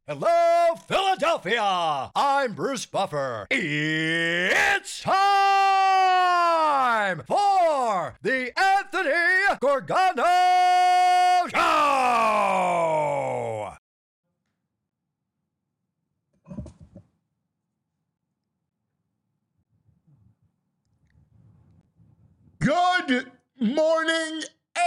Hello, Philadelphia! I'm Bruce Buffer. It's time for the Anthony Gorgano Show! Good morning,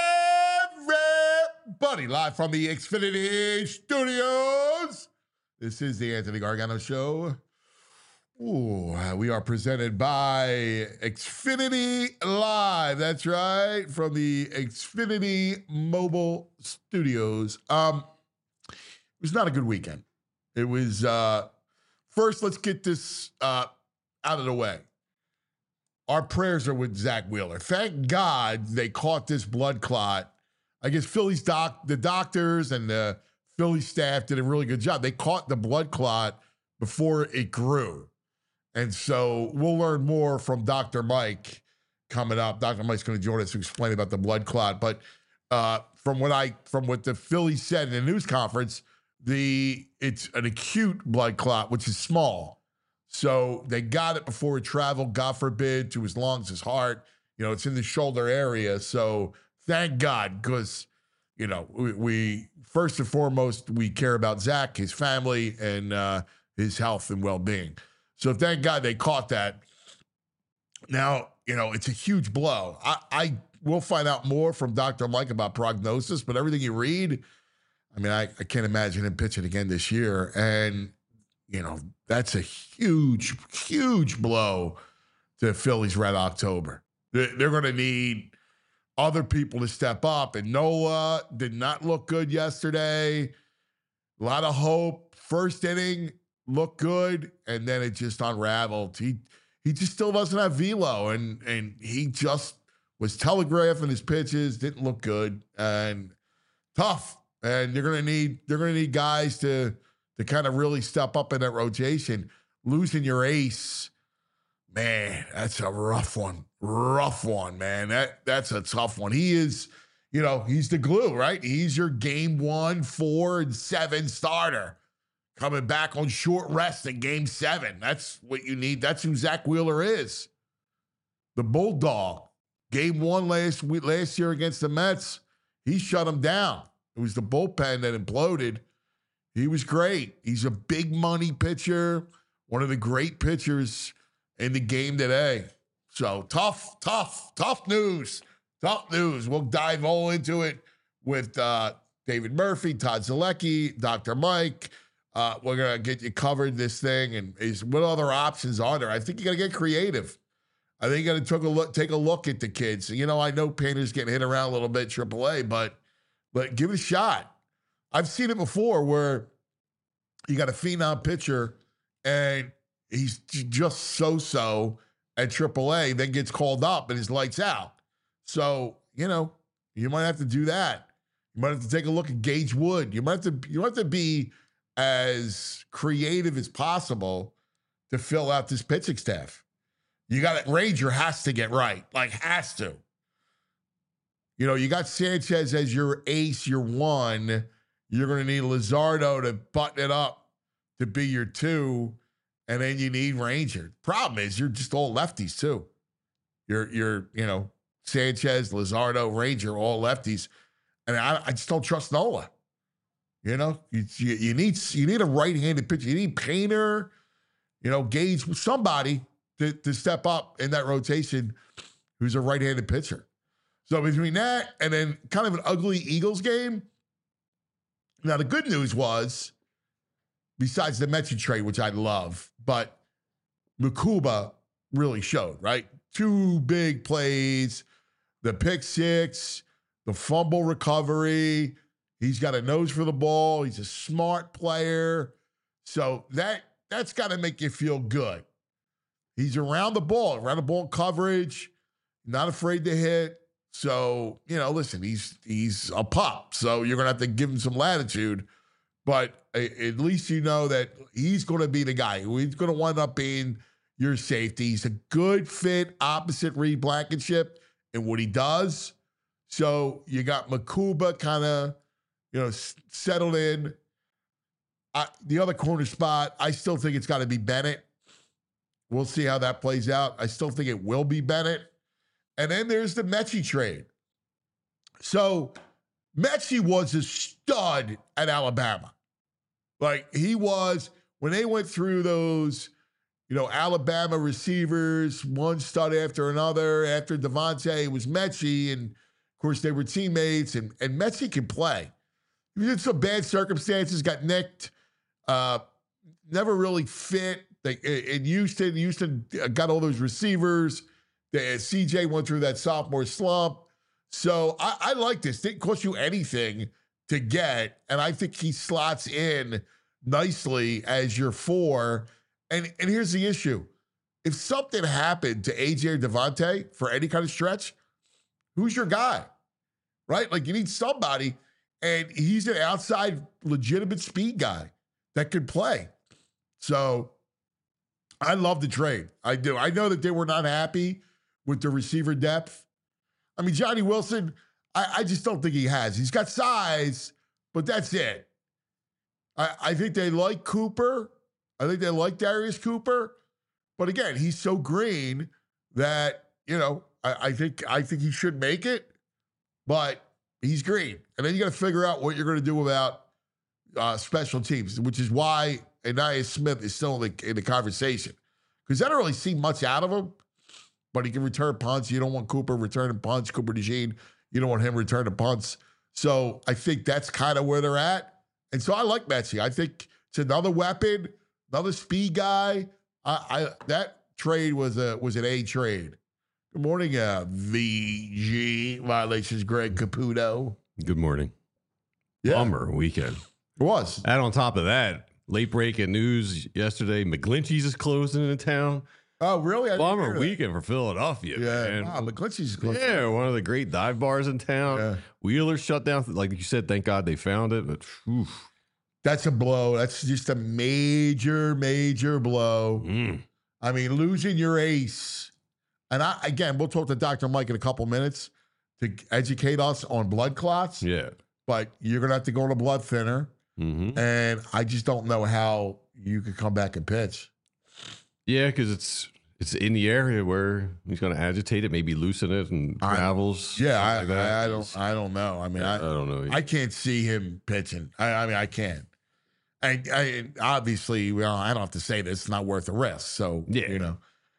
everybody. Live from the Xfinity Studios. This is the Anthony Gargano Show. Ooh, we are presented by Xfinity Live. That's right, from the Xfinity Mobile Studios. It was not a good weekend. It was, first, let's get this out of the way. Our prayers are with Zach Wheeler. Thank God they caught this blood clot. I guess the doctors and the Philly staff did a really good job. They caught the blood clot before it grew. And so we'll learn more from Dr. Mike coming up. Dr. Mike's going to join us to explain about the blood clot. But from what the Phillies said in the news conference, it's an acute blood clot, which is small. So they got it before it traveled, God forbid, to his lungs, his heart. You know, it's in the shoulder area. So thank God, because, you know, we first and foremost, we care about Zach, his family, and his health and well-being. So thank God they caught that. Now, you know, it's a huge blow. I will find out more from Dr. Mike about prognosis, but everything you read, I mean, I can't imagine him pitching again this year. And you know, that's a huge, huge blow to the Phillies Red October. They're going to need other people to step up. And Nola did not look good yesterday. A lot of hope. First inning looked good, and then it just unraveled. He just still doesn't have velo, and he just was telegraphing his pitches. Didn't look good and tough. And they're going to need guys to kind of really step up in that rotation. Losing your ace, man, that's a rough one. Rough one, man. That's a tough one. He is, you know, he's the glue, right? He's your game 1, 4, and 7 starter. Coming back on short rest in game 7. That's what you need. That's who Zach Wheeler is. The Bulldog. Game 1 last year against the Mets, he shut him down. It was the bullpen that imploded. He was great. He's a big money pitcher, one of the great pitchers in the game today. So tough news. Tough news. We'll dive all into it with David Murphy, Todd Zalecki, Dr. Mike. We're going to get you covered this thing. And what other options are there? I think you got to get creative. I think you got to take a look at the kids. You know, I know Painter's getting hit around a little bit, AAA, but give it a shot. I've seen it before where you got a phenom pitcher and he's just so-so at AAA, then gets called up and his lights out. So, you know, you might have to do that. You might have to take a look at Gage Wood. You have to be as creative as possible to fill out this pitching staff. You got it. Ranger has to get right, like has to. You know, you got Sanchez as your ace, your 1. You're going to need Luzardo to button it up to be your 2, and then you need Ranger. Problem is, you're just all lefties too. You're you know, Sanchez, Luzardo, Ranger, all lefties, and I just don't trust Nola. You know, you need a right-handed pitcher. You need Painter, you know, Gage, somebody to step up in that rotation who's a right-handed pitcher. So between that and then kind of an ugly Eagles game. Now, the good news was, besides the Metsy trade, which I love, but Makuba really showed, right? 2 big plays, the pick 6, the fumble recovery. He's got a nose for the ball. He's a smart player. So that's got to make you feel good. He's around the ball coverage, not afraid to hit. So, you know, listen, he's a pup, so you're going to have to give him some latitude. But at least you know that he's going to be the guy who he's going to wind up being your safety. He's a good fit opposite Reed Blankenship in what he does. So you got Makuba kind of, you know, settled in. The other corner spot, I still think it's got to be Bennett. We'll see how that plays out. I still think it will be Bennett. And then there's the Mechie trade. So Mechie was a stud at Alabama. Like he was, when they went through those, Alabama receivers, one stud after another. After Devontae, it was Mechie. And, of course, they were teammates. And Mechie can play. He was in some bad circumstances, got nicked, never really fit. In Houston got all those receivers. CJ went through that sophomore slump. So I like this. Didn't cost you anything to get. And I think he slots in nicely as your 4. And here's the issue. If something happened to AJ or Devontae for any kind of stretch, who's your guy? Right? Like you need somebody. And he's an outside legitimate speed guy that can play. So I love the trade. I do. I know that they were not happy with the receiver depth. I mean, Johnny Wilson, I just don't think he has. He's got size, but that's it. I think they like Cooper. I think they like Darius Cooper. But again, he's so green that, I think he should make it, but he's green. And then you got to figure out what you're going to do about special teams, which is why Ainias Smith is still in the conversation. Because I don't really see much out of him, but he can return punts. You don't want Cooper returning punts. Cooper DeJean, you don't want him returning punts. So I think that's kind of where they're at. And so I like Mechie. I think it's another weapon, another speed guy. That trade was an A trade. Good morning, VG Violations, Greg Caputo. Good morning. Yeah. Bummer weekend. It was. And on top of that, late breaking news yesterday, McGlinchey's is closing in town. Oh, really? Bummer weekend for Philadelphia. Yeah. Man. Wow, McGlinchey's closing. Yeah, one of the great dive bars in town. Yeah. Wheeler shut down. Like you said, thank God they found it. But that's a blow. That's just a major, major blow. I mean, losing your ace. And again, we'll talk to Dr. Mike in a couple minutes to educate us on blood clots. yeah. But you're going to have to go on a blood thinner. Mm-hmm. And I just don't know how you could come back and pitch. Yeah, because it's in the area where he's going to agitate it, maybe loosen it and travels. Yeah, I don't know. I mean, I don't know. I can't see him pitching. I mean, I can't. I obviously, I don't have to say this. It's not worth the risk. So, yeah.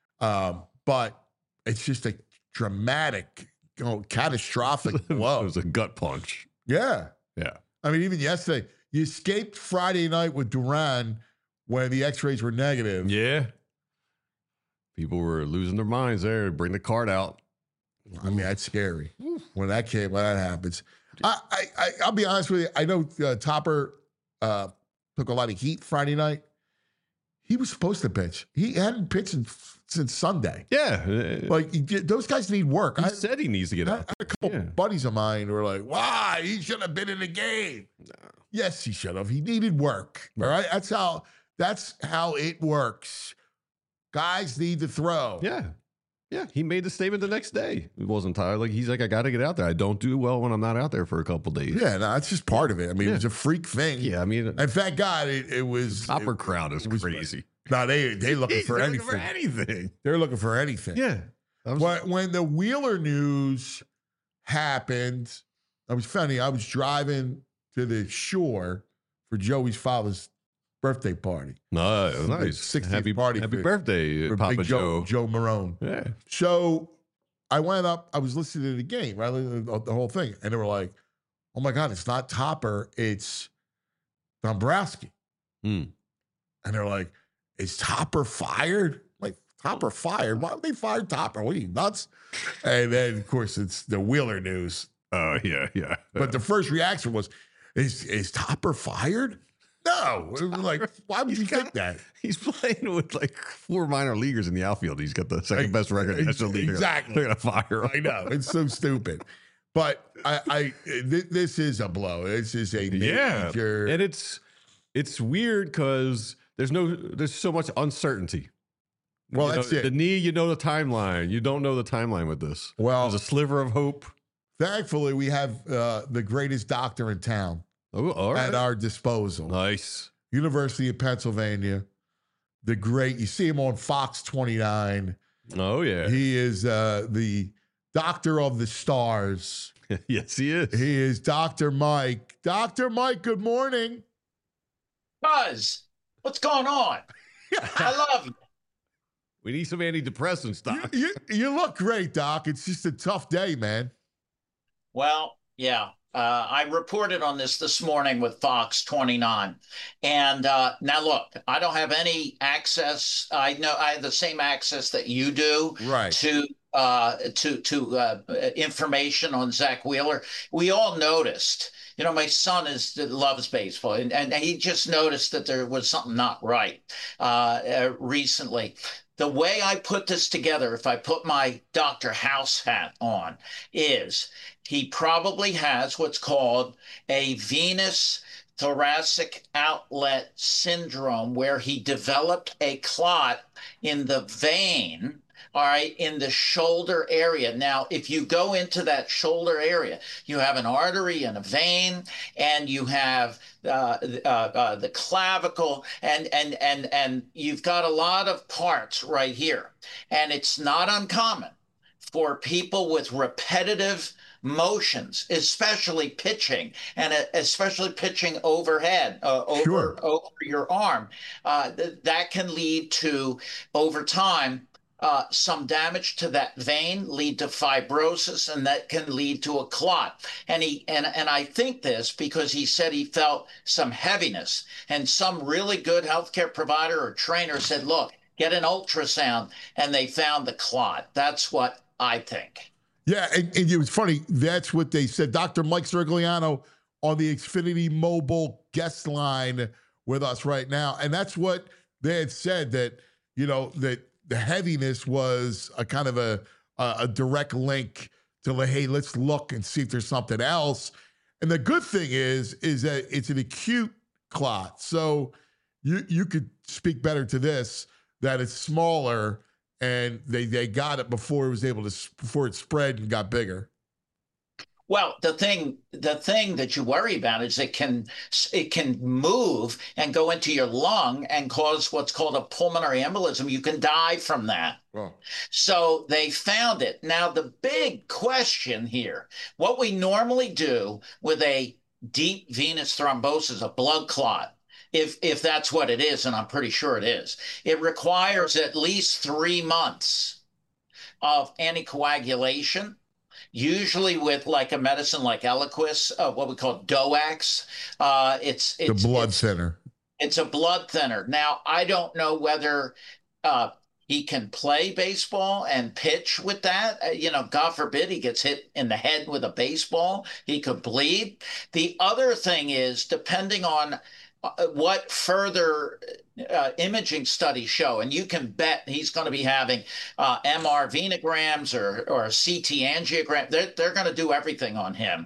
But it's just a dramatic, catastrophic blow. It was a gut punch. Yeah. Yeah. I mean, even yesterday, you escaped Friday night with Duran when the x-rays were negative. Yeah. People were losing their minds there. Bring the card out. I mean, that's scary when that happens. I'll be honest with you. I know Topper took a lot of heat Friday night. He was supposed to pitch. He hadn't pitched since Sunday. Yeah. Those guys need work. He said he needs to get out. I had a couple buddies of mine who were like, why? He should have been in the game. No. Yes, he should have. He needed work. All right. That's how it works. Guys need to throw. Yeah. Yeah. He made the statement the next day. It wasn't tired. He's like, I got to get out there. I don't do well when I'm not out there for a couple days. Yeah, no, that's just part of it. I mean, it was a freak thing. Yeah, I mean, and thank God it was. The Topper crowd is crazy. No, they looking for anything. Looking for anything. They're looking for anything. Yeah. When the Wheeler news happened, I was driving to the shore for Joey's father's birthday party. Nice. 60th party. Happy birthday, for Papa Big Joe. Joe Marone. Yeah. So I went up. I was listening to the game, right? The whole thing. And they were like, oh, my God, it's not Topper. It's Dombrowski. And they're like, is Topper fired? Like, Topper fired? Why would they fire Topper? What are you, nuts? And then, of course, it's the Wheeler news. Oh, yeah. But the first reaction was, is Topper fired? No. It was like, why would you think that? He's playing with 4 minor leaguers in the outfield. He's got the second best record in the National League. Exactly. They're going to fire him. I know. It's so stupid. But this is a blow. This is a major. And it's weird because there's so much uncertainty. Well, that's it. The knee, the timeline. You don't know the timeline with this. Well, there's a sliver of hope. Thankfully, we have the greatest doctor in town at our disposal. Nice. University of Pennsylvania. The great, you see him on Fox 29. Oh, yeah. He is the doctor of the stars. Yes, he is. He is Dr. Mike. Dr. Mike, good morning. Buzz, what's going on? I love you. We need some antidepressants, Doc. You look great, Doc. It's just a tough day, man. Well, yeah. I reported on this morning with Fox 29. And now look, I don't have any access. I know I have the same access that you do Right. to information on Zach Wheeler. We all noticed, my son loves baseball, and he just noticed that there was something not right recently. The way I put this together, if I put my Dr. House hat on, is he probably has what's called a venous thoracic outlet syndrome, where he developed a clot in the vein, all right, in the shoulder area. Now, if you go into that shoulder area, you have an artery and a vein, and you have the clavicle, and you've got a lot of parts right here. And it's not uncommon for people with repetitive motions, especially pitching, and especially pitching overhead, over your arm, that can lead to, over time, some damage to that vein, lead to fibrosis, and that can lead to a clot. And I think this because he said he felt some heaviness, and some really good healthcare provider or trainer said, look, get an ultrasound, and they found the clot. That's what I think. Yeah, and it was funny. That's what they said. Dr. Mike Sirigliano on the Xfinity Mobile guest line with us right now. And that's what they had said, that, that the heaviness was a kind of a direct link to, like, hey, let's look and see if there's something else. And the good thing is that it's an acute clot. So you could speak better to this, that it's smaller, and they got it before it spread and got bigger. Well, the thing that you worry about is it can move and go into your lung and cause what's called a pulmonary embolism. You can die from that. Oh. So they found it. Now, the big question here, what we normally do with a deep venous thrombosis, a blood clot, if that's what it is, and I'm pretty sure it is, it requires at least 3 months of anticoagulation, usually with like a medicine like Eliquis, what we call DOACs. It's the blood thinner. It's a blood thinner. Now, I don't know whether he can play baseball and pitch with that. God forbid he gets hit in the head with a baseball. He could bleed. The other thing is, depending on what further imaging studies show, and you can bet he's going to be having MR venograms or CT angiogram. They're going to do everything on him.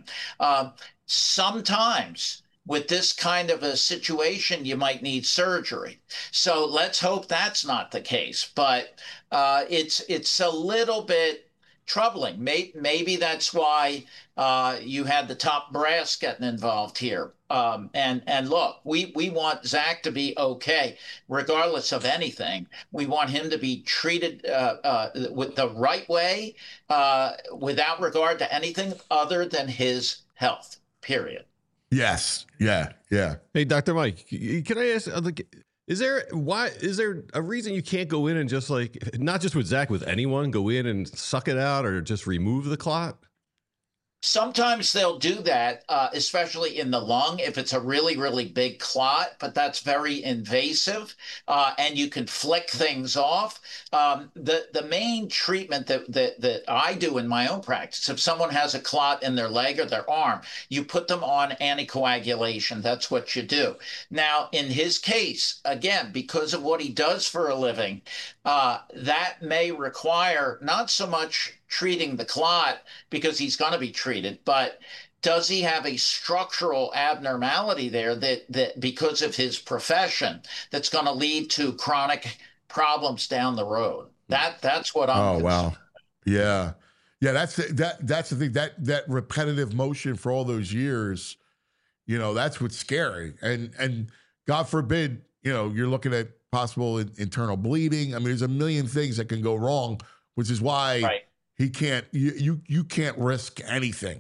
Sometimes with this kind of a situation, you might need surgery. So let's hope that's not the case. But it's a little bit troubling. Maybe that's why you had the top brass getting involved here. And look, we want Zach to be okay, regardless of anything. We want him to be treated with the right way, without regard to anything other than his health, period. Yes. Yeah. Hey, Dr. Mike, can I ask, is there a reason you can't go in and just, like, not just with Zach, with anyone, go in and suck it out or just remove the clot? Sometimes they'll do that, especially in the lung, if it's a really, really big clot, but that's very invasive, and you can flick things off. The main treatment that I do in my own practice, if someone has a clot in their leg or their arm, you put them on anticoagulation. That's what you do. Now, in his case, again, because of what he does for a living, that may require not so much treating the clot, because he's going to be treated, but does he have a structural abnormality there that because of his profession, that's going to lead to chronic problems down the road? That's what I'm concerned. Wow. Yeah. That's the thing, that repetitive motion for all those years, that's what's scary. And God forbid, you're looking at possible internal bleeding. I mean, there's a million things that can go wrong, which is why he can't. You can't risk anything.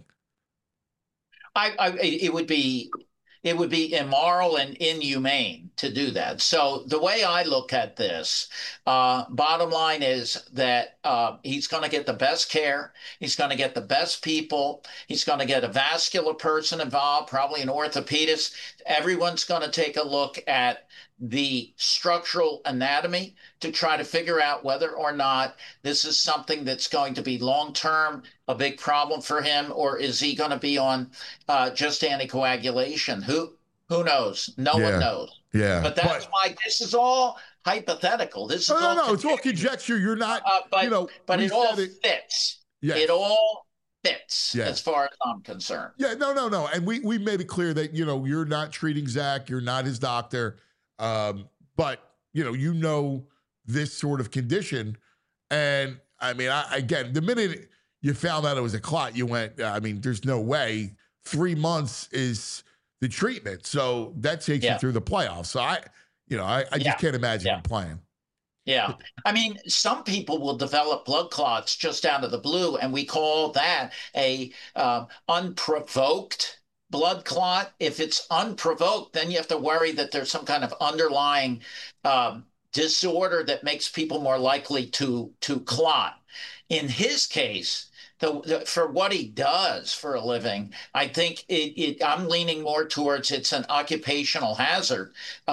It would be immoral and inhumane to do that. So the way I look at this, bottom line is that he's going to get the best care. He's going to get the best people. He's going to get a vascular person involved, probably an orthopedist. Everyone's going to take a look at the structural anatomy to try to figure out whether or not this is something that's going to be long-term, a big problem for him, or is he going to be on just anticoagulation? Who knows? No one knows. Yeah. But that's why this is all hypothetical. This is no, it's all conjecture. You're not, but it all fits. Yes. It all fits as far as I'm concerned. Yeah, no. And we made it clear that, you're not treating Zach. You're not his doctor. But this sort of condition. And I mean, again, the minute you found out it was a clot, you went, there's no way 3 months is the treatment. So that takes you through the playoffs. So I just can't imagine him playing. Yeah. I mean, some people will develop blood clots just out of the blue, and we call that a unprovoked blood clot. If it's unprovoked, then you have to worry that there's some kind of underlying disorder that makes people more likely to clot. In his case, for what he does for a living, I think I'm leaning more towards it's an occupational hazard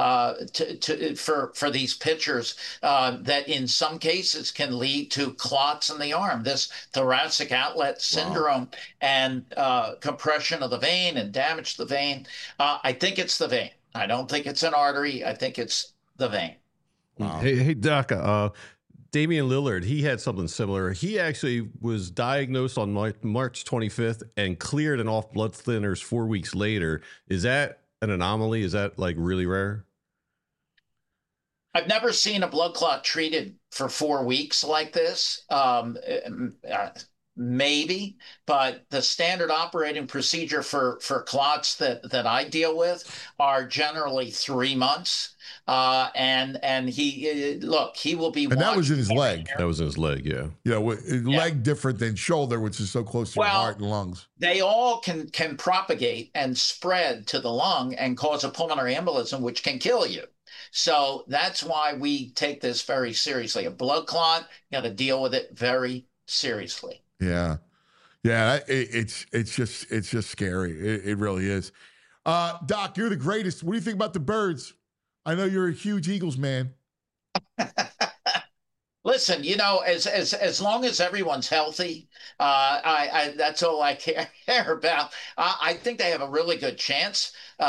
for these pitchers that in some cases can lead to clots in the arm, this thoracic outlet syndrome and compression of the vein and damage to the vein. I think it's the vein. I don't think it's an artery. I think it's the vein. Wow. Hey, Doc, Damian Lillard, he had something similar. He actually was diagnosed on March 25th and cleared and off blood thinners 4 weeks later. Is that an anomaly? Is that like really rare? I've never seen a blood clot treated for 4 weeks like this. Maybe, but the standard operating procedure for clots that I deal with are generally 3 months. And he will be. And that was in his leg. That was in his leg, yeah. Leg different than shoulder, which is so close to your heart and lungs. They all can propagate and spread to the lung and cause a pulmonary embolism, which can kill you. So that's why we take this very seriously. A blood clot, you got to deal with it very seriously. Yeah. It's just scary. It really is. Doc, you're the greatest. What do you think about the Birds? I know you're a huge Eagles man. Listen, as long as everyone's healthy, that's all I care about. I think they have a really good chance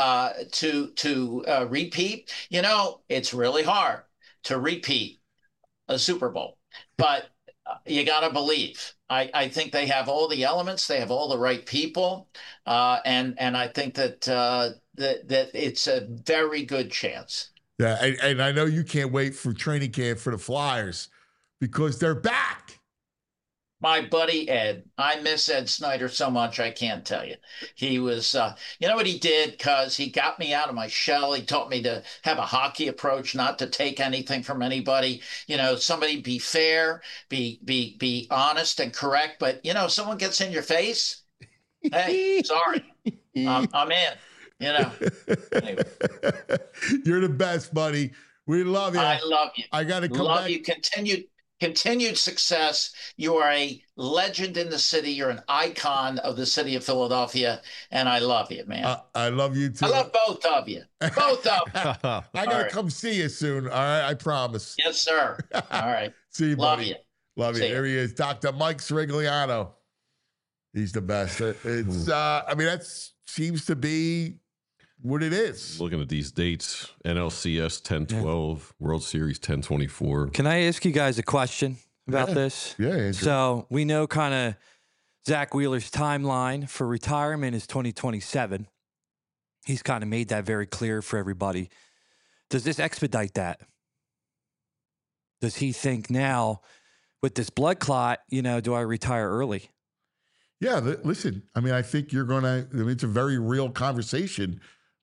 to repeat. It's really hard to repeat a Super Bowl, but you got to believe. I think they have all the elements. They have all the right people, and I think that that it's a very good chance. Yeah, and I know you can't wait for training camp for the Flyers because they're back. My buddy Ed, I miss Ed Snyder so much, I can't tell you. He was, you know what he did? Because he got me out of my shell. He taught me to have a hockey approach, not to take anything from anybody. Somebody be fair, be honest and correct. But, someone gets in your face, hey, sorry, I'm in. Anyway. You're the best, buddy. We love you. I love you. I got to come love back. You. Continued success. You are a legend in the city. You're an icon of the city of Philadelphia, and I love you, man. I love you too. I love both of you. Both of you. I gotta come see you soon. All right, I promise. Yes, sir. All right. See you, love buddy. You. Love you. See Here he is, Dr. Mike Sirigliano. He's the best. It's. That seems to be what it is. Looking at these dates, NLCS 10-12, World Series 10-24. Can I ask you guys a question about this? Yeah, Andrew. So we know kind of Zach Wheeler's timeline for retirement is 2027. He's kind of made that very clear for everybody. Does this expedite that? Does he think now with this blood clot, do I retire early? Yeah, listen, I think you're going to, it's a very real conversation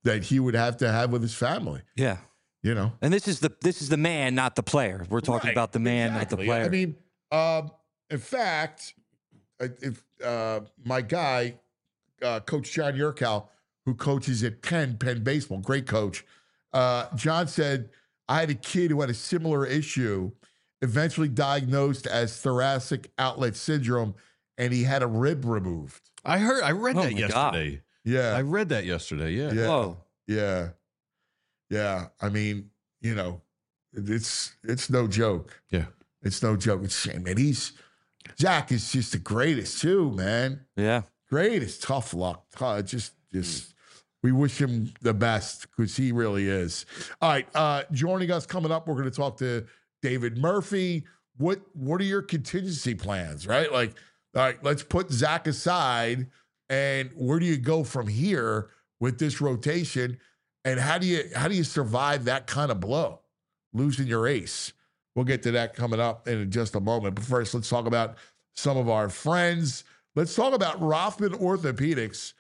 that he would have to have with his family. Yeah. You know, And this is the man, not the player. We're talking Right, about the man, exactly. not the player. I mean, in fact, if my guy, Coach John Yurkow, who coaches at Penn Baseball, great coach, John said, I had a kid who had a similar issue, eventually diagnosed as thoracic outlet syndrome, and he had a rib removed. I read Oh that my yesterday. Yeah. I read that yesterday. Yeah. Yeah. Whoa. Yeah. Yeah. I mean, you know, it's no joke. Yeah. It's no joke. It's a shame, man. Zach is just the greatest too, man. Yeah. Greatest. Tough luck. Just we wish him the best because he really is. All right. Joining us coming up, we're going to talk to David Murphy. What are your contingency plans, right? Like, all right, let's put Zach aside, and where do you go from here with this rotation? And how do you survive that kind of blow, losing your ace? We'll get to that coming up in just a moment. But first, let's talk about some of our friends. Let's talk about Rothman Orthopedics.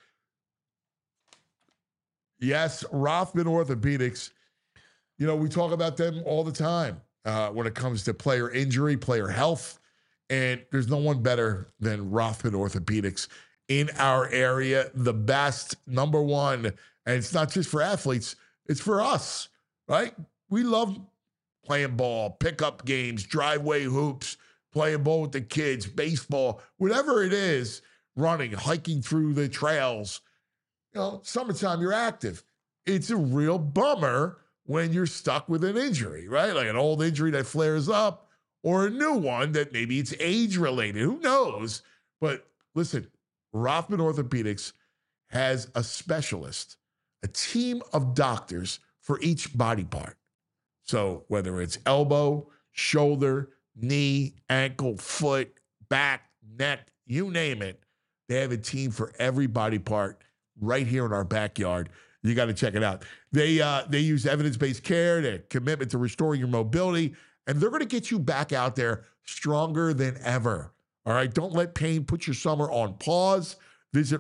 Yes, Rothman Orthopedics. You know, we talk about them all the time when it comes to player injury, player health. And there's no one better than Rothman Orthopedics in our area. The best, number one. And it's not just for athletes, it's for us, right? We love playing ball, pickup games, driveway hoops, playing ball with the kids, baseball, whatever it is, running, hiking through the trails. You know, summertime, you're active. It's a real bummer when you're stuck with an injury, right? Like an old injury that flares up or a new one that maybe it's age-related. Who knows? But listen, Rothman Orthopedics has a specialist, a team of doctors for each body part. So whether it's elbow, shoulder, knee, ankle, foot, back, neck, you name it, they have a team for every body part right here in our backyard. You got to check it out. They use evidence-based care, their commitment to restoring your mobility, and they're going to get you back out there stronger than ever. All right, don't let pain put your summer on pause. Visit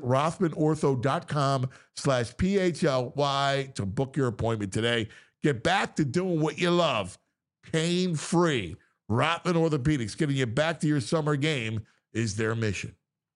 RothmanOrtho.com/PHLY to book your appointment today. Get back to doing what you love, pain-free. Rothman Orthopedics, getting you back to your summer game is their mission.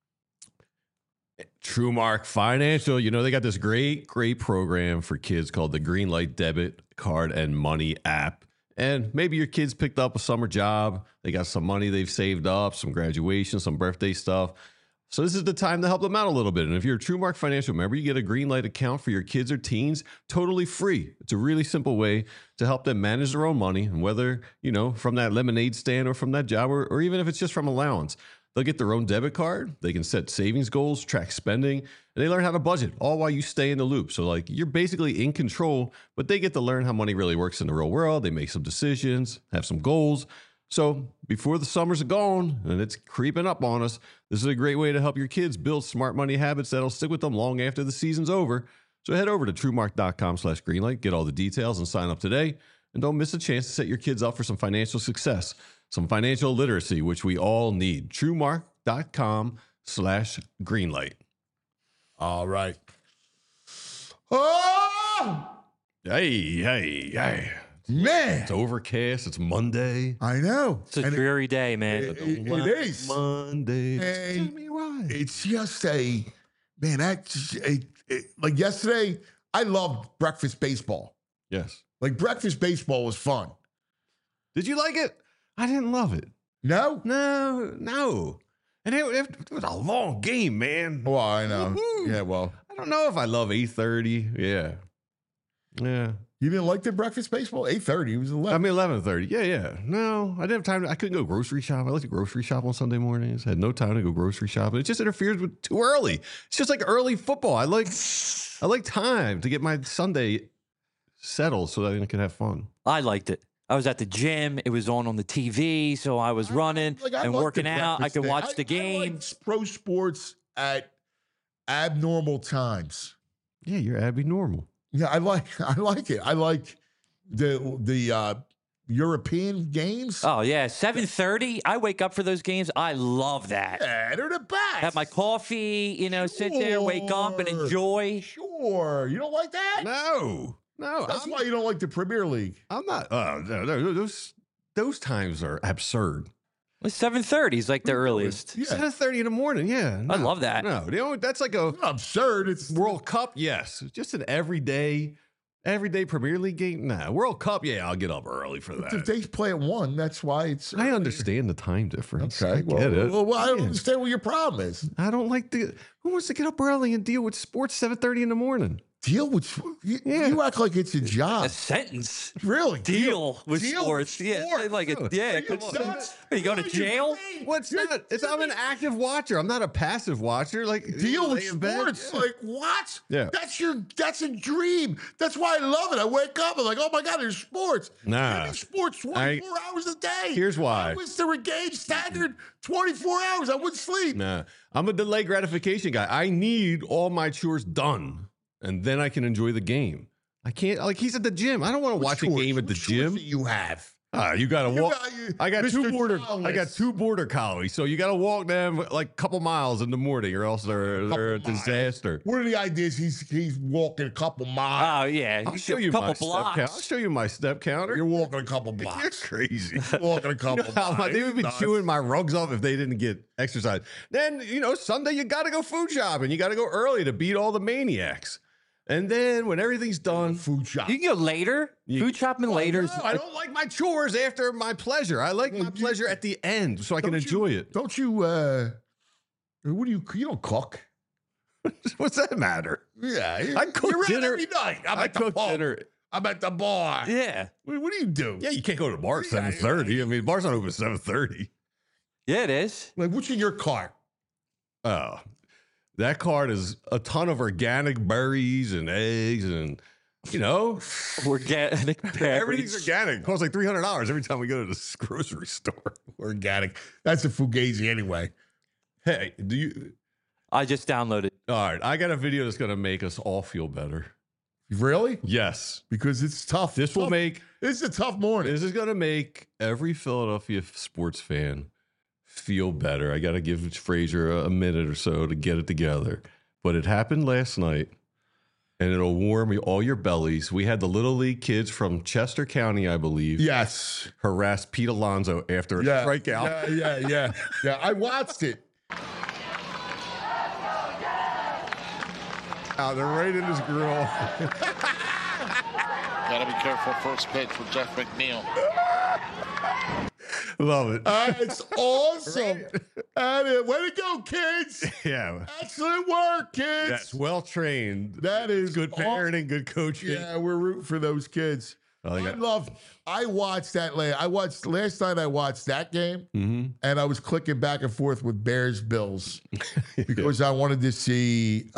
TrueMark Financial, you know, they got this great program for kids called the Greenlight Debit Card and Money app. And maybe your kids picked up a summer job. They got some money they've saved up, some graduation, some birthday stuff. So this is the time to help them out a little bit. And if you're a TrueMark Financial member, you get a Greenlight account for your kids or teens totally free. It's a really simple way to help them manage their own money. And whether, you know, from that lemonade stand or from that job, or even if it's just from allowance, they'll get their own debit card. They can set savings goals, track spending, and they learn how to budget, all while you stay in the loop. So like you're basically in control, but they get to learn how money really works in the real world. They make some decisions, have some goals. So before the summers are gone and it's creeping up on us, this is a great way to help your kids build smart money habits that'll stick with them long after the season's over. So head over to TrueMark.com/Greenlight, get all the details and sign up today. And don't miss a chance to set your kids up for some financial success, some financial literacy, which we all need. TrueMark.com/Greenlight. All right. Oh! Hey. Man. It's overcast. It's Monday. I know. It's a dreary day, man. It is. Monday. And Tell me why. it's just like yesterday, I loved breakfast baseball. Yes. Like breakfast baseball was fun. Did you like it? I didn't love it. No? No. And it was a long game, man. Well, I know. Woo-hoo. Yeah, well. I don't know if I love 8:30. Yeah. You didn't like the breakfast baseball? 8:30. It was 11. I mean, 11:30. Yeah. No, I didn't have time. I couldn't go grocery shop. I like to grocery shop on Sunday mornings. Had no time to go grocery shopping. It just interferes with too early. It's just like early football. I like time to get my Sunday settled so that I can have fun. I liked it. I was at the gym. It was on the TV, so I was running and working out. I could watch the game. I like pro sports at abnormal times. Yeah, you're Abby Normal. Yeah, I like it. I like the European games. Oh yeah, 7:30. I wake up for those games. I love that. Yeah, they're the best. Have my coffee, sit there, wake up and enjoy. Sure. Sure. You don't like that? No. That's why you don't like the Premier League. I'm not. No, those times are absurd. It's 7:30 is like the earliest. Yeah. 7:30 in the morning. Yeah, I love that. No, that's like a It's not absurd. It's World Cup. Yes, just an everyday Premier League game. Nah, World Cup. Yeah, I'll get up early for that. if they play at 1, that's why it's. I understand the time difference. Okay. I get it. Well, I don't Yeah. understand what your problem is. I don't like who wants to get up early and deal with sports 7:30 in the morning. Deal with you act like it's a A job. sentence. Really? Deal with Deal sports. with Yeah, sports. like it. Yeah, come on. Are you going to jail? What's that? I'm an active watcher. I'm not a passive watcher. Like Deal with lay in bed. sports. Yeah. Like what? Yeah. That's a dream. That's why I love it. I wake up and like, oh my God, there's sports. Nah. Give me sports 24 hours a day. Here's why. I wish they were game standard 24 hours. I wouldn't sleep. Nah, I'm a delay gratification guy. I need all my chores done, and then I can enjoy the game. I can't, like he's at the gym. I don't want to watch a game at the What chores gym. do you have? You gotta walk. I got Mr. I got two border collies, so you gotta walk them like a couple miles in the morning, or else they're a Couple miles. disaster. What are the ideas? He's walking a couple miles. Oh yeah, I'll show you a couple my step blocks. count. I'll show you my step counter. You're walking a couple You're blocks. crazy. Walking a couple blocks. They would be Nuts. chewing my rugs off if they didn't get exercise. Then, Sunday you got to go food shopping. You got to go early to beat all the maniacs. And then when everything's done, food shop. You can go later. Food shopping later. no, I don't like my chores after my pleasure. I like my pleasure at the end so I can enjoy it. Don't you? What do you? You don't cook. What's that matter? Yeah, I cook you're out dinner every night. I'm I at the cook pub. dinner. I'm at the bar. Yeah, What do you do? Yeah, you can't go to the bar at Yeah, 7:30. I mean, the bar's not open at 7:30. yeah, it is. Like, what's in your car? Oh, that cart is a ton of organic berries and eggs and, Organic everything's berries. organic. It costs like $300 every time we go to this grocery store. Organic. That's a fugazi anyway. Hey, do you? I just downloaded. All right, I got a video that's going to make us all feel better. Really? Yes. Because it's tough. This will make, It's a tough morning. this is going to make every Philadelphia sports fan feel better. I got to give Frazier a minute or so to get it together. But it happened last night, and it'll warm all your bellies. We had the Little League kids from Chester County, I believe, Yes. harass Pete Alonso after a strikeout. Yeah. I watched it. They're right in his grill. Got to be careful first pitch with Jeff McNeil. Love it. It's awesome. And way to go, kids. Yeah. Excellent work, kids. That's well trained. That is Good parenting, good coaching. Yeah, we're rooting for those kids. Oh, they I watched that last night I watched that game, and I was clicking back and forth with Bears Bills because I wanted to see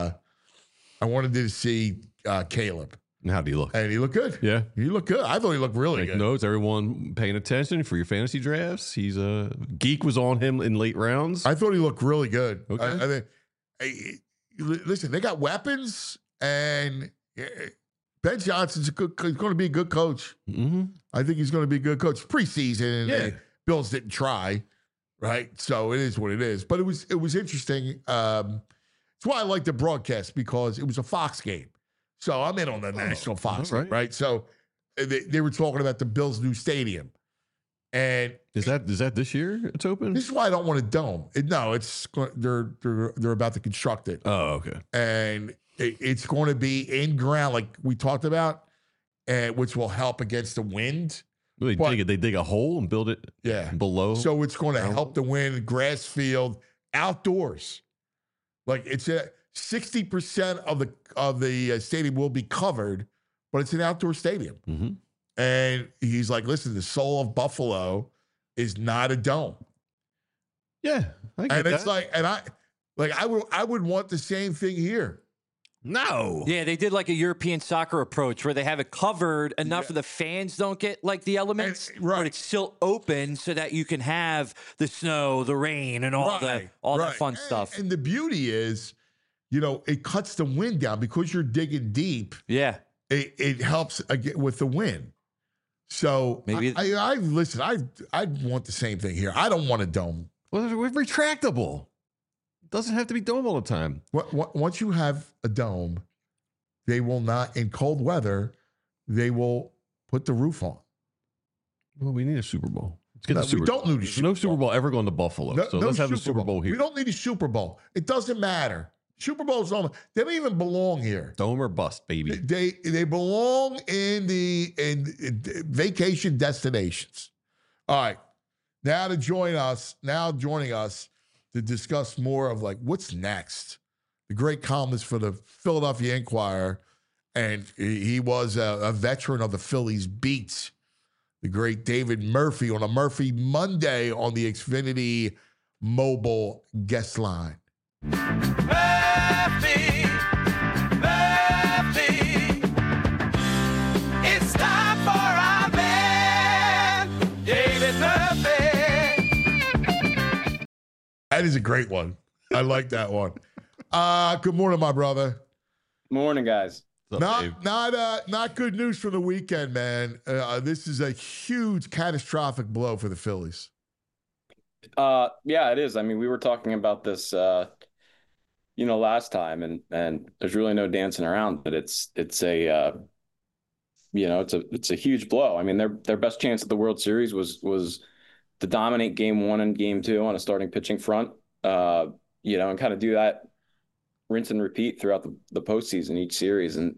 Caleb. And how do you look? And he looked good. Yeah. He looked good. I thought he looked really Take good. notes, everyone paying attention for your fantasy drafts. He's a geek was on him in late rounds. I thought he looked really good. Okay. I think, listen, they got weapons, and Ben Johnson's going to be a good coach. Mm-hmm. I think he's going to be a good coach. Preseason, Yeah. Bills didn't try, right? So it is what it is. But it was interesting. That's why I like the broadcast, because it was a Fox game. So I'm in on the national Fox, all right. right? So they were talking about the Bills' new stadium, and Is that this year it's open? this is why I don't want a dome. They're about to construct it, Oh, okay. and it's going to be in ground, like we talked about, and which will help against the wind. They But- dig a hole and build it Yeah. below. So it's going to help the wind, grass field, outdoors. Like it's 60% of the stadium will be covered, but it's an outdoor stadium. Mhm. And he's like, listen, the soul of Buffalo is not a dome. Yeah, I get And it's that. like, and I would want the same thing here. no. Yeah, they did like a European soccer approach where they have it covered enough where the fans don't get like the elements, right. but it's still open so that you can have the snow, the rain, and all that fun stuff. And the beauty is, it cuts the wind down because you're digging deep. Yeah. It helps with the wind. So Maybe- I listen. I want the same thing here. I don't want a dome. Well, we're retractable. Doesn't have to be dome all the time. Once you have a dome, they will not, in cold weather, they will put the roof on. Well, we need a Super Bowl. Let's get No, the Super we don't need a There's Super no Super Bowl ever going to Buffalo. No, so no let's have a Super Bowl here. We don't need a Super Bowl. It doesn't matter. Super Bowls don't. They don't even belong here. Dome or bust, baby. They belong in vacation destinations. All right. Now joining us to discuss more of like what's next. The great columnist for the Philadelphia Inquirer, and he was a veteran of the Phillies beats. The great David Murphy on a Murphy Monday on the Xfinity mobile guest line. Murphy, it's time for our man, David Murphy. That is a great one. I like that one. Good morning, my brother. Morning, guys. Not good news from the weekend, man. This is a huge catastrophic blow for the Phillies. Yeah, it is. I mean, we were talking about this, last time, and there's really no dancing around it. It's a huge blow. I mean, their best chance at the World Series was to dominate Game 1 and Game 2 on a starting pitching front, and kind of do that rinse and repeat throughout the postseason each series. And,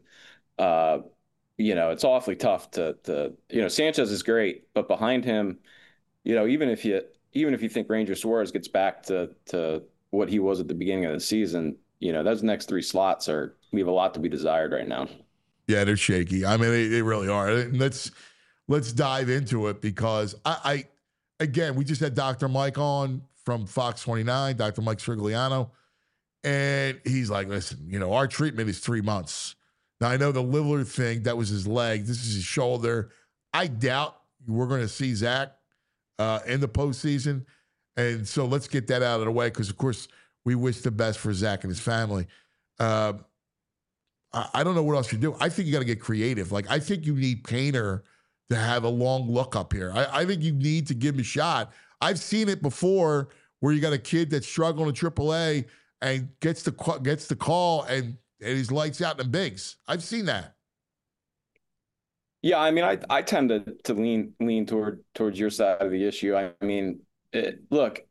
it's awfully tough to Sanchez is great, but behind him, even if you think Ranger Suarez gets back to what he was at the beginning of the season, those next three slots leave a lot to be desired right now. Yeah, they're shaky. I mean, they really are. Let's dive into it because again, we just had Dr. Mike on from Fox 29, Dr. Mike Srigliano. And he's like, listen, our treatment is 3 months. Now, I know the Lillard thing, that was his leg. This is his shoulder. I doubt we're going to see Zach in the postseason. And so let's get that out of the way because, of course, we wish the best for Zach and his family. I don't know what else you do. I think you got to get creative. Like, I think you need Painter to have a long look up here. I think you need to give him a shot. I've seen it before where you got a kid that's struggling in AAA and gets the call and he's lights out in the bigs. I've seen that. Yeah, I mean, I tend to lean towards your side of the issue. I mean, look,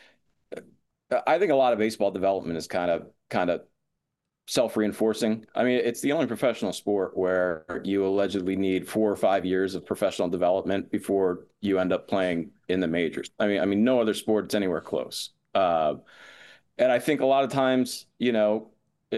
I think a lot of baseball development is kind of self-reinforcing. I mean, it's the only professional sport where you allegedly need 4 or 5 years of professional development before you end up playing in the majors. I mean, no other sport is anywhere close. And I think a lot of times, you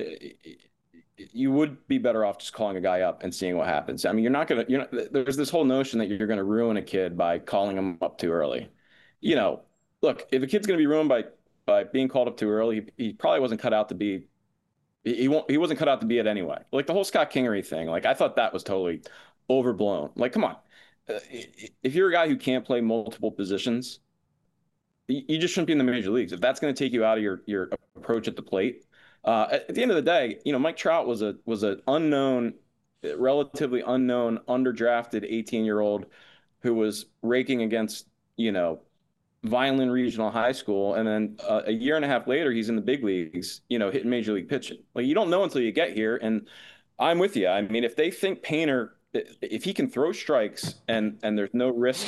would be better off just calling a guy up and seeing what happens. I mean, there's this whole notion that you're going to ruin a kid by calling him up too early. Look, if a kid's going to be ruined by being called up too early, he probably wasn't cut out to be. He wasn't cut out to be it anyway. Like the whole Scott Kingery thing, like I thought that was totally overblown. Like, come on, if you're a guy who can't play multiple positions, you just shouldn't be in the major leagues. If that's going to take you out of your approach at the plate, at the end of the day, Mike Trout was an relatively unknown, underdrafted 18-year-old who was raking against Vineland Regional High School, and then a year and a half later, he's in the big leagues, hitting major league pitching. Like, you don't know until you get here, and I'm with you. I mean, if they think Painter, if he can throw strikes and there's no risk,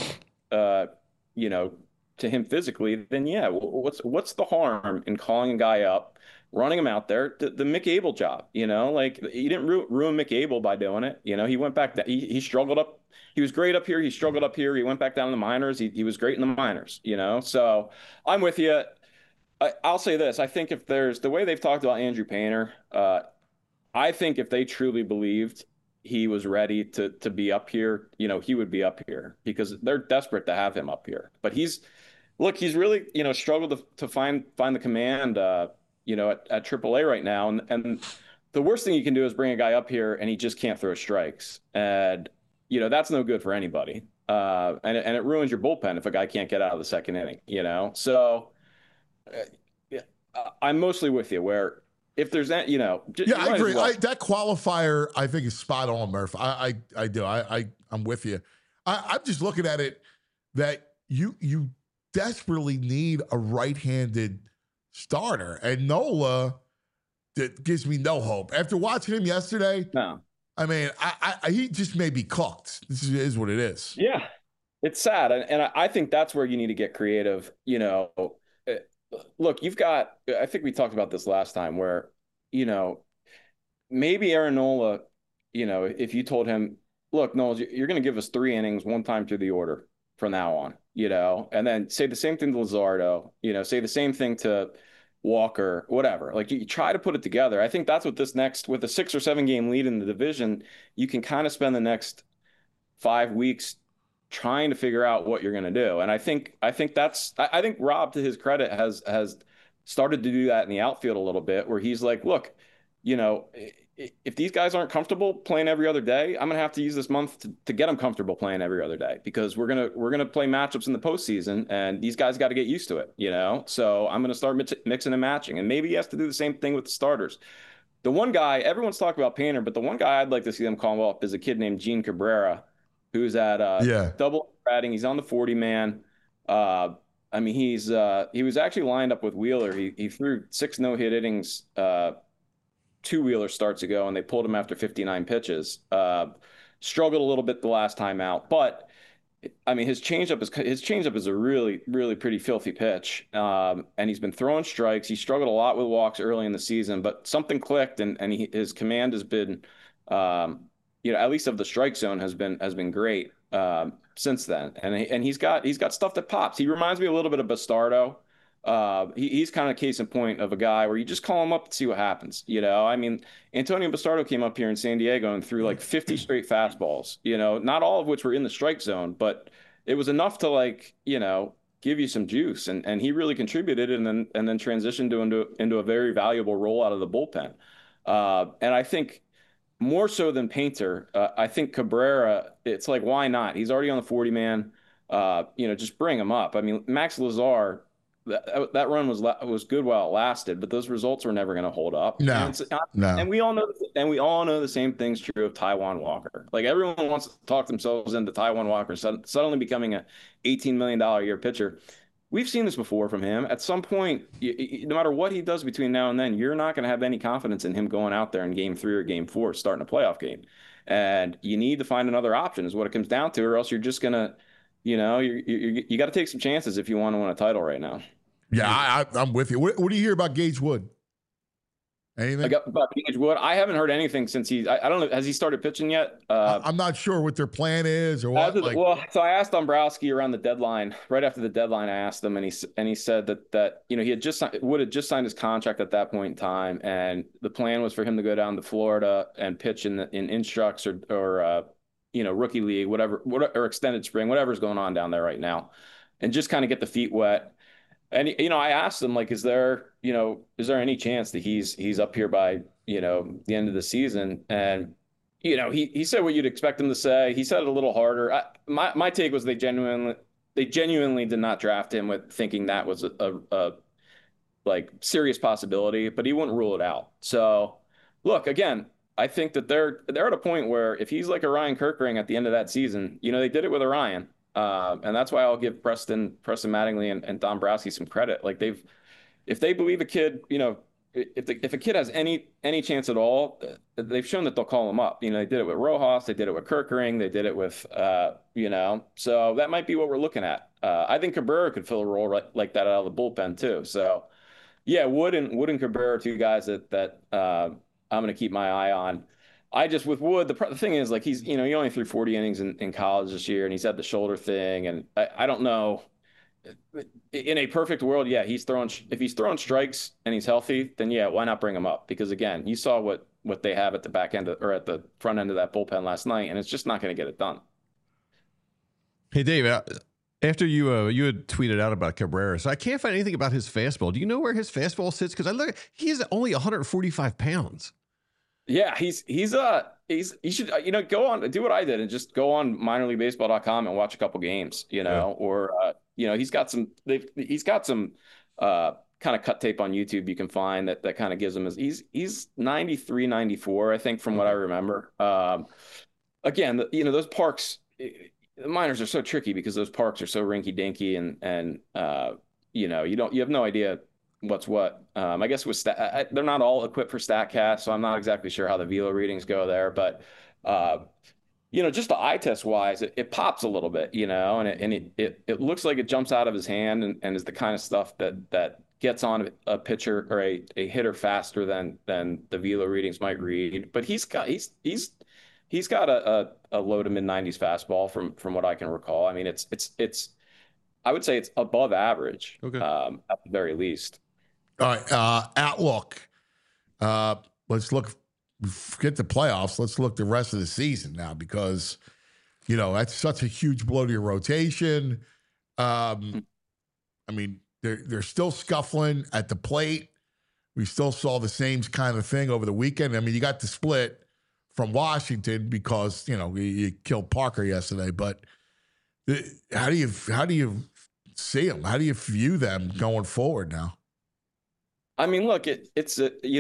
to him physically, then yeah, what's the harm in calling a guy up, running him out there, the Mick Abel job, like he didn't ruin Mick Abel by doing it. He went back, he struggled up. He was great up here. He struggled up here. He went back down in the minors. He was great in the minors, so I'm with you. I'll say this. I think if there's the way they've talked about Andrew Painter, I think if they truly believed he was ready to be up here, he would be up here because they're desperate to have him up here. But he's really, struggled to find the command, at AAA right now. And the worst thing you can do is bring a guy up here and he just can't throw strikes. And, that's no good for anybody. And it ruins your bullpen if a guy can't get out of the second inning, So I'm mostly with you where if there's that, I agree. That qualifier, I think, is spot on, Murph. I do. I'm with you. I'm just looking at it that you desperately need a right-handed starter. And Nola, that gives me no hope. After watching him yesterday, No. I mean, he just may be cooked. This is what it is. Yeah, it's sad, and I think that's where you need to get creative. Look, you've got. I think we talked about this last time, where maybe Aaron Nola, if you told him, look, Nola, you're going to give us 3 innings one time through the order from now on, and then say the same thing to Luzardo, say the same thing to Walker, whatever. Like you try to put it together. I think that's what with a 6 or 7 game lead in the division, you can kind of spend the next 5 weeks trying to figure out what you're going to do. And I think Rob, to his credit, has started to do that in the outfield a little bit, where he's like, look, if these guys aren't comfortable playing every other day, I'm going to have to use this month to get them comfortable playing every other day, because we're going to play matchups in the postseason, and these guys got to get used to it, So I'm going to start mixing and matching, and maybe he has to do the same thing with the starters. The one guy, everyone's talking about Painter, but the one guy I'd like to see them call up is a kid named Gene Cabrera, who's at double batting. He's on the 40-man. I mean, he was actually lined up with Wheeler. He threw 6 no-hit innings 2 Wheeler starts ago, and they pulled him after 59 pitches. Struggled a little bit the last time out, but I mean, his changeup is a really, really pretty filthy pitch. And he's been throwing strikes. He struggled a lot with walks early in the season, but something clicked, and his command has been, at least of the strike zone, has been great since then. And he's got stuff that pops. He reminds me a little bit of Bastardo. He's kind of case in point of a guy where you just call him up and see what happens. I mean, Antonio Bastardo came up here in San Diego and threw like 50 straight fastballs, not all of which were in the strike zone, but it was enough to give you some juice. And he really contributed and then transitioned into a very valuable role out of the bullpen. And I think more so than Painter, I think Cabrera, it's like, why not? He's already on the 40-man, just bring him up. I mean, Max Lazar, that run was good while it lasted, but those results were never going to hold up. No. And we all know the same thing's true of Taijuan Walker. Like, everyone wants to talk themselves into Taijuan Walker suddenly becoming a $18 million a year pitcher. We've seen this before from him. At some point, no matter what he does between now and then, you're not going to have any confidence in him going out there in game 3 or game 4, starting a playoff game. And you need to find another option is what it comes down to, or else you're just going to, you got to take some chances if you want to win a title right now. Yeah, I'm with you. What do you hear about Gage Wood? Anything? About Gage Wood? I haven't heard anything since I don't know. Has he started pitching yet? I'm not sure what their plan is or what. So I asked Dombrowski around the deadline. Right after the deadline, I asked him, and he said that Wood had just signed his contract at that point in time, and the plan was for him to go down to Florida and pitch in instructs or rookie league, whatever, or extended spring, whatever's going on down there right now, and just kind of get the feet wet. And I asked him, like, is there any chance that he's up here by the end of the season? And he said what you'd expect him to say. He said it a little harder. My take was they genuinely did not draft him with thinking that was a serious possibility, but he wouldn't rule it out. So look, again, I think that they're at a point where if he's like a Ryan Kirkering at the end of that season, they did it with Orion. And that's why I'll give Preston Mattingly and Dombrowski some credit. Like, if they believe a kid, if a kid has any chance at all, they've shown that they'll call him up. They did it with Rojas, they did it with Kirkering, they did it with, so that might be what we're looking at. I think Cabrera could fill a role like that out of the bullpen too. So yeah, Wood and Cabrera are 2 guys that I'm going to keep my eye on. With Wood, the thing is, like, he only threw 40 innings in college this year, and he's had the shoulder thing, and I don't know. In a perfect world, yeah, if he's throwing strikes and he's healthy, then yeah, why not bring him up? Because again, you saw what they have at the back end or at the front end of that bullpen last night, and it's just not going to get it done. Hey, Dave, after you had tweeted out about Cabrera, so I can't find anything about his fastball. Do you know where his fastball sits? Because he's only 145 pounds. Yeah, you should go on, do what I did and just go on minorleaguebaseball.com and watch a couple games, or he's got some kind of cut tape on YouTube you can find that kind of gives him he's 93, 94, I think, from what I remember. Again, those parks, the minors are so tricky because those parks are so rinky dinky and you have no idea what's what. I guess with they're not all equipped for StatCast, so I'm not exactly sure how the velo readings go there. But just the eye test wise, it pops a little bit, and it looks like it jumps out of his hand and is the kind of stuff that gets on a pitcher or a hitter faster than the velo readings might read. But he's got a low to mid 90s fastball from what I can recall. I mean, it's I would say it's above average, Okay. At the very least. All right, outlook. Let's look. Forget the playoffs. Let's look the rest of the season now, because that's such a huge blow to your rotation. I mean, they're still scuffling at the plate. We still saw the same kind of thing over the weekend. I mean, you got the split from Washington because you killed Parker yesterday. But how do you see them? How do you view them going forward now? I mean, look, it's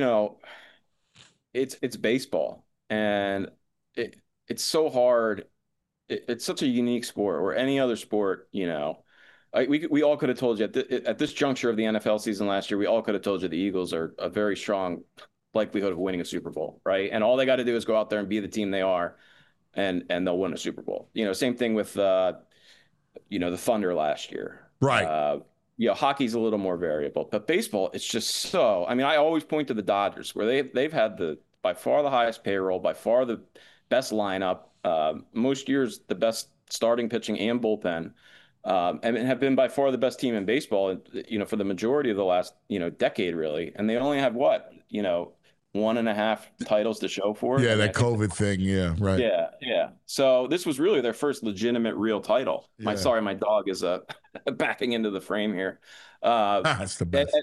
baseball, and it's so hard. It's such a unique sport, or any other sport, we all could have told you at this juncture of the NFL season last year, we all could have told you the Eagles are a very strong likelihood of winning a Super Bowl, right? And all they got to do is go out there and be the team they are, and they'll win a Super Bowl. Same thing with the Thunder last year. Right. Hockey's a little more variable, but baseball, it's just so. I mean, I always point to the Dodgers, where they've had by far the highest payroll, by far the best lineup, most years the best starting pitching and bullpen, and have been by far the best team in baseball, for the majority of the last decade, really. And they only have 1.5 titles to show for it. Yeah, that COVID thing. Yeah, right. Yeah. So this was really their first legitimate real title. Yeah. My dog is backing into the frame here. That's the best.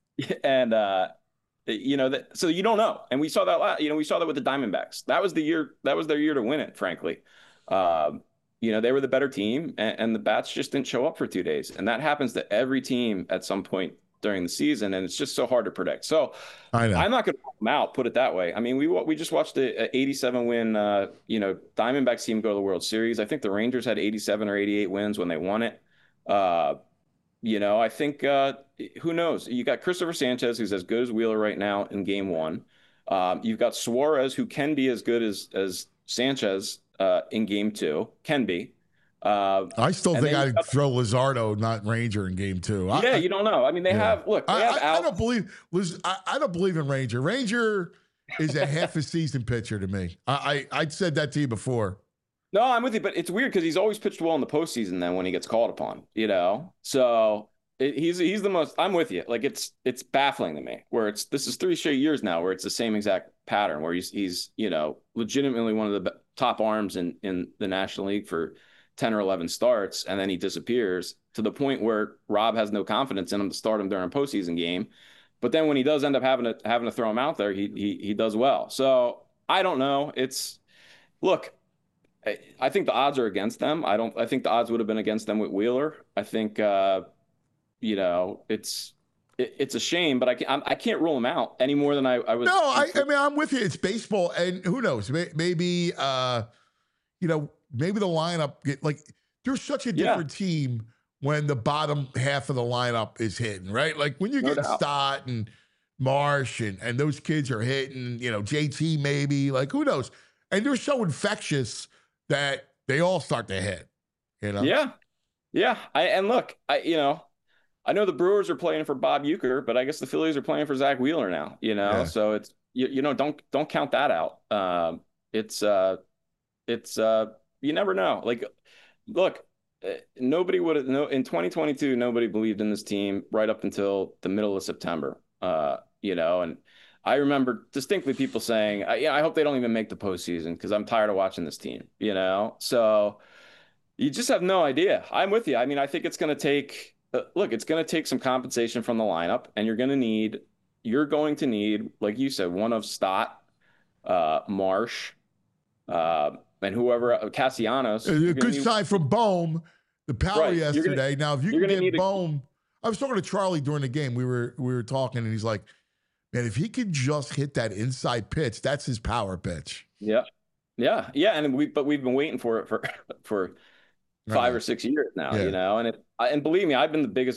So you don't know. And we saw that we saw that with the Diamondbacks. That was their year to win it, frankly. They were the better team, and the bats just didn't show up for 2 days. And that happens to every team at some point during the season, and it's just so hard to predict. So I know. I'm not going to rule them out, put it that way. I mean, we just watched a 87 win, Diamondbacks team go to the World Series. I think the Rangers had 87 or 88 wins when they won it. I think who knows? You got Christopher Sanchez, who's as good as Wheeler right now in Game 1. You've got Suarez, who can be as good as Sanchez in Game 2, can be. I still think I'd throw Luzardo, not Ranger, in Game 2. You don't know. I mean, I don't believe in Ranger. Ranger is a half a season pitcher to me. I said that to you before. No, I'm with you, but it's weird because he's always pitched well in the postseason. Then when he gets called upon, so he's the most. I'm with you. Like it's baffling to me. This is 3 straight years now where it's the same exact pattern where he's legitimately one of the top arms in the National League for 10 or 11 starts, and then he disappears to the point where Rob has no confidence in him to start him during a postseason game. But then when he does end up having to throw him out there, he does well. So I don't know. Look, I think the odds are against them. I think the odds would have been against them with Wheeler. I think it's a shame, but I can't rule them out any more than I was. No, I mean, I'm with you. It's baseball, and who knows? Maybe maybe the lineup there's such a different team when the bottom half of the lineup is hitting, right? Like when you get Stott and Marsh and those kids are hitting, JT maybe, who knows? And they're so infectious that they all start to hit, Yeah. I know the Brewers are playing for Bob Uecker, but I guess the Phillies are playing for Zach Wheeler now, Yeah. So it's don't count that out. It's you never know. Look, nobody would have in 2022. Nobody believed in this team right up until the middle of September. And I remember distinctly people saying, I hope they don't even make the postseason because I'm tired of watching this team. So you just have no idea. I'm with you. I mean, I think it's going to take. It's going to take some compensation from the lineup, and you're going to need, like you said, one of Stott, Marsh. And whoever Castellanos. A good sign from Bohm, the power yesterday. Now, if you can get Bohm, I was talking to Charlie during the game. We were talking, and he's like, "Man, if he could just hit that inside pitch, that's his power pitch." Yeah. And we've been waiting for it for 5 or 6 years now. And believe me, I've been the biggest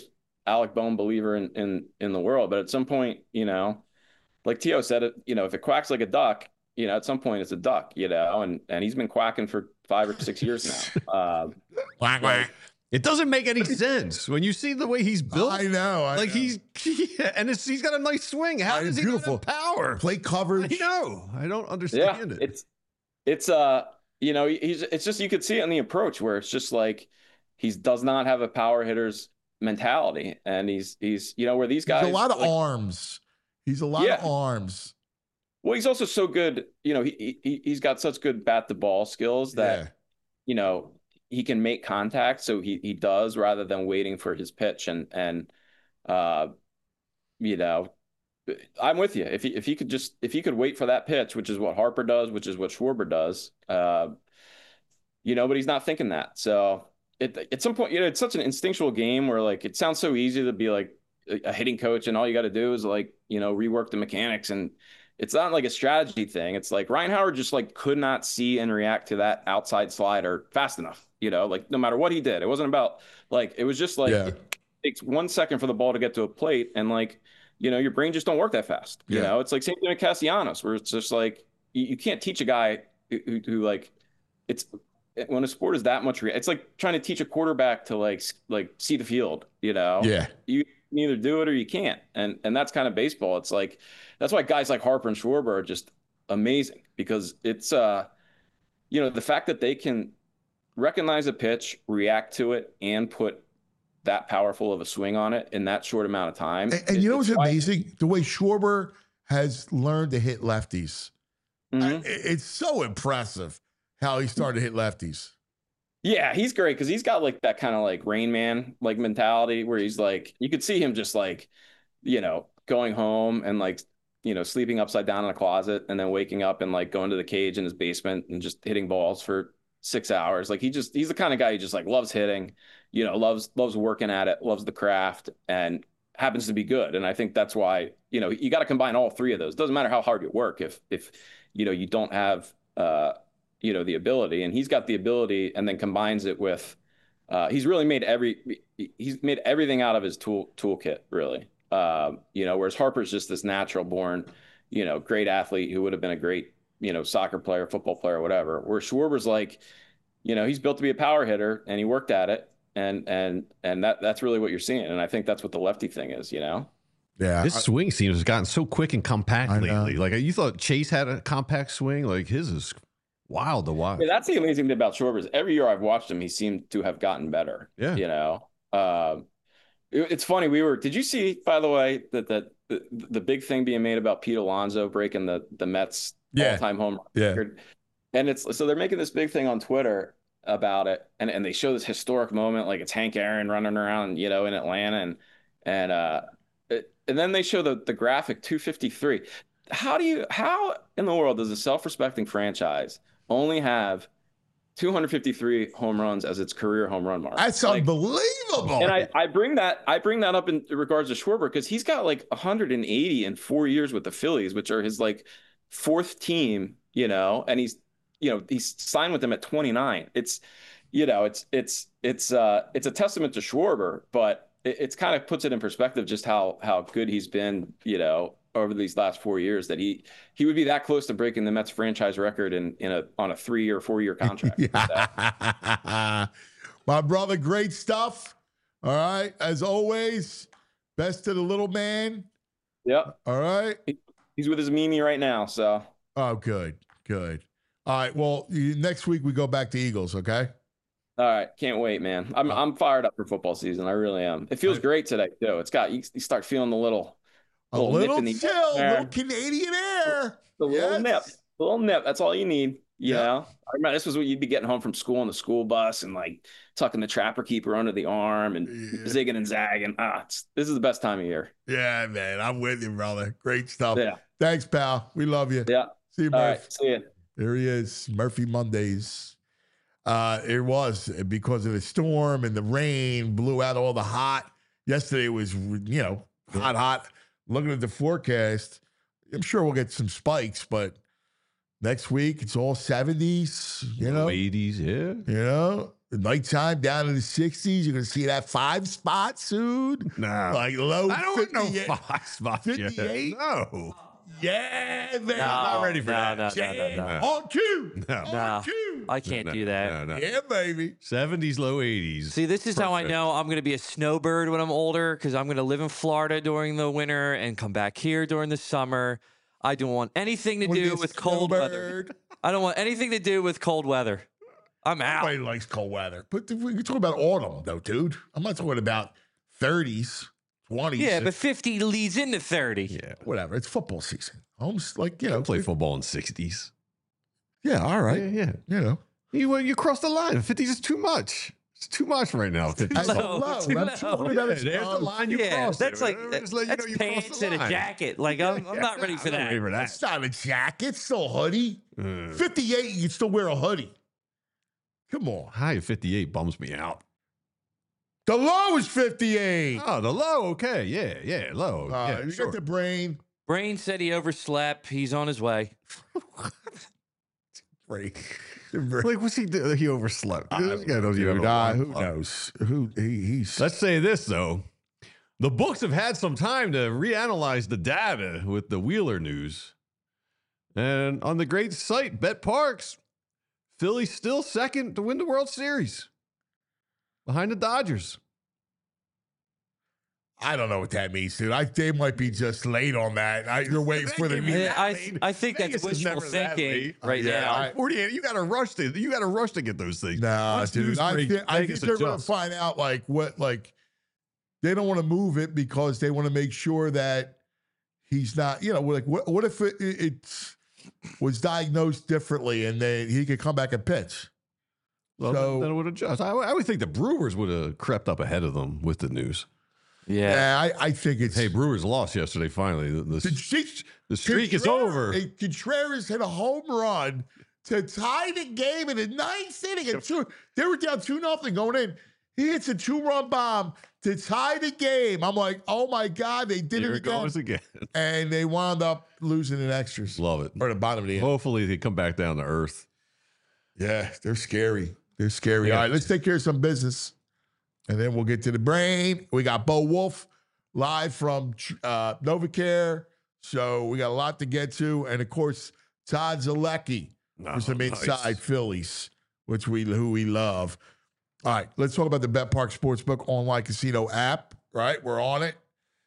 Alec Bohm believer in the world, but at some point, like Tio said, if it quacks like a duck, at some point it's a duck, and he's been quacking for 5 or 6 years now. Quack, quack. It doesn't make any sense when you see the way he's built. I know. He's got a nice swing. How does he beautiful have power? Plate coverage. I know. I don't understand it. It's it's just, you could see it in the approach where it's just like he does not have a power hitter's mentality, and he's where these guys, he's a lot of arms. He's a lot of arms. Well, he's also so good. He's got such good bat to ball skills that he can make contact. So he does, rather than waiting for his pitch. And I'm with you. If he could wait for that pitch, which is what Harper does, which is what Schwarber does, but he's not thinking that. So at some point, it's such an instinctual game where, like, it sounds so easy to be like a hitting coach and all you got to do is, like, rework the mechanics, and it's not like a strategy thing. It's like Ryan Howard just, like, could not see and react to that outside slider fast enough, like, no matter what he did. It wasn't about, like, it was just like, it takes 1 second for the ball to get to a plate, and, like, your brain just don't work that fast. It's like same thing with Castellanos, where it's just like, you can't teach a guy who like, it's when a sport is that much, it's like trying to teach a quarterback to like see the field, You can either do it or you can't. And that's kind of baseball. It's like, that's why guys like Harper and Schwarber are just amazing, because it's, the fact that they can recognize a pitch, react to it, and put that powerful of a swing on it in that short amount of time. And what's amazing? The way Schwarber has learned to hit lefties. Mm-hmm. It's so impressive how he started to hit lefties. Yeah, he's great because he's got like that kind of like Rain Man like mentality where he's like, you could see him just like, going home and like, sleeping upside down in a closet and then waking up and like going to the cage in his basement and just hitting balls for 6 hours. Like he's the kind of guy who just like loves hitting, loves working at it, loves the craft, and happens to be good. And I think that's why, you got to combine all three of those. It doesn't matter how hard you work if you don't have the ability, and he's got the ability, and then combines it with he's made everything out of his toolkit, really. Whereas Harper's just this natural born, great athlete who would have been a great, soccer player, football player, whatever. Where Schwarber's like, he's built to be a power hitter, and he worked at it, and that's really what you're seeing. And I think that's what the lefty thing is, Yeah, his swing seems has gotten so quick and compact lately. Like, you thought Chase had a compact swing, like his is wild to watch. Yeah, that's the amazing thing about Schwarber is every year I've watched him, he seemed to have gotten better. Yeah, it's funny. Did you see, by the way, that the big thing being made about Pete Alonso breaking the Mets all-time home run record? And so they're making this big thing on Twitter about it, and they show this historic moment, like it's Hank Aaron running around, in Atlanta, and then they show the graphic 253. How in the world does a self-respecting franchise only have 253 home runs as its career home run mark? That's unbelievable. And I bring that up in regards to Schwarber because he's got like 180 in 4 years with the Phillies, which are his like fourth team, and he's signed with them at 29. It's a testament to Schwarber, but it's kind of puts it in perspective just how good he's been, over these last 4 years, that he would be that close to breaking the Mets franchise record on a 3 or 4 year contract. My brother, great stuff. All right. As always, best to the little man. Yep. All right. He's with his Mimi right now. So. Oh, good. All right. Well, next week we go back to Eagles. Okay. All right. Can't wait, man. I'm fired up for football season. I really am. It feels great today too. You start feeling a little chill, little Canadian air. The little nip. That's all you need. I remember this was what you'd be getting home from school on the school bus and like tucking the trapper keeper under the arm and zigging and zagging. This is the best time of year. Yeah, man. I'm with you, brother. Great stuff. Yeah. Thanks, pal. We love you. Yeah. See you, Murph. All right. See you. There he is. Murphy Mondays. It was because of the storm and the rain blew out all the hot. Yesterday was, hot. Looking at the forecast, I'm sure we'll get some spikes, but Next week, it's all 70s, you know. 80s, yeah. You know, the nighttime down in the 60s. You're going to see that 5 spot soon. No. Like low I don't want 58. no 5 spots yet. 58? No. Yeah, man. No, I'm not ready for that. No. On cue. No. On cue. I can't do that. No. Yeah, baby. 70s, low 80s. See, this is how I Perfect. know I'm going to be a snowbird when I'm older because I'm going to live in Florida during the winter and come back here during the summer. I don't want anything to do with cold weather. I don't want anything to do with cold weather. I'm out. Everybody likes cold weather. But we're talking about autumn, though, dude. I'm not talking about 30s, 20s. Yeah, but 50 leads into 30. Yeah. Whatever. It's football season. Almost like, you know. Play football in 60s. Yeah, all right. Yeah. You know. You cross the line. 50s is too much. It's too much right now. 50s. That's low. low. Too I'm low. talking about There's the line you Yeah, cross. that's like Just let you know that's you crossed pants the and a line. jacket. Like I'm not ready for I'm not that. ready for that. It's not a jacket. It's still a hoodie. 58. 58, you can still wear a hoodie. Come on. High of 58 bums me out. The low is 58. Oh, the low, okay. Yeah, low. Yeah, You sure. got the brain. Brain said he overslept. He's on his way. Brain. Like, what's he do? He overslept. This guy knows you have Dude, an alarm who clock. knows? He's. Let's say this, though. The books have had some time to reanalyze the data with the Wheeler news. And on the great site, Bet Parks, Philly's still second to win the World Series behind the Dodgers. I don't know what that means, dude. They might be just late on that. You're waiting for the Yeah, I think Vegas that's is wishful never that thinking late. right Yeah, now. 48. You got to rush to. You got to rush to get those things. Nah, Once dude. news I break, think Vegas they're going to adjusts. find out they don't want to move it because they want to make sure that he's not. You know, like what if it was diagnosed differently and he could come back and pitch? Well, So- then it would adjust. I would think the Brewers would have crept up ahead of them with the news. Yeah. I think it's. Hey, Brewers lost yesterday. Finally, the streak is Contreras- over. Contreras hit a home run to tie the game in the ninth inning. They were down 2-0 going in. He hits a 2-run bomb to tie the game. I'm like, oh my God, they did Here it it goes again. again. And they wound up losing in extras. Love it. Or the bottom of the end. Hopefully, they come back down to earth. Yeah, they're scary. They're scary. Yeah. All right, let's take care of some business. And then we'll get to the brain. We got Bo Wolf live from NovaCare. So we got a lot to get to. And of course, Todd Zalecki for some inside Phillies, who we love. All right, let's talk about the Bet Park Sportsbook online casino app, right? We're on it.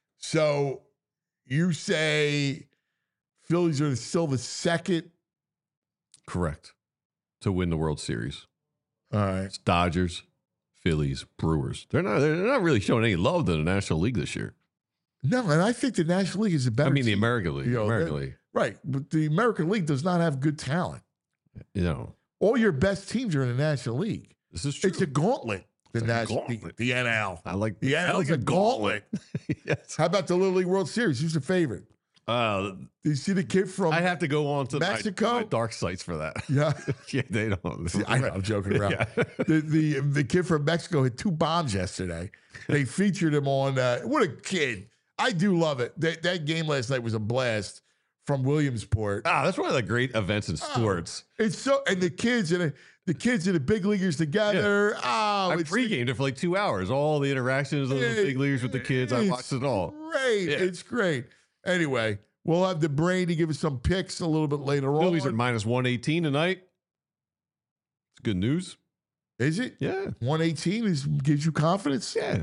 So you say Phillies are still the second. Correct. To win the World Series. All right. It's Dodgers, Phillies, Brewers. They're not really showing any love to the National League this year. No, and I think the National League is a better I mean, the team. American League. You know, American League. Right. But the American League does not have good talent. You know, All your best teams are in the National League. this is true. It's a gauntlet. The It's a National gauntlet. the NL. I like The NL is a gauntlet. Yes. How about the Little League World Series? Who's the favorite? Uh, Do you see the kid from I have to go on to Mexico? my dark sites for that. Yeah. Yeah, they don't. See, I know, I'm joking around. Yeah. The kid from Mexico hit 2 bombs yesterday. They featured him on what a kid. I do love it. That game last night was a blast from Williamsport. That's one of the great events in sports. It's so and the kids and the big leaguers together. Oh, I it's pre-gamed it for like 2 hours. All the interactions of the big leaguers with the kids. I watched it all. Great. Yeah. It's great. Anyway, we'll have the brain to give us some picks a little bit later Phillies on. at minus 118 tonight. It's good news. Is it? Yeah. 118 gives you confidence? Yeah.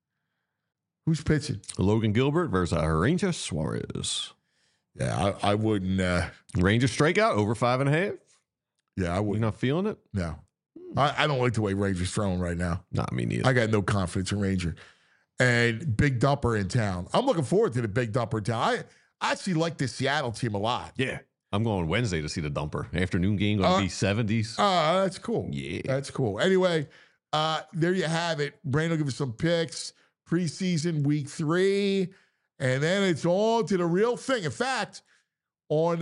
Who's pitching? Logan Gilbert versus Rangers Suarez. Yeah, I wouldn't. Rangers strikeout over 5.5. Yeah, I You wouldn't. not feeling it? No. I don't like the way Ranger's throwing right now. Not me neither. I got no confidence in Ranger. And Big Dumper in town. I'm looking forward to the Big Dumper in town. I actually like the Seattle team a lot. Yeah. I'm going Wednesday to see the dumper. Afternoon game going to be 70s. Oh, that's cool. Yeah. That's cool. Anyway, there you have it. Brain will give us some picks. Preseason week 3. And then it's on to the real thing. In fact, we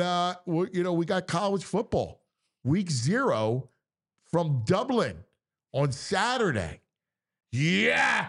got college football. Week 0 from Dublin on Saturday. Yeah.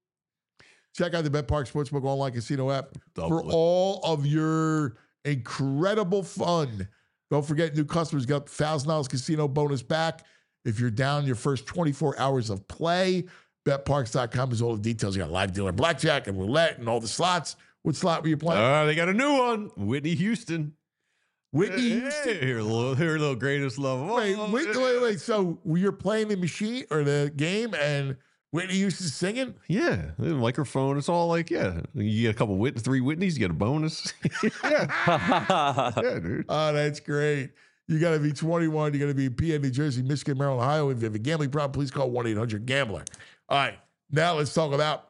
Check out the Bet Park Sportsbook online casino app for Dublin. all of your incredible fun Don't forget, new customers got $1,000 casino bonus back if you're down your first 24 hours of play. BetParks.com has all the details. You got live dealer blackjack and roulette and all the slots. What slot were you playing? They got a new one. Whitney Houston. Whitney Houston? Here, a little greatest love. Wait. So you're playing the machine or the game and Whitney Houston's singing? Yeah, the microphone. It's all like, yeah. You get a couple three Whitneys, you get a bonus. yeah, dude. Oh, that's great. You got to be 21. You got to be in PA, New Jersey, Michigan, Maryland, Ohio. If you have a gambling problem, please call 1-800-GAMBLER. All right, now let's talk about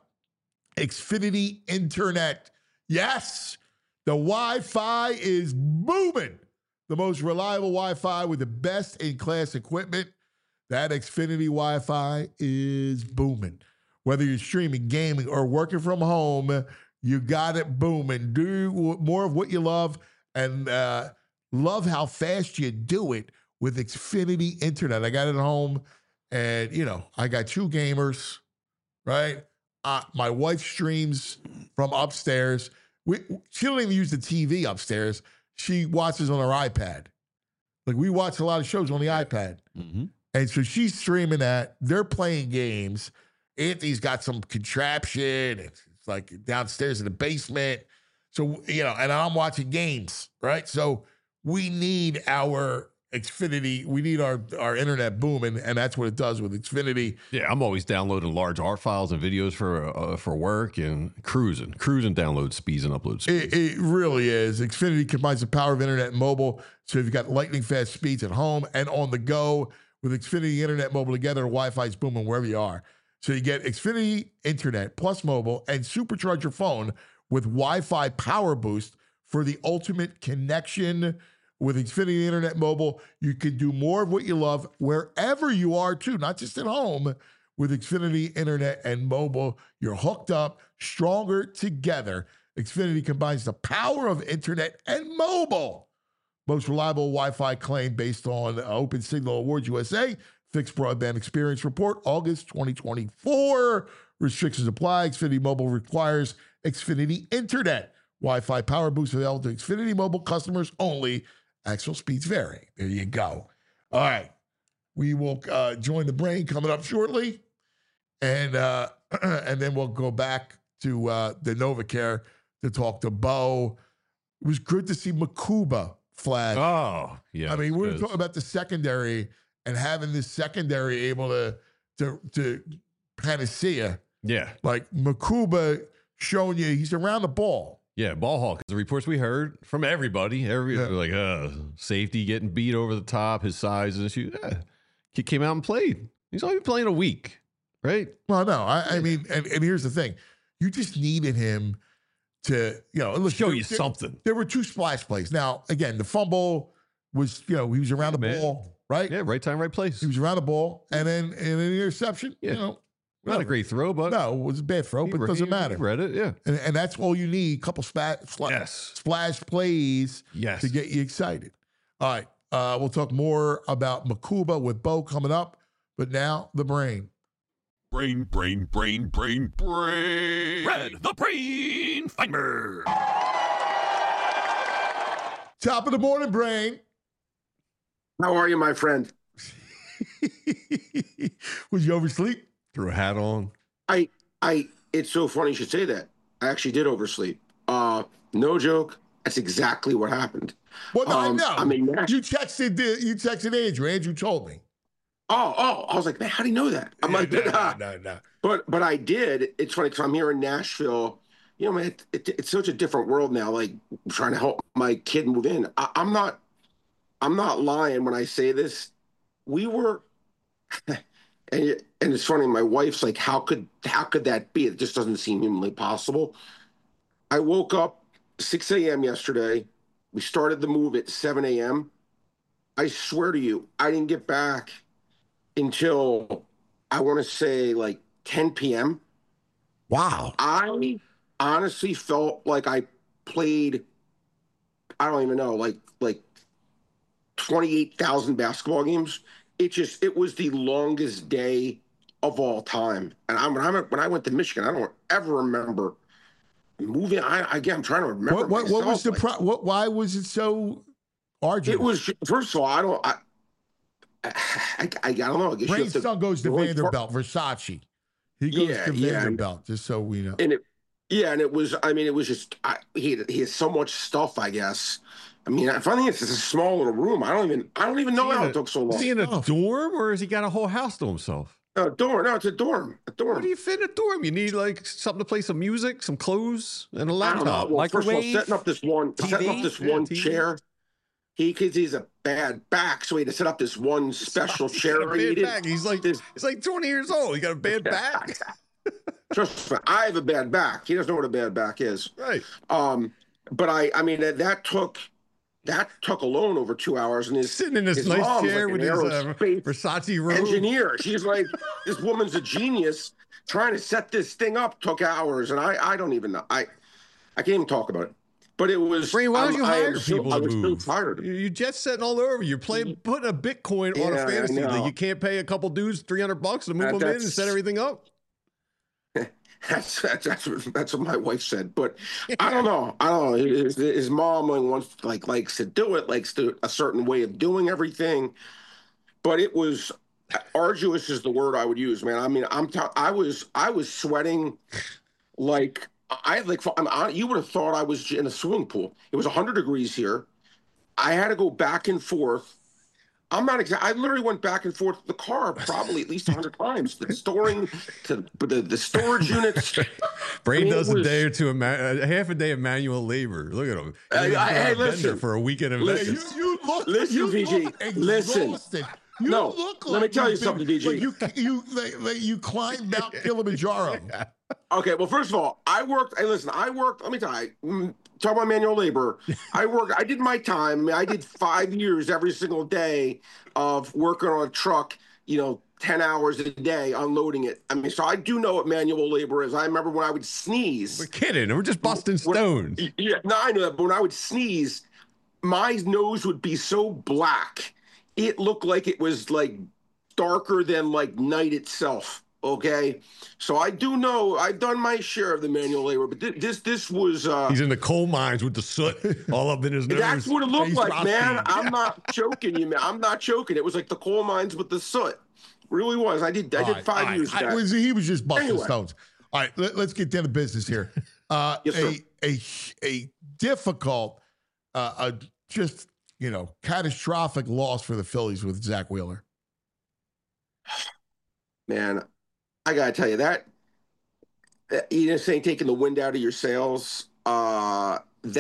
Xfinity Internet. Yes, the Wi-Fi is booming. The most reliable Wi-Fi with the best-in-class equipment. That Xfinity Wi-Fi is booming. Whether you're streaming, gaming, or working from home, you got it booming. Do more of what you love and love how fast you do it with Xfinity Internet. I got it at home, and, I got 2 gamers, right? My wife streams from upstairs. She don't even use the TV upstairs. She watches on her iPad. Like, we watch a lot of shows on the iPad. Mm-hmm. And so she's streaming that. They're playing games. Anthony's got some contraption. It's like downstairs in the basement. So, and I'm watching games, right? So we need our Xfinity. We need our internet booming, and that's what it does with Xfinity. Yeah, I'm always downloading large art files and videos for work and cruising download speeds and upload speeds. It really is. Xfinity combines the power of internet and mobile. So if you've got lightning fast speeds at home and on the go, with Xfinity Internet Mobile together, Wi-Fi is booming wherever you are. So you get Xfinity Internet plus mobile and supercharge your phone with Wi-Fi Power Boost for the ultimate connection. With Xfinity Internet Mobile, you can do more of what you love wherever you are, too, not just at home. With Xfinity Internet and Mobile, you're hooked up, stronger together. Xfinity combines the power of internet and mobile. Most reliable Wi-Fi claim based on Open Signal Awards USA. Fixed Broadband Experience Report, August 2024. Restrictions apply. Xfinity Mobile requires Xfinity Internet. Wi-Fi Power Boost available to Xfinity Mobile customers only. Actual speeds vary. There you go. All right. We will join the brain coming up shortly. And then we'll go back to the NovaCare to talk to Bo. It was good to see Makuba flash. Oh, yeah. I mean, we're talking about the secondary and having this secondary able to kind of see you. Yeah. Like Makuba showing you he's around the ball. Yeah, ball hawk. The reports we heard from everybody, like safety getting beat over the top, his size and issue. Yeah. He came out and played. He's only been playing a week, right? Well, no, I mean, and here's the thing. You just needed him to, show you something. There were 2 splash plays. Now, again, the fumble was, he was around the ball, right? Yeah, right time, right place. He was around the ball, and then an interception, Not a great throw, but no, it was a bad throw, but it doesn't matter. Read it, yeah. And that's all you need, a couple splash plays to get you excited. All right, we'll talk more about Makuba with Bo coming up, but now the brain. Brain. Red, the brain finder. Top of the morning, brain. How are you, my friend? Was you oversleep? Threw a hat on. It's so funny you should say that. I actually did oversleep. No joke. That's exactly what happened. Well, no, I know. I mean, you texted Andrew. Andrew told me. Oh, I was like, man, how do you know that? I'm like, no. But I did. It's funny because I'm here in Nashville. Man, it's such a different world now. Like, I'm trying to help my kid move in. I'm not lying when I say this. We were, and it's funny. My wife's like, how could that be? It just doesn't seem humanly possible. I woke up 6 a.m. yesterday. We started the move at 7 a.m. I swear to you, I didn't get back until I want to say like 10 p.m. Wow. I honestly felt like I played, I don't even know, like 28,000 basketball games. It was the longest day of all time. And when I went to Michigan, I don't ever remember moving. I'm trying to remember. What was the why was it so Arduous. It was, first of all, I don't know. I guess Brain's son goes to Vanderbilt, Versace. He goes to Vanderbilt, just so we know. And it was, I mean, it was just, he has so much stuff, I guess. I mean, I think it's just a small little room. I don't even know how it took so long. Is he in a dorm, or has he got a whole house to himself? No, dorm. No, it's a dorm. How do you fit in a dorm? You need like something to play some music, some clothes, and a laptop. Well, first of all, microwave, setting up this one TV. chair. Because he's a bad back, so he had to set up this one special chair. He's like 20 years old. He got a bad back. Trust me, I have a bad back. He doesn't know what a bad back is. Right. But I mean, that took alone over 2 hours, and his sitting in this his nice mom's chair like with an his aerospace Versace robe. engineer. She's like, this woman's a genius. Trying to set this thing up took hours, and I don't even know. I can't even talk about it. But it was. Brain, why don't you hire people to move? I was so tired. You're jet setting all over. You're putting a Bitcoin on a fantasy league. You can't pay a couple dudes $300 to move them in and set everything up. That's what my wife said, but I don't know. His mom likes to do it, likes to a certain way of doing everything, but it was arduous is the word I would use, man. I mean, I was sweating like you would have thought I was in a swimming pool. It was 100 degrees here. I had to go back and forth. I literally went back and forth to the car probably at least 100 times. The storage units. Brain does a day or two, half a day of manual labor. Look at him. Hey, listen. For a weekend in Vegas. Listen, PG. Listen. Let me tell you something, PG. You climbed Mount Kilimanjaro. Okay, well, first of all, I worked. Let me tell you. Talk about manual labor. I did my time. I mean, I did 5 years every single day of working on a truck, 10 hours a day unloading it. I mean, so I do know what manual labor is. I remember when I would sneeze. We're kidding. We're just busting stones. Yeah, no, I know that. But when I would sneeze, my nose would be so black. It looked like it was like darker than like night itself. Okay, so I do know I've done my share of the manual labor, but this was. He's in the coal mines with the soot all up in his nose. That's what it looked like, man. I'm not joking, you man. I'm not joking. It was like the coal mines with the soot. Really was. I did 5 years back. He was just busting stones. All right, let's get down to business here. Yes, a difficult, catastrophic loss for the Phillies with Zack Wheeler. Man, I gotta tell you that saying taking the wind out of your sails. I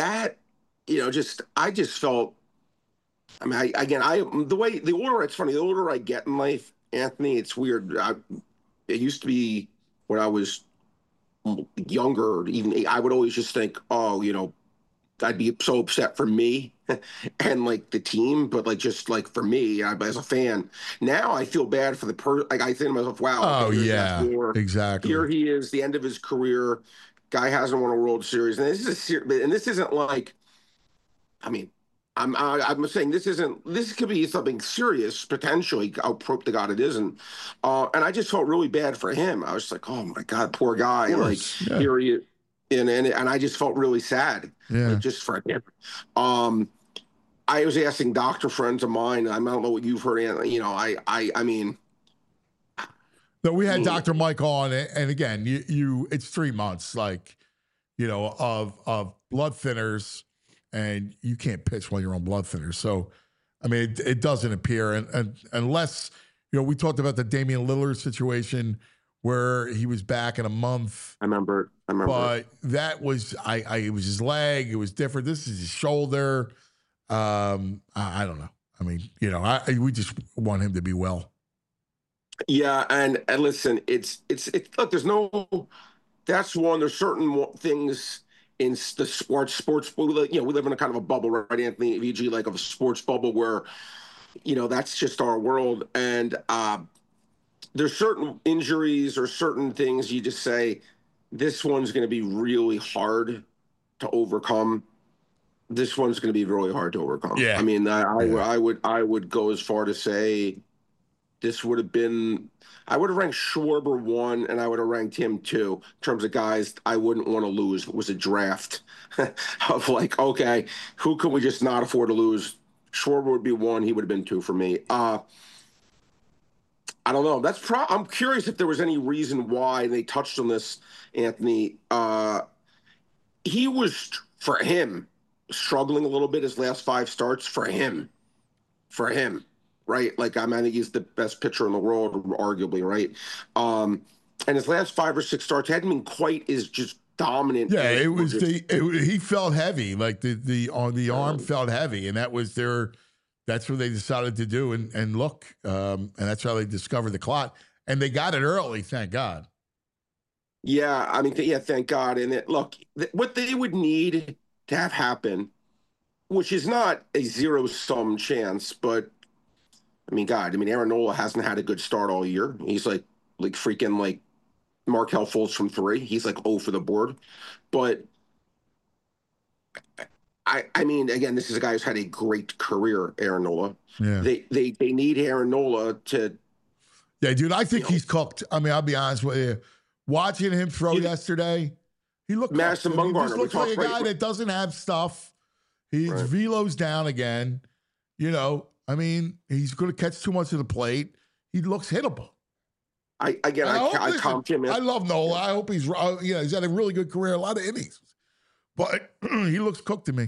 just felt. I mean, the older it's funny. The older I get in life, Anthony, it's weird. It used to be when I was younger. Even I would always just think, I'd be so upset for me and like the team, but just for me as a fan. Now I feel bad for the person. Like I think to myself, wow. Oh yeah, exactly. Here he is, the end of his career. Guy hasn't won a World Series, and this isn't like. I mean, I'm saying this isn't. This could be something serious potentially. I'll hope to God it isn't. And I just felt really bad for him. I was like, oh my God, poor guy. Here he is. And I just felt really sad, just for him. I was asking doctor friends of mine. I don't know what you've heard. I mean, no, we had Dr. Mike on, and again, it's 3 months, of blood thinners, and you can't pitch while you're on blood thinners. So, I mean, it doesn't appear, and unless we talked about the Damian Lillard situation where he was back in a month. I remember. But that was it was his leg. It was different. This is his shoulder. I don't know. I mean, we just want him to be well. Yeah, and listen, it's look. There's no. That's one. There's certain things in the sports. We live in a kind of a bubble, right, Anthony VG, like of a sports bubble where, that's just our world, and there's certain injuries or certain things you just say, this one's going to be really hard to overcome. This one's going to be really hard to overcome. Yeah. I mean, I would go as far to say this would have been. I would have ranked Schwarber 1, and I would have ranked him 2 in terms of guys I wouldn't want to lose. It was a draft of okay, who can we just not afford to lose? Schwarber would be 1. He would have been 2 for me. I don't know. I'm curious if there was any reason why they touched on this, Anthony. He was, for him, struggling a little bit his last 5 starts for him, right? Like, I think he's the best pitcher in the world, arguably, right? And his last 5 or 6 starts hadn't been quite as just dominant. Yeah, it was he felt heavy, like the arm felt heavy, and that's what they decided to do, and look, and that's how they discovered the clot, and they got it early, thank God. Yeah, I mean, thank God. And look, what they would need to have happen, which is not a zero-sum chance, but I mean, God, Aaron Nola hasn't had a good start all year. He's like freaking like Markelle Fultz from 3. He's like 0 for the board. But I mean, again, this is a guy who's had a great career, Aaron Nola. Yeah. They need Aaron Nola to. Yeah, dude, I think he's cooked. I mean, I'll be honest with you. Watching him throw yesterday, he looked Madison Bumgarner. He just looks like a guy that doesn't have stuff. His velo's down again. You know, I mean, he's going to catch too much of the plate. He looks hittable. I comped him. I love Nola. I hope he's he's had a really good career, a lot of innings, but he looks cooked to me.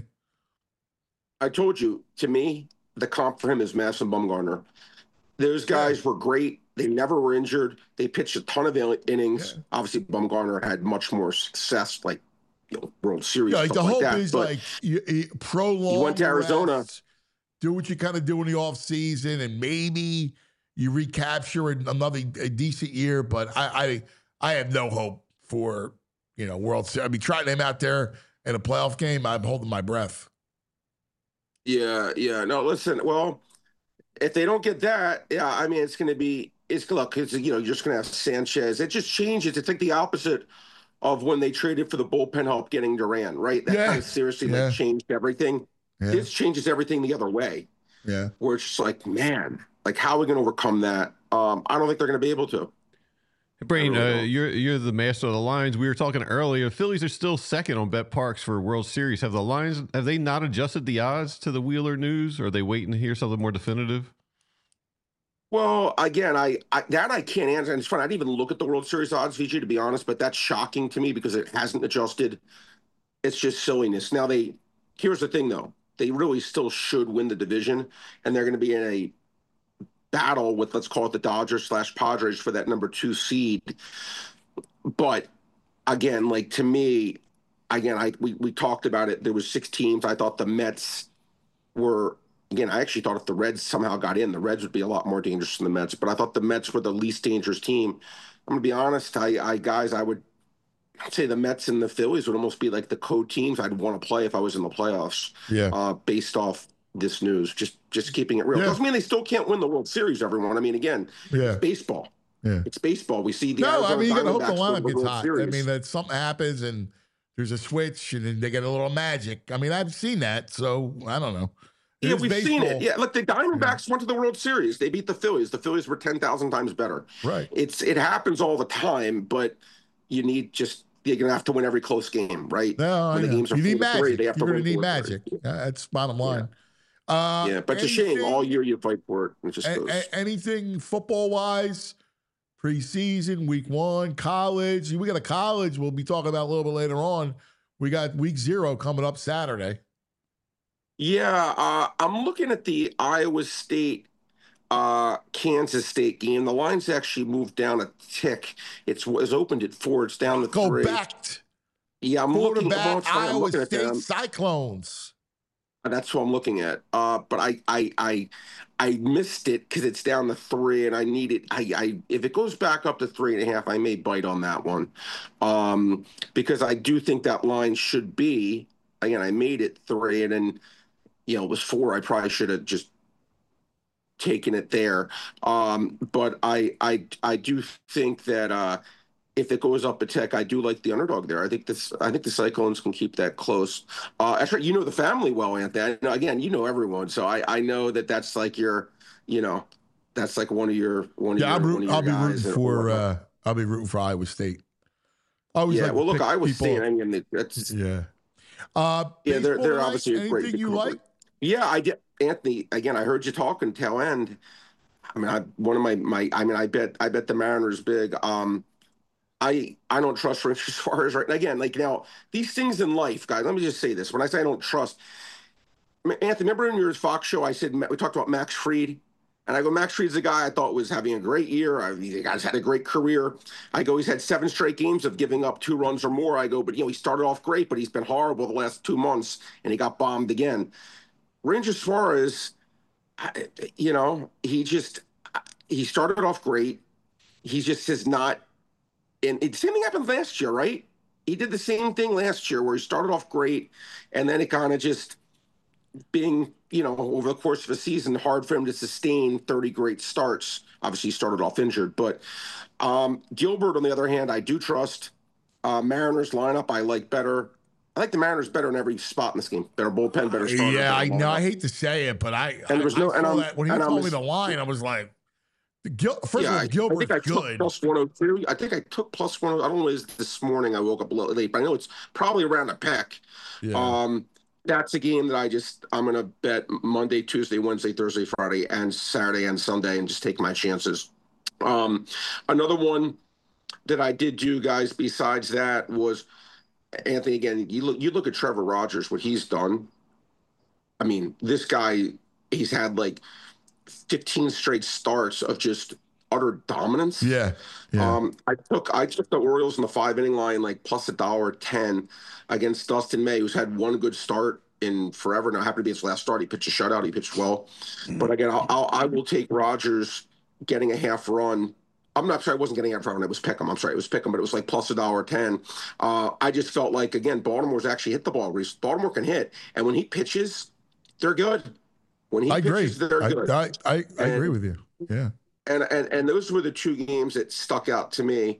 I told you, to me, the comp for him is Madison Bumgarner. Those guys were great. They never were injured. They pitched a ton of innings. Yeah. Obviously, Bumgarner had much more success, like World Series. Yeah, like the hope is like prolong. He went to Arizona. Rest, do what you kind of do in the off season, and maybe you recapture a decent year. But I have no hope for World Series. I mean, trying him out there in a playoff game, I'm holding my breath. Yeah. No, listen. Well, if they don't get that, I mean, it's going to be. Look, you're just going to have Sanchez. It just changes. It's like the opposite of when they traded for the bullpen help getting Duran, right? That kind of seriously changed everything. Yeah. This changes everything the other way. Yeah. Where it's just like, man, like, how are we going to overcome that? I don't think they're going to be able to. Hey, Brain, you're the master of the lines. We were talking earlier. Phillies are still second on BetParx for World Series. Have they not adjusted the odds to the Wheeler news? Or are they waiting to hear something more definitive? Well, again, I can't answer. And it's funny, I didn't even look at the World Series odds, VG, to be honest, but that's shocking to me because it hasn't adjusted. It's just silliness. Now, here's the thing, though. They really still should win the division, and they're going to be in a battle with, let's call it the Dodgers/Padres for that number 2 seed. But, again, like, to me, we talked about it. There was 6 teams. I thought the Mets were... Again, I actually thought if the Reds somehow got in, the Reds would be a lot more dangerous than the Mets. But I thought the Mets were the least dangerous team. I'm going to be honest, I would say the Mets and the Phillies would almost be like the co-teams I'd want to play if I was in the playoffs. Yeah. Based off this news, just keeping it real. Doesn't mean they still can't win the World Series, everyone. I mean, again, it's baseball. Yeah. It's baseball. We see the you got to hope the lineup gets hot. Series. I mean, that something happens and there's a switch and then they get a little magic. I mean, I've seen that, so I don't know. Yeah, we've seen it. Yeah, look, the Diamondbacks went to the World Series. They beat the Phillies. The Phillies were 10,000 times better. Right. It happens all the time, but you're going to have to win every close game, right? No, when the games are you need magic. They have to need magic. That's bottom line. Yeah, but it's a shame. All year you fight for it. It just goes. Anything football-wise, preseason, week 1, college. We got a college we'll be talking about a little bit later on. We got week 0 coming up Saturday. Yeah, I'm looking at the Iowa State, Kansas State game. The line's actually moved down a tick. It's opened at 4. It's down to 3. Go back. Yeah, I'm looking at Iowa State Cyclones. That's what I'm looking at. But I missed it because it's down to 3, and I need it. If it goes back up to 3.5, I may bite on that one, because I do think that line should be. Again, I made it 3, and then. It was 4. I probably should have just taken it there. But I do think that if it goes up a tick, I do like the underdog there. I think the Cyclones can keep that close. Actually, the family well, Anthony. Again, everyone, so I know that's like your, that's like one of your I'll be rooting for Iowa State. Well, look, Iowa State. I mean, that's yeah. they're obviously a great. Anything you like? Yeah, I did, Anthony. Again, I heard you talking tail end. I mean, I bet the Mariners big. I don't trust Ranger Suarez right now. Again, like now, these things in life, guys. Let me just say this: when I say I don't trust, Anthony, remember in your Fox show, I said we talked about Max Fried, and I go, Max Fried's a guy I thought was having a great year. The guy's had a great career. I go, he's had 7 straight games of giving up 2 runs or more. I go, but he started off great, but he's been horrible the last 2 months, and he got bombed again. Ranger Suarez, he started off great. He just has not. And the same thing happened last year, right? He did the same thing last year where he started off great, and then it kind of just being, over the course of a season, hard for him to sustain 30 great starts. Obviously, he started off injured. But Gilbert, on the other hand, I do trust. Mariners lineup, I like better. I like the Mariners better in every spot in this game. Better bullpen, better starter. Yeah, I know. I hate to say it, but when he told me the line, I was like, First of all, Gilbert's I good. Took plus 102. I think I took plus 102. I don't know if it's this morning. I woke up a little late, but I know it's probably around a peck. Yeah. That's a game that I'm going to bet Monday, Tuesday, Wednesday, Thursday, Friday, and Saturday and Sunday, and just take my chances. Another one that I did do, guys, besides that was, Anthony, again, you look at Trevor Rogers, what he's done. I mean, this guy, he's had like 15 straight starts of just utter dominance. Yeah. I took the Orioles in the 5-inning line, like plus $1.10 against Dustin May, who's had one good start in forever. Now, happened to be his last start. He pitched a shutout. He pitched well. But again, I will take Rogers getting a half run. I'm not sorry, I wasn't getting a half run. It was Pickham. I'm sorry, it was Pickham, but it was like plus $1.10. I just felt like, again, Baltimore's actually hit the ball. Baltimore can hit. And when he pitches, they're good. When he pitches, they're good. I agree with you. Yeah. And those were the 2 games that stuck out to me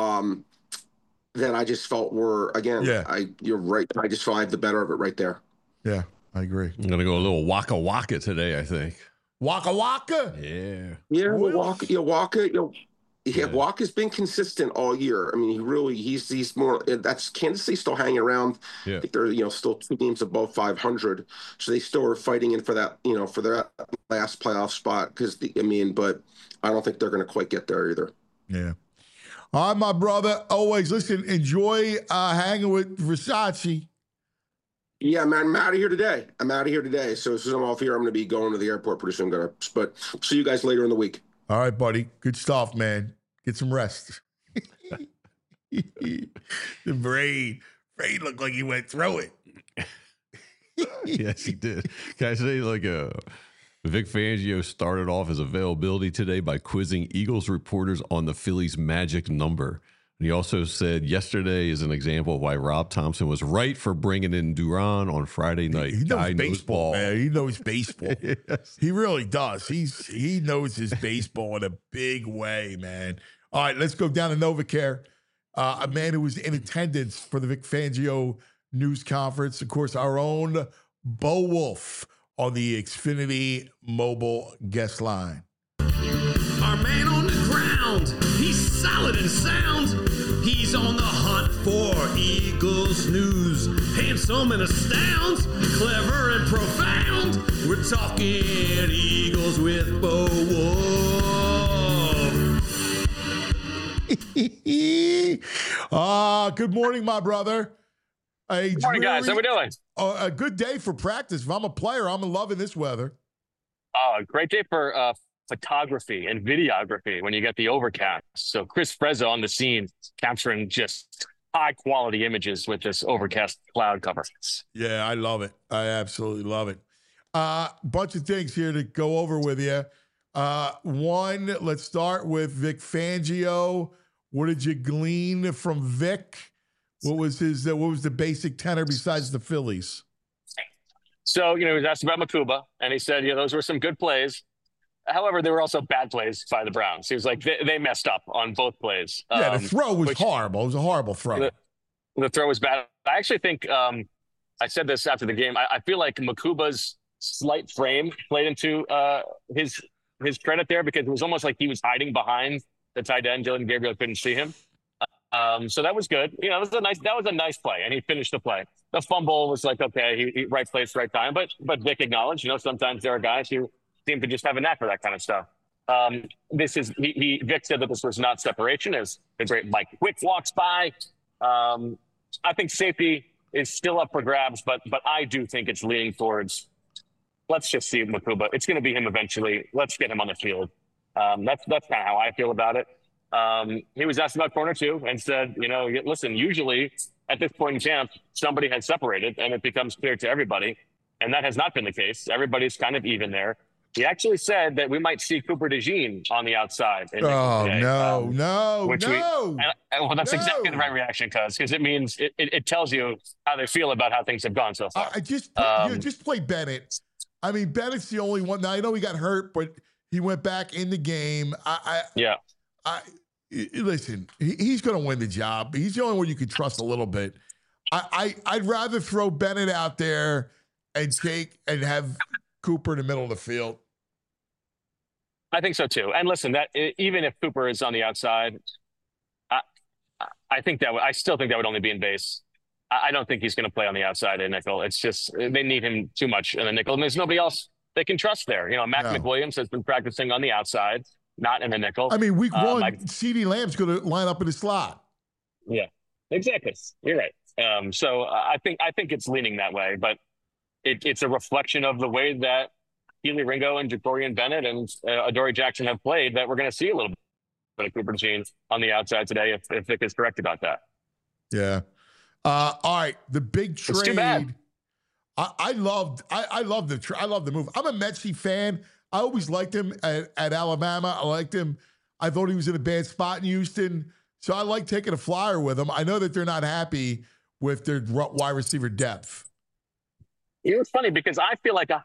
that I just felt were, again, you're right. I just felt I have the better of it right there. Yeah, I agree. I'm going to go a little Waka Waka today, I think. Waka Waka? Yeah. Yeah, Waka. Waka's been consistent all year. I mean, he's more. That's Kansas City still hanging around. Yeah. I think they're still 2 games above 500, so they still are fighting in for that for their last playoff spot. But I don't think they're going to quite get there either. Yeah. All right, my brother. Always listen. Enjoy hanging with Versace. Yeah, man. I'm out of here today. So as soon as I'm off here, I'm going to be going to the airport pretty soon. But see you guys later in the week. All right, buddy. Good stuff, man. Get some rest. The brain looked like he went through it. Yes, he did. Can I say, Vic Fangio started off his availability today by quizzing Eagles reporters on the Phillies' magic number. And he also said yesterday is an example of why Rob Thompson was right for bringing in Duran on Friday night. He knows baseball, man. He knows baseball. Yes. He really does. He knows his baseball in a big way, man. All right, let's go down to NovaCare. A man who was in attendance for the Vic Fangio news conference, of course, our own Bo Wolf on the Xfinity mobile guest line. Our man on the ground, he's solid and sound. He's on the hunt for Eagles news. Handsome and astounds, clever and profound. We're talking Eagles with Bo Wolf. Good morning, my brother. Good morning, guys. How we doing? A good day for practice. If I'm a player, I'm loving this weather. Great day for photography and videography when you get the overcast. So Chris Frezza on the scene capturing just high quality images with this overcast cloud cover. Yeah, I love it. I absolutely love it. Bunch of things here to go over with you. One, let's start with Vic Fangio. What did you glean from Vic? What was the basic tenor besides the Phillies? So, he was asked about Makuba, and he said, those were some good plays. However, there were also bad plays by the Browns. He was like, they messed up on both plays. Yeah, the throw was horrible. It was a horrible throw. The throw was bad. I actually think, I said this after the game, I feel like Makuba's slight frame played into his credit there, because it was almost like he was hiding behind the tight end. Dylan Gabriel couldn't see him. So that was good. You know, that was a nice play, and he finished the play. The fumble was like, okay, he right place, right time. But Vic acknowledged, you know, sometimes there are guys who seem to just have a knack for that kind of stuff. Vic said that this was not separation, as the great Mike Quick walks by. I think safety is still up for grabs, but I do think it's leaning towards, let's just see Mukuba. It's going to be him eventually. Let's get him on the field. That's kind of how I feel about it. He was asked about corner two and said, you know, listen, usually at this point in camp, somebody has separated and it becomes clear to everybody. And that has not been the case. Everybody's kind of even there. He actually said that we might see Cooper DeJean on the outside. Oh, today, no. Well, that's exactly the right reaction, because it means it tells you how they feel about how things have gone so far. Just play Bennett. I mean, Bennett's the only one. Now, I know he got hurt, but he went back in the game. Listen, he's going to win the job. He's the only one you can trust a little bit. I'd rather throw Bennett out there and have Cooper in the middle of the field. I think so too. And listen, that even if Cooper is on the outside, I still think that would only be in base. I don't think he's going to play on the outside in nickel. It's just they need him too much in the nickel, and there's nobody else they can trust there. You know, Mac McWilliams has been practicing on the outside, not in the nickel. I mean, week one, CeeDee Lamb's going to line up in the slot. Yeah, exactly. You're right. So I think it's leaning that way, but it's a reflection of the way that Kelee Ringo and Jacorian Bennett and Adoree Jackson have played, that we're going to see a little bit of Cooper DeJean on the outside today, if Vic is correct about that. Yeah. All right. The big trade. It's too bad. I love the move. I'm a Metsy fan. I always liked him at Alabama. I liked him. I thought he was in a bad spot in Houston. So I like taking a flyer with him. I know that they're not happy with their wide receiver depth. You know, it's funny because I feel like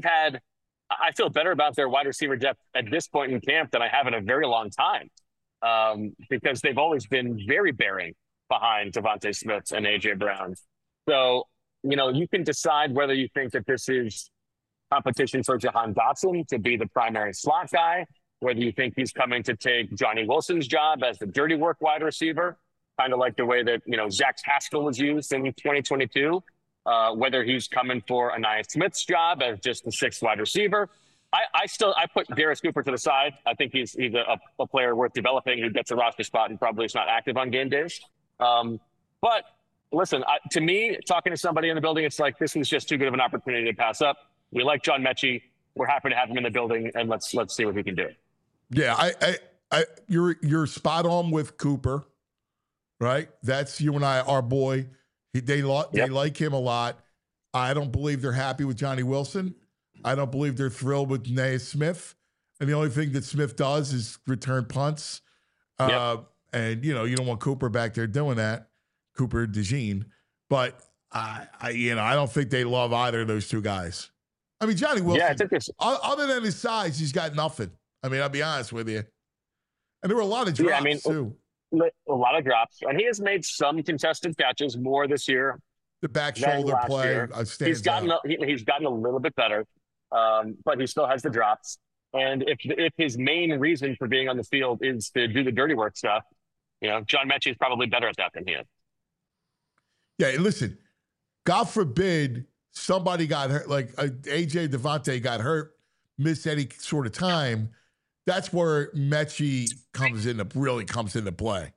I feel better about their wide receiver depth at this point in camp than I have in a very long time, because they've always been very bearing behind Devontae Smith and A.J. Brown. So, you know, you can decide whether you think that this is competition for Jahan Dotson to be the primary slot guy, whether you think he's coming to take Johnny Wilson's job as the dirty work wide receiver, kind of like the way that, you know, Zach Haskell was used in 2022. Whether he's coming for Anaya Smith's job as just the sixth wide receiver. I put Darius Cooper to the side. I think he's a player worth developing who gets a roster spot and probably is not active on game days. But listen, to me, talking to somebody in the building, it's like, this was just too good of an opportunity to pass up. We like John Mechie. We're happy to have him in the building, and let's see what we can do. Yeah, you're spot on with Cooper, right? That's you and I, our boy. They like him a lot. I don't believe they're happy with Johnny Wilson. I don't believe they're thrilled with Anaya Smith. And the only thing that Smith does is return punts. And, you know, you don't want Cooper back there doing that, Cooper DeJean. But, I don't think they love either of those two guys. I mean, Johnny Wilson, other than his size, he's got nothing. I mean, I'll be honest with you. And there were a lot of drops, too. A lot of drops, and he has made some contested catches more this year. The back shoulder play, he's gotten a little bit better, but he still has the drops. And if his main reason for being on the field is to do the dirty work stuff, you know, John Mechie is probably better at that than he is. Yeah, listen, God forbid somebody got hurt, like AJ Devontae got hurt, missed any sort of time. That's where Mechie really comes into play.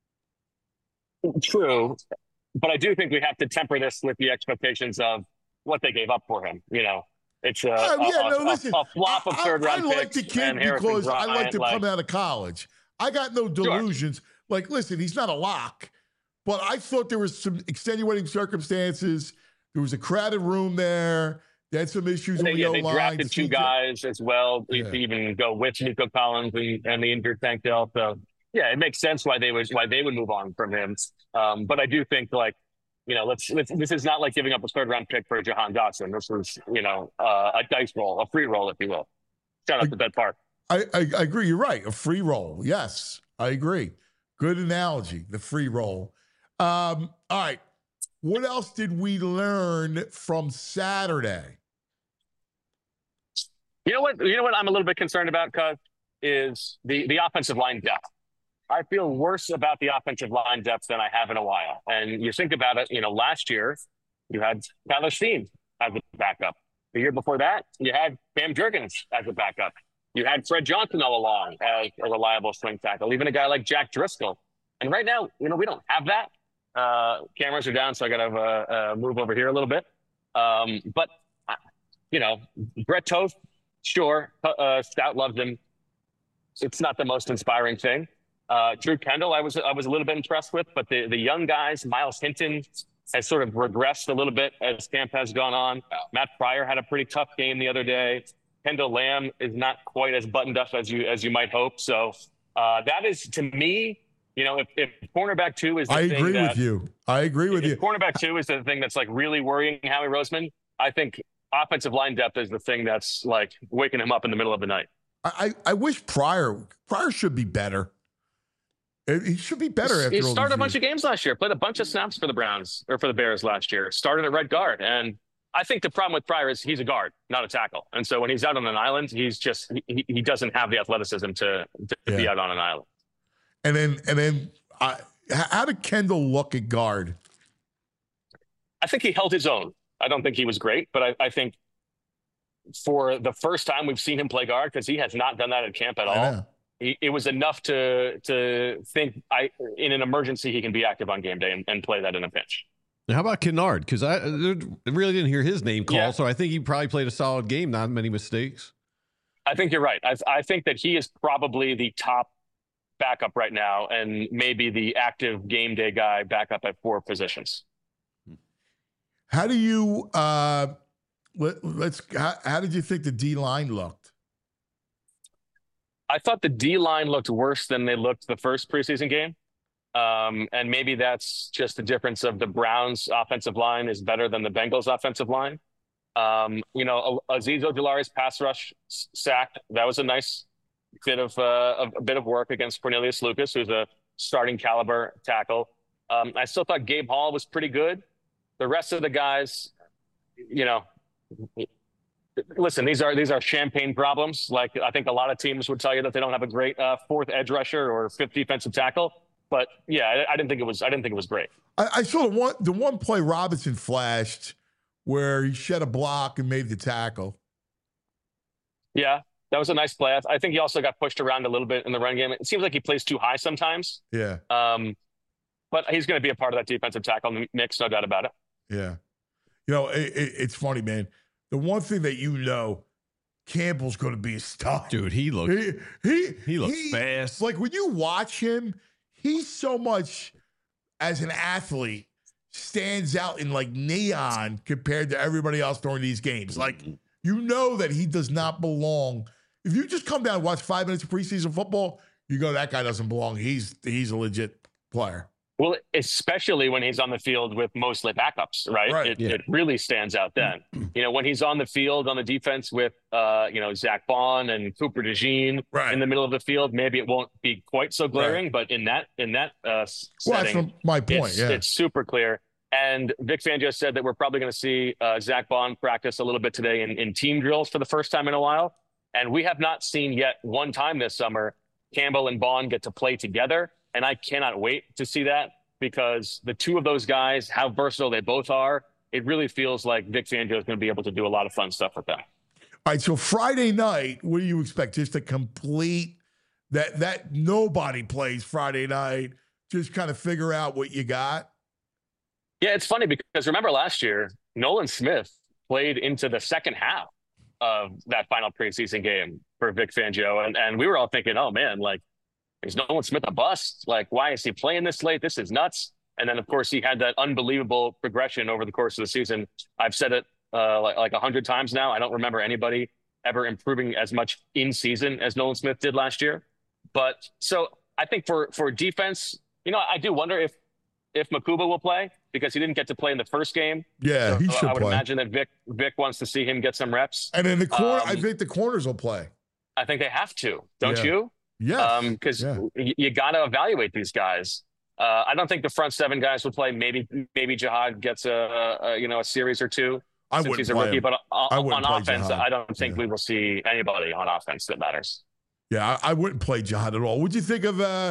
True. But I do think we have to temper this with the expectations of what they gave up for him. You know, it's a flop of third round picks. I like the kid because I liked him coming out of college. I got no delusions. Sure. Like, listen, he's not a lock, but I thought there was some extenuating circumstances. There was a crowded room there. They had some issues on the O-line. They drafted two guys as well to even go with Nico Collins and the injured Tank Dell. So, yeah, it makes sense why they would move on from him. But I do think, like, you know, this is not like giving up a third round pick for Jahan Dotson. This was, you know, a dice roll, a free roll, if you will. Shout out to Ben Park. I agree. You're right. A free roll. Yes, I agree. Good analogy. The free roll. All right. What else did we learn from Saturday? You know what I'm a little bit concerned about, Cuz, is the offensive line depth. I feel worse about the offensive line depth than I have in a while. And you think about it, last year you had Tyler Steen as a backup. The year before that, you had Bam Jurgens as a backup. You had Fred Johnson all along as a reliable swing tackle, even a guy like Jack Driscoll. And right now, we don't have that. Cameras are down, so I got to move over here a little bit. But Brett Toth, sure, Stout loved him. It's not the most inspiring thing. Drew Kendall, I was a little bit impressed with, but the young guys, Miles Hinton has sort of regressed a little bit as camp has gone on. Matt Pryor had a pretty tough game the other day. Kendall Lamb is not quite as buttoned up as you might hope. So that is, to me, if cornerback 2 is the thing I agree with you. Cornerback 2 is the thing that's like really worrying Howie Roseman. I think offensive line depth is the thing that's like waking him up in the middle of the night. I wish Pryor should be better. He should be better after he all started these a bunch years. of games last year, played a bunch of snaps for the Browns or for the Bears last year, started at right guard. And I think the problem with Pryor is he's a guard, not a tackle. And so when he's out on an island, he's just, he doesn't have the athleticism to be out on an island. And then how did Kendall look at guard? I think he held his own. I don't think he was great, but I think for the first time we've seen him play guard, because he has not done that at camp at all. It was enough to think in an emergency he can be active on game day and play that in a pinch. Now, how about Kennard? Because I really didn't hear his name called, so I think he probably played a solid game, not many mistakes. I think you're right. I think that he is probably the top backup right now, and maybe the active game day guy backup at 4 positions. How do you how did you think the D line looked? I thought the D line looked worse than they looked the first preseason game. And maybe that's just the difference of the Browns offensive line is better than the Bengals offensive line. Azeez Ojulari's pass rush sack, that was a nice bit of work against Cornelius Lucas, who's a starting caliber tackle. I still thought Gabe Hall was pretty good. The rest of the guys, listen, these are champagne problems. Like, I think a lot of teams would tell you that they don't have a great 4th edge rusher or 5th defensive tackle. But yeah, I didn't think it was great. I saw the one play Robinson flashed where he shed a block and made the tackle. Yeah, that was a nice play. I think he also got pushed around a little bit in the run game. It seems like he plays too high sometimes. Yeah. But he's going to be a part of that defensive tackle mix, no doubt about it. Yeah. It's funny, man. The one thing that Campbell's going to be a star. Dude, he looks fast. Like, when you watch him, he's so much, as an athlete, stands out in like neon compared to everybody else during these games. Like, that he does not belong. If you just come down and watch 5 minutes of preseason football, you go, that guy doesn't belong. He's a legit player. Well, especially when he's on the field with mostly backups, right? It really stands out then. When he's on the field on the defense with, Zach Bond and Cooper DeJean in the middle of the field, maybe it won't be quite so glaring, but in that setting, that's my point. It's super clear. And Vic Fangio said that we're probably going to see Zach Bond practice a little bit today in team drills for the first time in a while. And we have not seen yet one time this summer Campbell and Bond get to play together. And I cannot wait to see that, because the two of those guys, how versatile they both are, it really feels like Vic Fangio is going to be able to do a lot of fun stuff with them. All right, so Friday night, what do you expect? Just a complete that nobody plays Friday night, just kind of figure out what you got? Yeah, it's funny because remember last year, Nolan Smith played into the second half of that final preseason game for Vic Fangio. And we were all thinking, oh man, like, is Nolan Smith a bust? Like, why is he playing this late? This is nuts. And then, of course, he had that unbelievable progression over the course of the season. I've said it like 100 times now. I don't remember anybody ever improving as much in season as Nolan Smith did last year. But so I think for defense, I do wonder if Makuba will play, because he didn't get to play in the first game. Yeah, so he should play. I would imagine that Vic wants to see him get some reps. And in the corner, I think the corners will play. I think they have to, don't you? Yeah. Because you got to evaluate these guys. I don't think the front 7 guys will play. Maybe Jihad gets a series or two since he's a rookie. But on offense, I don't think we will see anybody on offense that matters. Yeah, I wouldn't play Jihad at all. What'd you think of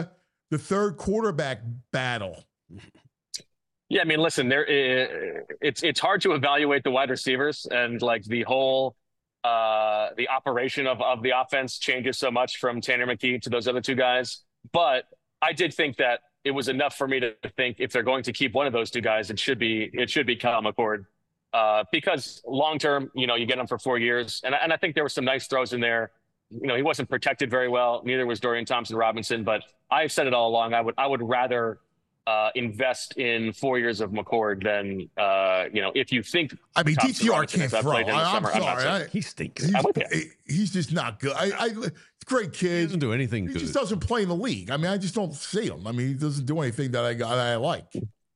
the third quarterback battle. Yeah, I mean, listen, it's hard to evaluate the wide receivers, and like the whole the operation of the offense changes so much from Tanner McKee to those other two guys. But I did think that it was enough for me to think if they're going to keep one of those two guys, it should be Kyle McCord, because long term, you get him for 4 years, and I think there were some nice throws in there. He wasn't protected very well. Neither was Dorian Thompson-Robinson. But I've said it all along. I would rather invest in 4 years of McCord than if you think. I mean, DTR can't throw. I'm sorry, he stinks. He's just not good. It's a great kid. He doesn't do anything. He good. just doesn't play in the league. I mean, I just don't see him. I mean, he doesn't do anything that I like.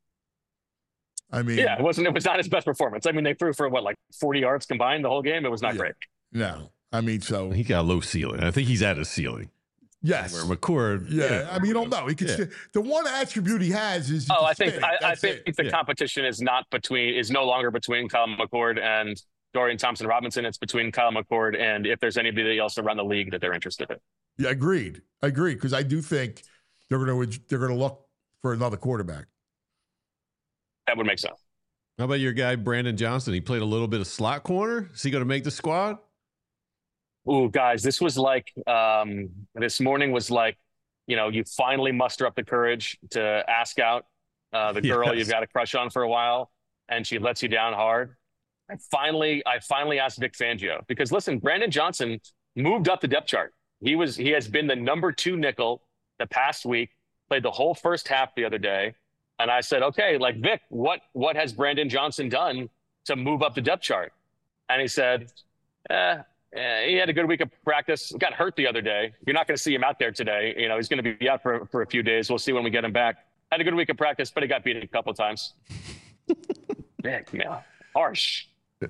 I mean, yeah, it was not his best performance. I mean, they threw for 40 yards combined the whole game. It was not great. No, I mean, so he got a low ceiling. I think he's at his ceiling. Yes, where McCord. Yeah, I mean, you don't know. He can. The one attribute he has is. I think the competition is no longer between Kyle McCord and Dorian Thompson-Robinson. It's between Kyle McCord and if there's anybody else around the league that they're interested in. Yeah, agreed. Because I do think they're going to look for another quarterback. That would make sense. How about your guy Brandon Johnson? He played a little bit of slot corner. Is he going to make the squad? Ooh, guys, this was like this morning was like, you finally muster up the courage to ask out the girl you've got a crush on for a while, and she lets you down hard. I finally asked Vic Fangio because listen, Brandon Johnson moved up the depth chart. He has been the number 2 nickel the past week, played the whole first half the other day. And I said, okay, like Vic, what has Brandon Johnson done to move up the depth chart? And he said, he had a good week of practice. Got hurt the other day. You're not going to see him out there today. He's going to be out for a few days. We'll see when we get him back. Had a good week of practice, but he got beat a couple of times. Man, harsh.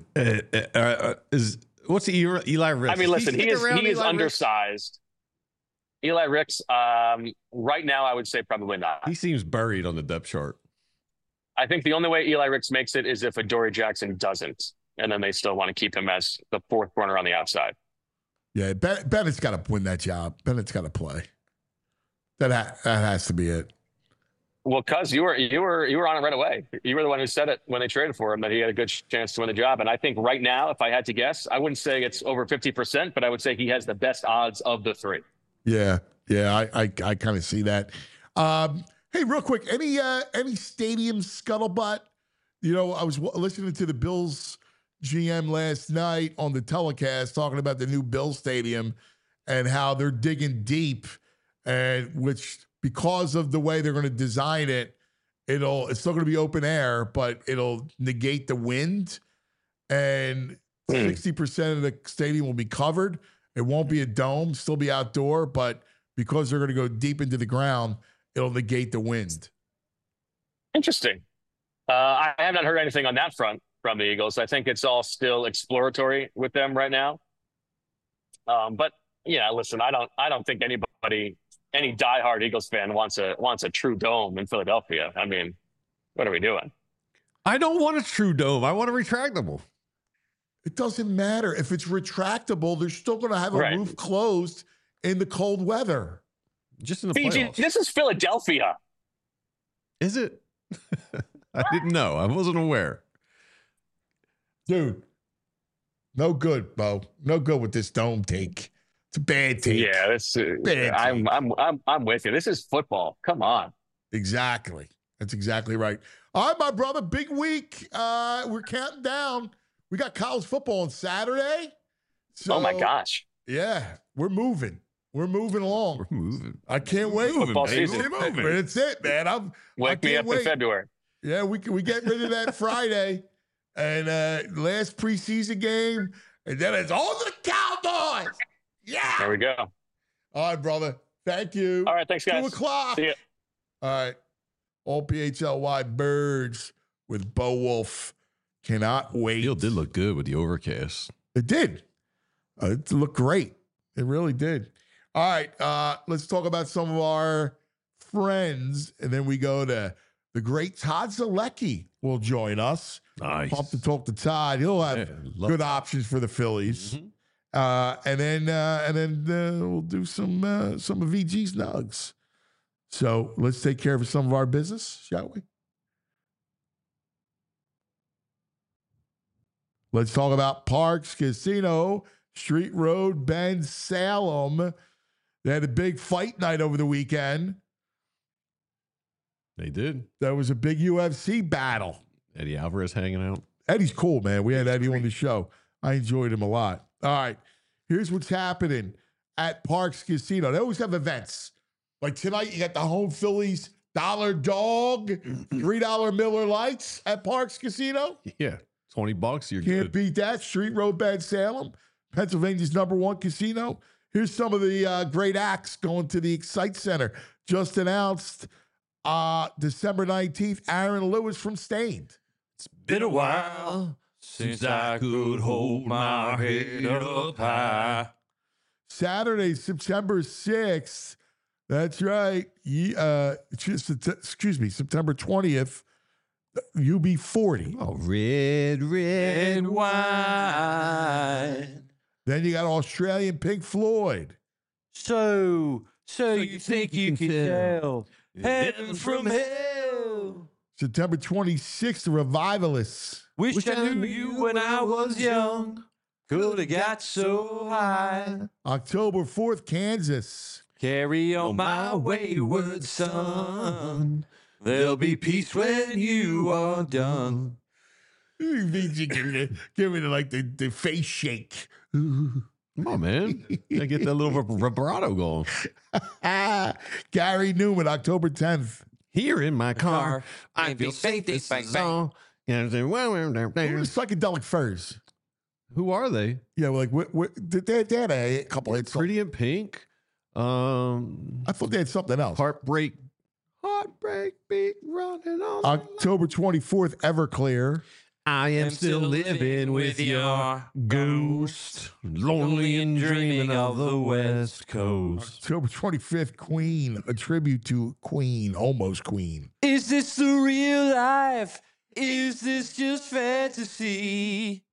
What's Eli Ricks? I mean, listen, he is undersized. Eli Ricks, right now, I would say probably not. He seems buried on the depth chart. I think the only way Eli Ricks makes it is if Adoree Jackson doesn't, and then they still want to keep him as the 4th corner on the outside. Yeah, Bennett's got to win that job. Bennett's got to play. That has to be it. Well, cuz you were on it right away. You were the one who said it when they traded for him that he had a good chance to win the job. And I think right now, if I had to guess, I wouldn't say it's over 50%, but I would say he has the best odds of the 3. Yeah, I kind of see that. Hey, real quick, any stadium scuttlebutt? I was listening to the Bills GM last night on the telecast talking about the new Bills stadium and how they're digging deep, and which because of the way they're going to design it, it's still going to be open air, but it'll negate the wind, and 60% of the stadium will be covered. It won't be a dome, still be outdoor, but because they're going to go deep into the ground, it'll negate the wind. Interesting. I have not heard anything on that front from the Eagles. I think it's all still exploratory with them right now. But yeah, listen, I don't think any diehard Eagles fan wants a true dome in Philadelphia. I mean, what are we doing? I don't want a true dome. I want a retractable. It doesn't matter. If it's retractable, they're still going to have a roof closed in the cold weather. Just in the playoffs. This is Philadelphia. Is it? I didn't know. I wasn't aware. Dude, no good, Bo. No good with this dome take. It's a bad take. Yeah, I'm with you. This is football. Come on. Exactly. That's exactly right. All right, my brother. Big week. We're counting down. We got college football on Saturday. So, oh, my gosh. Yeah, we're moving. We're moving along. We're moving. I can't wait. Football season. It's it, man. Wake me up in February. Yeah, we get rid of that Friday. And last preseason game. And then it's all the Cowboys. Yeah. There we go. All right, brother. Thank you. All right, thanks, guys. 2:00. See ya. All right. All PHLY Birds with Bo Wolf. Cannot wait. Field did look good with the overcast. It did. It looked great. It really did. All right. Let's talk about some of our friends. And then we go to the great Todd Zolecki will join us. Nice. Pumped to talk to Todd. He'll have good options for the Phillies. Mm-hmm. And then we'll do some of VG's nugs. So let's take care of some of our business, shall we? Let's talk about Parks Casino, Street Road, Bend, Salem. They had a big fight night over the weekend. They did. There was a big UFC battle. Eddie Alvarez hanging out. Eddie's cool, man. We had Eddie on the show. I enjoyed him a lot. All right. Here's what's happening at Parks Casino. They always have events. Like tonight, you got the home Phillies $1 dog, $3 Miller Lights at Parks Casino. Yeah. $20. You're Can't good. beat that. Street Road, Bend, Salem, Pennsylvania's #1 casino. Here's some of the great acts going to the Excite Center. Just announced December 19th, Aaron Lewis from Stained. It's been a while since I could hold my head up high. Saturday, September 6th. That's right. Excuse me, September 20th. UB40. Oh, red wine. Then you got Australian Pink Floyd. So you think you can tell heaven from hell? September 26th, the Revivalists. Wish I knew you when I was young. Could have got so high. October 4th, Kansas. Carry on my wayward son. There'll be peace when you are done. Give me the face shake. Come on, man. I get that little vibrato going. Gary Newman, October 10th. Here in my car, I feel safe. This song. Who's Psychedelic Furs? Who are they? Yeah, like they had a couple hits. Pretty in Pink. I thought they had something else. Heartbreak beat running on. October 24th, Everclear. I am still living with your ghost, lonely and dreaming of the West Coast. October 25th, Queen, a tribute to Queen, almost Queen. Is this the real life? Is this just fantasy?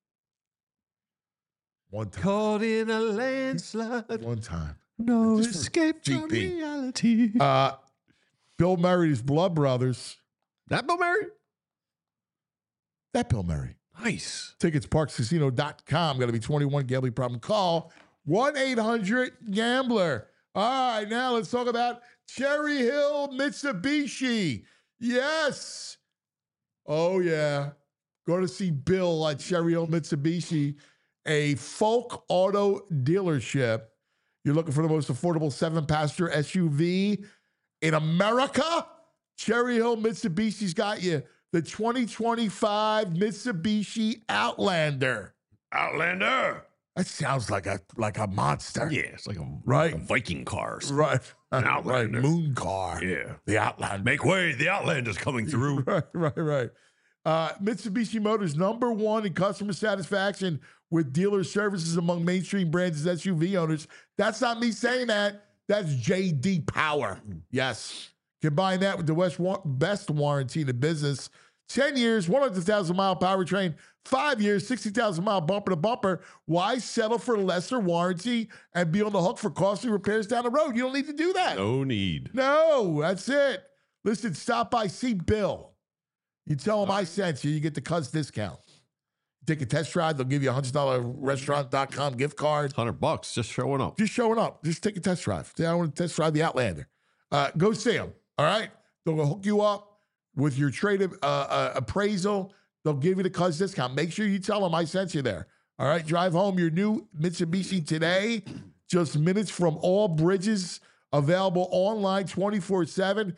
One time. Caught in a landslide. One time. No Just escape from GP. reality. Bill Murray's Blood Brothers. That Bill Murray? That Bill Murray. Nice. Tickets, parkscasino.com. Got to be 21. Gambling problem. Call 1-800-GAMBLER. All right, now let's talk about Cherry Hill Mitsubishi. Yes. Oh, yeah. Go to see Bill at Cherry Hill Mitsubishi, a folk auto dealership. You're looking for the most affordable 7-passenger SUV in America? Cherry Hill Mitsubishi's got you. The 2025 Mitsubishi Outlander. Outlander. That sounds like a monster. Yeah, it's like a Viking car. Right. An Outlander. Right. Moon car. Yeah. The Outlander. Make way. The Outlander's coming through. Right. Mitsubishi Motors, #1 in customer satisfaction with dealer services among mainstream brands as SUV owners. That's not me saying that. That's J.D. Power. Yes. Combine that with the best warranty in the business. 10 years, 100,000-mile powertrain, 5 years, 60,000-mile bumper to bumper. Why settle for lesser warranty and be on the hook for costly repairs down the road? You don't need to do that. No need. No, that's it. Listen, stop by, see Bill. You tell him I sent you, you get the Cuz discount. Take a test drive, they'll give you a $100 restaurant.com gift card. $100 just showing up. Just showing up. Just take a test drive. Say, I want to test drive the Outlander. Go see them. All right? They'll hook you up with your trade appraisal. They'll give you the Cuz discount. Make sure you tell them I sent you there. All right? Drive home your new Mitsubishi today. Just minutes from all bridges. Available online 24/7.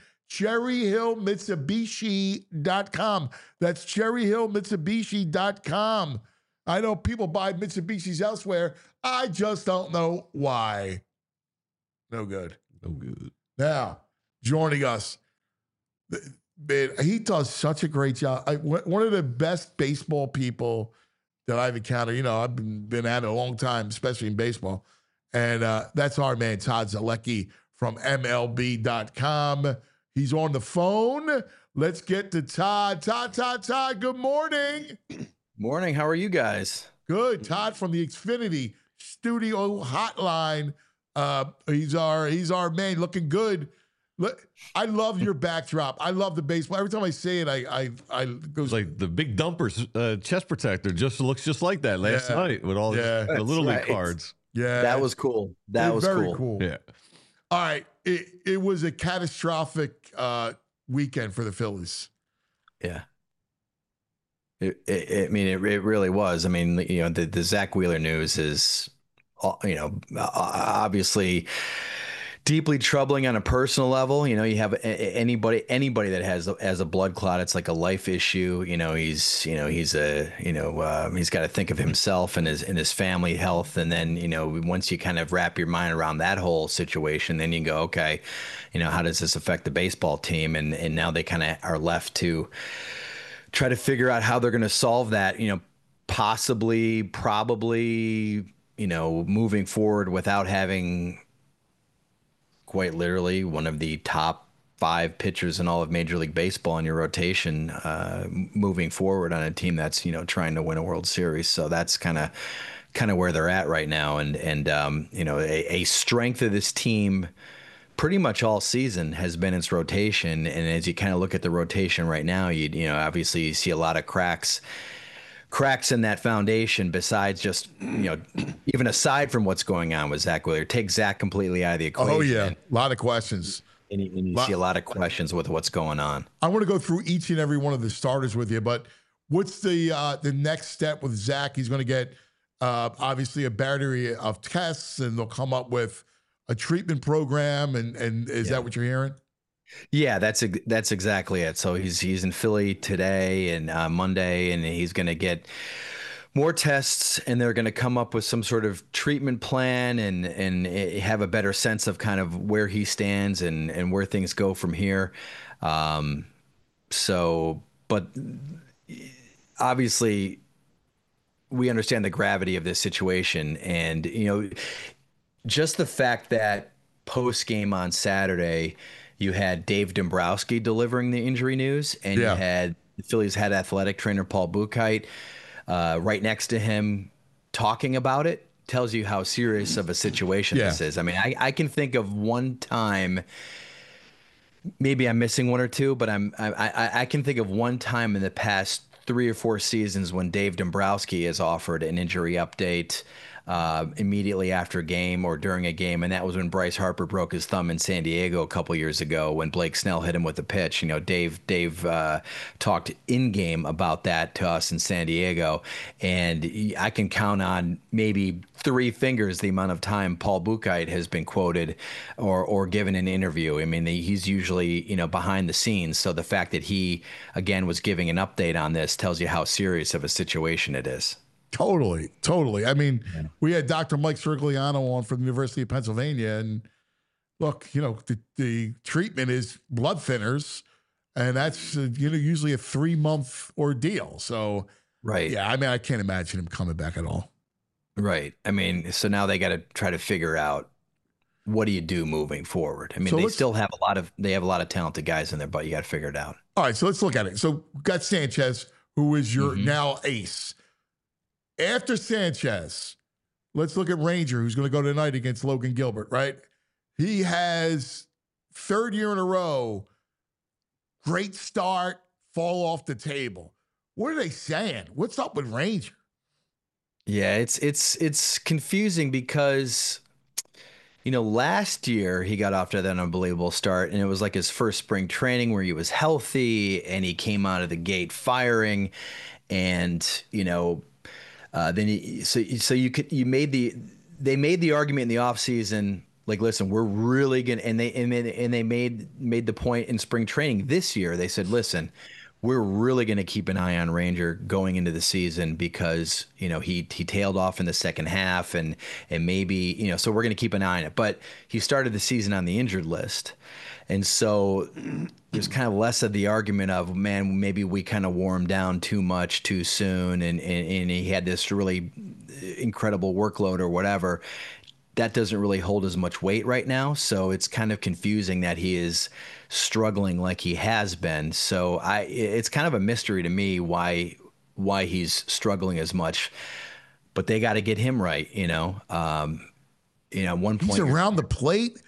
CherryHillMitsubishi.com. That's CherryHillMitsubishi.com. I know people buy Mitsubishis elsewhere. I just don't know why. No good. No good. Now, joining us, man, he does such a great job. One of the best baseball people that I've encountered. You know, I've been at it a long time, especially in baseball. And that's our man, Todd Zolecki from MLB.com. He's on the phone. Let's get to Todd. Todd, good morning. Morning. How are you guys? Good. Todd from the Xfinity Studio Hotline. He's our man, looking good. I love your backdrop. I love the baseball. Every time I say it, I goes like the big dumpers chest protector looks just like that last night with all the Little League cards. Yeah, that was cool. That was very cool. Yeah. All right, it was a catastrophic weekend for the Phillies. Yeah. I mean, it really was. I mean, the Zach Wheeler news is, obviously deeply troubling on a personal level. You have anybody that has a blood clot, it's like a life issue. He's got to think of himself and his family health. And then, once you kind of wrap your mind around that whole situation, then you go, okay, how does this affect the baseball team? And now they kind of are left to try to figure out how they're going to solve that, probably, moving forward without having quite literally one of the top 5 pitchers in all of Major League Baseball in your rotation, moving forward on a team that's, trying to win a World Series. So that's kind of where they're at right now. And a strength of this team pretty much all season has been its rotation. And as you kind of look at the rotation right now, obviously you see a lot of cracks in that foundation, besides just, even aside from what's going on with Zach Wheeler. Take Zach completely out of the equation. Oh, yeah. A lot of questions. And you see a lot of questions with what's going on. I want to go through each and every one of the starters with you, but what's the next step with Zach? He's going to get, obviously, a battery of tests, and they'll come up with a treatment program. And is that what you're hearing? Yeah, that's exactly it. So he's in Philly today and Monday, and he's going to get more tests, and they're going to come up with some sort of treatment plan and have a better sense of kind of where he stands and where things go from here. But obviously we understand the gravity of this situation, and just the fact that post game on Saturday, you had Dave Dombrowski delivering the injury news, and you had the Phillies head athletic trainer Paul Buchheit right next to him talking about it, tells you how serious of a situation this is. I mean, I can think of one time, maybe I'm missing one or two, but I can think of one time in the past 3 or 4 seasons when Dave Dombrowski has offered an injury update immediately after a game or during a game, and that was when Bryce Harper broke his thumb in San Diego a couple years ago when Blake Snell hit him with a pitch. Dave talked in game about that to us in San Diego, and I can count on maybe 3 fingers the amount of time Paul Buchheit has been quoted or given an interview. I mean, he's usually behind the scenes, so the fact that he again was giving an update on this tells you how serious of a situation it is. Totally. I mean, we had Dr. Mike Sirigliano on from the University of Pennsylvania, and look, the treatment is blood thinners, and that's usually a 3-month ordeal. So, yeah, I mean, I can't imagine him coming back at all. Right. I mean, so now they got to try to figure out what do you do moving forward. I mean, they still have a lot of talented guys in there, but you got to figure it out. All right, so let's look at it. So, got Sanchez, who is your now ace. After Sanchez, let's look at Ranger, who's going to go tonight against Logan Gilbert, right? He has 3rd year in a row, great start, fall off the table. What are they saying? What's up with Ranger? Yeah, it's confusing because, last year he got off to that unbelievable start, and it was like his first spring training where he was healthy and he came out of the gate firing, and, then they made the argument in the offseason, like, listen, we're really gonna, and they made the point in spring training this year. They said, listen, we're really going to keep an eye on Ranger going into the season because he tailed off in the second half, and maybe so we're going to keep an eye on it. But he started the season on the injured list. And so there's kind of less of the argument of, man, maybe we kind of wore him down too much too soon, and he had this really incredible workload or whatever. That doesn't really hold as much weight right now. So it's kind of confusing that he is struggling like he has been. So it's kind of a mystery to me why he's struggling as much. But they got to get him right, At one point, he's around the plate.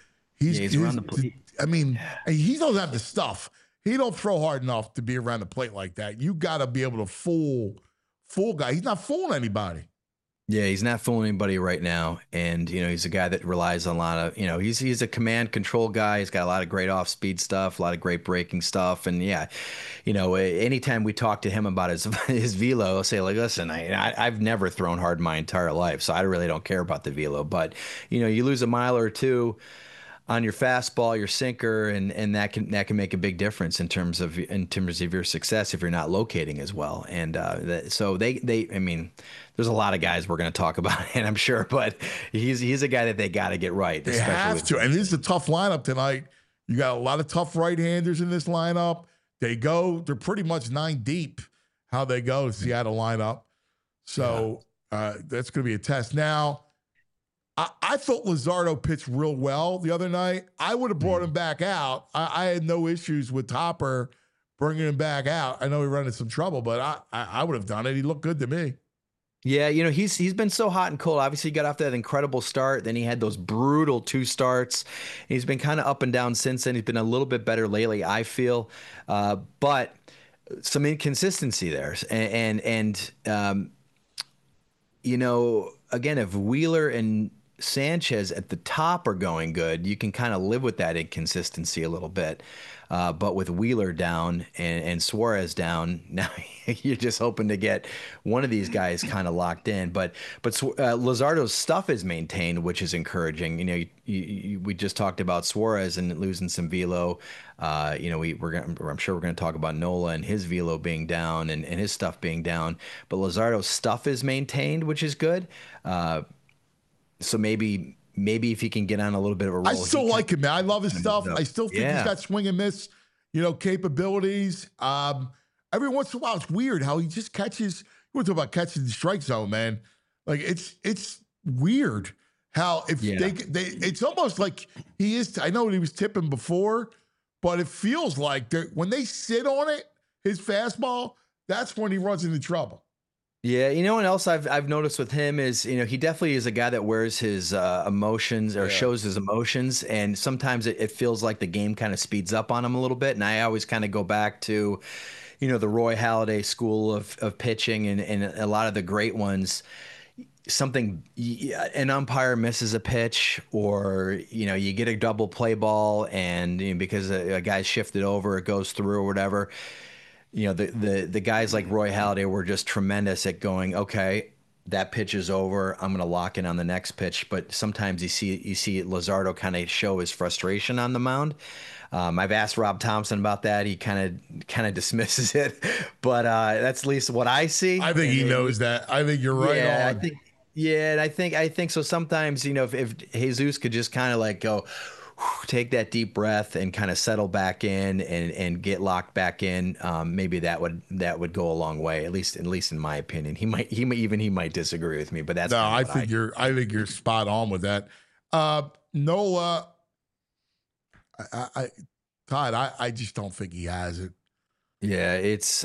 He's around the plate. I mean, he doesn't have the stuff. He don't throw hard enough to be around the plate like that. You got to be able to fool guy. He's not fooling anybody. Yeah, he's not fooling anybody right now. And, he's a guy that relies on a lot of, he's a command control guy. He's got a lot of great off speed stuff, a lot of great breaking stuff. And yeah, anytime we talk to him about his velo, I'll say like, listen, I've never thrown hard my entire life, so I really don't care about the velo. But, you lose a mile or two on your fastball, your sinker, and that can make a big difference in terms of your success if you're not locating as well. And so I mean, there's a lot of guys we're going to talk about, and I'm sure, but he's a guy that they got to get right. They have to, and this is a tough lineup tonight. You got a lot of tough right-handers in this lineup. They're pretty much 9 deep. How they go, Seattle lineup. So that's going to be a test. Now, I thought Luzardo pitched real well the other night. I would have brought him back out. I had no issues with Topper bringing him back out. I know he ran into some trouble, but I would have done it. He looked good to me. Yeah, he's been so hot and cold. Obviously, he got off that incredible start. Then he had those brutal 2 starts. He's been kind of up and down since then. He's been a little bit better lately, I feel. But some inconsistency there. And again, if Wheeler and Sanchez at the top are going good, you can kind of live with that inconsistency a little bit. But with Wheeler down and Suarez down, now you're just hoping to get one of these guys kind of locked in. But Luzardo's stuff is maintained, which is encouraging. We just talked about Suarez and losing some velo. I'm sure we're going to talk about Nola and his velo being down and his stuff being down. But Luzardo's stuff is maintained, which is good. So maybe if he can get on a little bit of a roll. I still like him, man. I love his stuff. I still think he's got swing and miss, capabilities. Every once in a while, it's weird how he just catches. You want to talk about catching the strike zone, man? Like it's weird how it's almost like he is. I know he was tipping before, but it feels like when they sit on it, his fastball, that's when he runs into trouble. Yeah, what else I've noticed with him is, he definitely is a guy that wears his emotions or shows his emotions, and sometimes it feels like the game kind of speeds up on him a little bit. And I always kind of go back to, the Roy Halladay school of pitching and a lot of the great ones. An umpire misses a pitch, or you get a double play ball, and because a guy's shifted over, it goes through or whatever. The guys like Roy Halladay were just tremendous at going, okay, that pitch is over, I'm going to lock in on the next pitch. But sometimes you see Luzardo kind of show his frustration on the mound. I've asked Rob Thompson about that. He kind of dismisses it, but that's at least what I see. I think he knows that. I think you're right on. I think so. Sometimes, if Jesus could just kind of like go, take that deep breath and kind of settle back in and get locked back in, maybe that would go a long way, at least in my opinion. He might disagree with me, but that's I think you're spot on with that. Nola, Todd, I just don't think he has it. Yeah,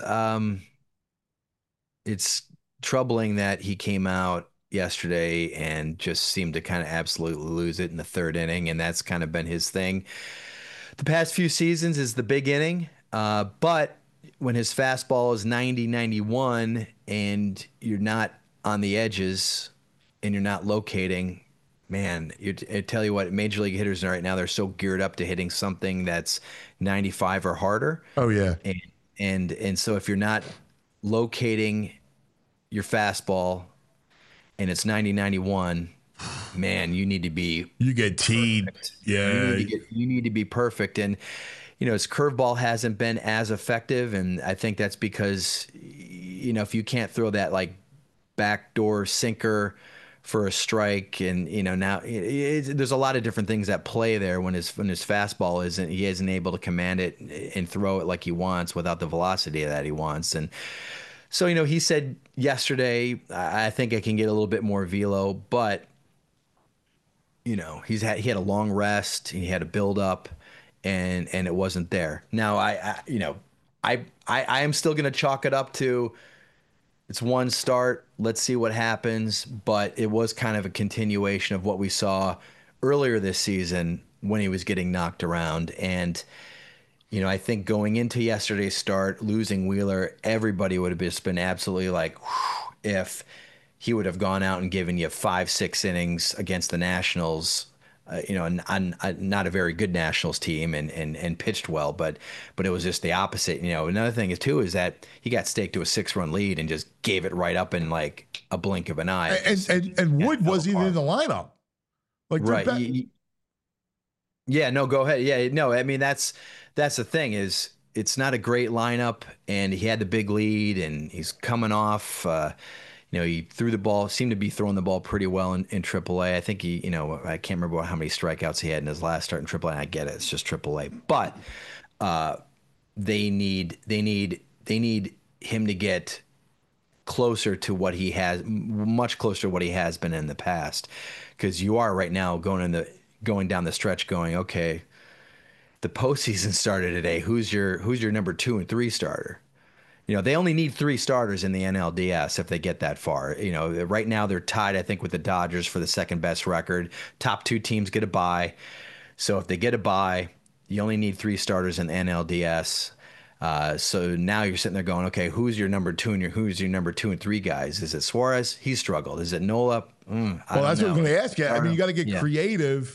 it's troubling that he came out yesterday and just seemed to kind of absolutely lose it in the 3rd inning, and that's kind of been his thing the past few seasons, is the big inning. But when his fastball is 90-91 and you're not on the edges and you're not locating, man, I tell you what, major league hitters right now, they're so geared up to hitting something that's 95 or harder. Oh yeah. And so if you're not locating your fastball and it's 90-91, man, you need to be. You get teed. Perfect. Yeah. You need to be perfect. And, his curveball hasn't been as effective. And I think that's because, if you can't throw that like backdoor sinker for a strike, and, now there's a lot of different things at play there when his fastball he isn't able to command it and throw it like he wants without the velocity that he wants. And so, he said yesterday, I think I can get a little bit more velo, but, he had a long rest, he had a build up, and it wasn't there. Now, I am still going to chalk it up to it's one start. Let's see what happens. But it was kind of a continuation of what we saw earlier this season when he was getting knocked around. And, you know, I think going into yesterday's start, losing Wheeler, everybody would have just been absolutely like, whew, if he would have gone out and given you 5-6 innings against the Nationals, you know, not a very good Nationals team, and pitched well, but it was just the opposite. You know, another thing is too is that he got staked to a 6-run lead and just gave it right up in like a blink of an eye. And Wood wasn't even in the lineup. Like, right. Yeah, no, go ahead. Yeah, no, I mean, that's the thing is it's not a great lineup, and he had the big lead, and he's coming off, you know, he threw the ball, seemed to be throwing the ball pretty well in AAA. I think he, you know, I can't remember how many strikeouts he had in his last start in AAA. I get it. It's just AAA. But they need him to get closer to what he has, much closer to what he has been in the past. Because you are right now going down the stretch going, okay, the postseason started today. Who's your number 2 and 3 starter? You know, they only need 3 starters in the NLDS if they get that far. You know, right now they're tied, I think, with the Dodgers for the second best record. Top 2 teams get a bye. So if they get a bye, you only need 3 starters in the NLDS. So now you're sitting there going, okay, who's your number 2 and who's your number 2 and 3 guys? Is it Suarez? He struggled. Is it Nola? Well, that's what I'm going to ask you. I mean, you got to get creative.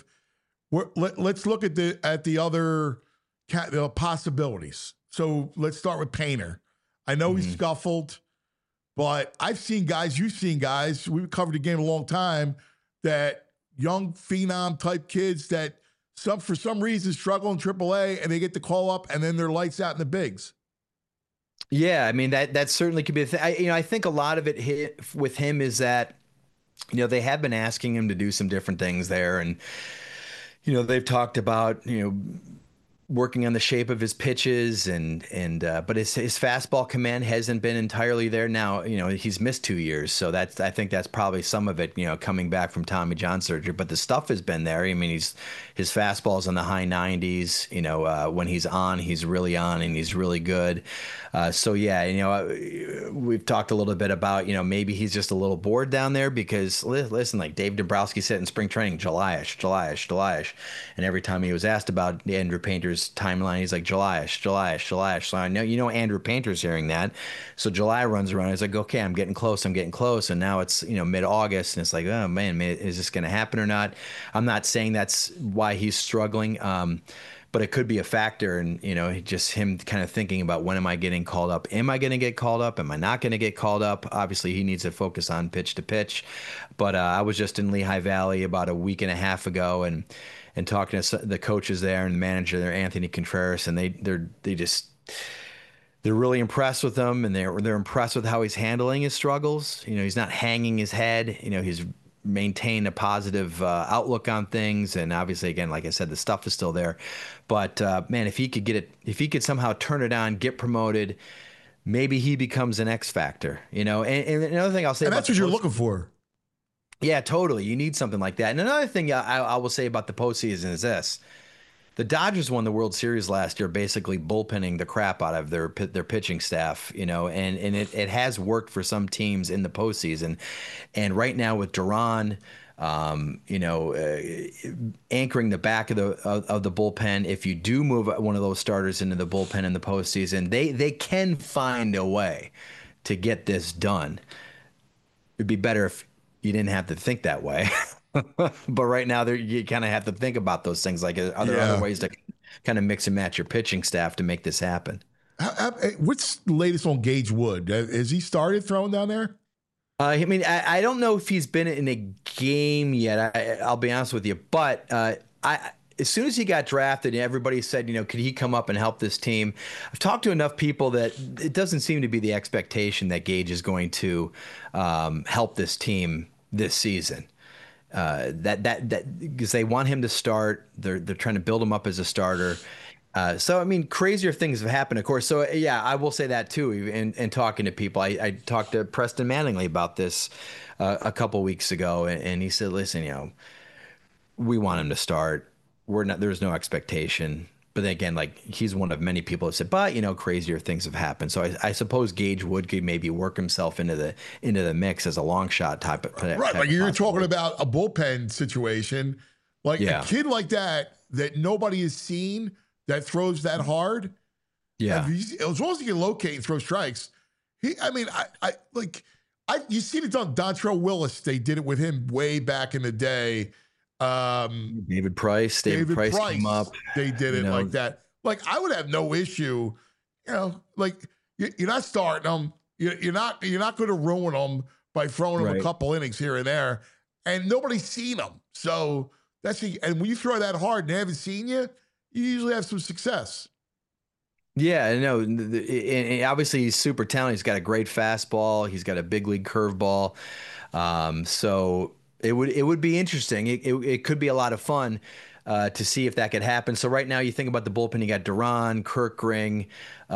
Let's look at the other possibilities. So let's start with Painter. I know he scuffled, but I've seen guys, you've seen guys, we've covered the game a long time, that young phenom type kids that for some reason struggle in AAA and they get the call up and then they're lights out in the bigs. Yeah, I mean, that certainly could be a thing. I think a lot of it with him is that, you know, they have been asking him to do some different things there. And, you know, they've talked about, you know, working on the shape of his pitches but his fastball command hasn't been entirely there. Now, you know, he's missed 2 years, so I think that's probably some of it, you know, coming back from Tommy John surgery, but the stuff has been there. I mean, his fastball's in the high 90s, you know, when he's on, he's really on and he's really good. So yeah, you know, we've talked a little bit about, you know, maybe he's just a little bored down there because listen, like Dave Dombrowski said in spring training, July-ish. And every time he was asked about Andrew Painter's timeline, he's like July-ish. So I know, you know, Andrew Painter's hearing that. So July runs around. He's like, okay, I'm getting close. And now it's, you know, mid-August and it's like, oh man, is this going to happen or not? I'm not saying that's why he's struggling. But it could be a factor, and you know, just him kind of thinking about, when am I getting called up? Am I going to get called up? Am I not going to get called up? Obviously, he needs to focus on pitch to pitch. But I was just in Lehigh Valley about a week and a half ago, and talking to the coaches there and the manager there, Anthony Contreras, and they're really impressed with him, and they're impressed with how he's handling his struggles. You know, he's not hanging his head. You know, he's maintain a positive outlook on things, and obviously, again, like I said, the stuff is still there. But man, if he could somehow turn it on, get promoted, maybe he becomes an X factor. You know, and another thing I'll say, and that's what you're looking for. Yeah, totally. You need something like that. And another thing I will say about the postseason is this: the Dodgers won the World Series last year, basically bullpenning the crap out of their pitching staff, you know, and it has worked for some teams in the postseason. And right now with Duran, you know, anchoring the back of the bullpen, if you do move one of those starters into the bullpen in the postseason, they can find a way to get this done. It'd be better if you didn't have to think that way. But right now, you kind of have to think about those things. Like, are there other ways to kind of mix and match your pitching staff to make this happen? What's the latest on Gage Wood? Has he started throwing down there? I mean, I don't know if he's been in a game yet. I'll be honest with you. But as soon as he got drafted, everybody said, you know, could he come up and help this team? I've talked to enough people that it doesn't seem to be the expectation that Gage is going to help this team this season. That because they want him to start. They're trying to build him up as a starter. So, I mean, crazier things have happened, of course. So, yeah, I will say that, too, in talking to people. I talked to Preston Mattingly about this a couple weeks ago, and he said, listen, you know, we want him to start. There's no expectation. But then again, like, he's one of many people who said, but, you know, crazier things have happened. So I suppose Gage Wood could maybe work himself into the mix as a long shot type of right. Like you're talking about a bullpen situation. Like Yeah. a kid like that nobody has seen that throws that hard. Yeah. As long as he can locate and throw strikes, you see it on Dontrell Willis. They did it with him way back in the day. David Price came up. They did it like that. Like I would have no issue, like you're not starting them. You're not going to ruin them by throwing them a couple innings here and there, and nobody's seen them. So and when you throw that hard and they haven't seen you, you usually have some success. Yeah, I know. And obviously, he's super talented. He's got a great fastball. He's got a big league curveball. So it would be interesting. It could be a lot of fun to see if that could happen. So right now, you think about the bullpen. You got Duran, Kirkring,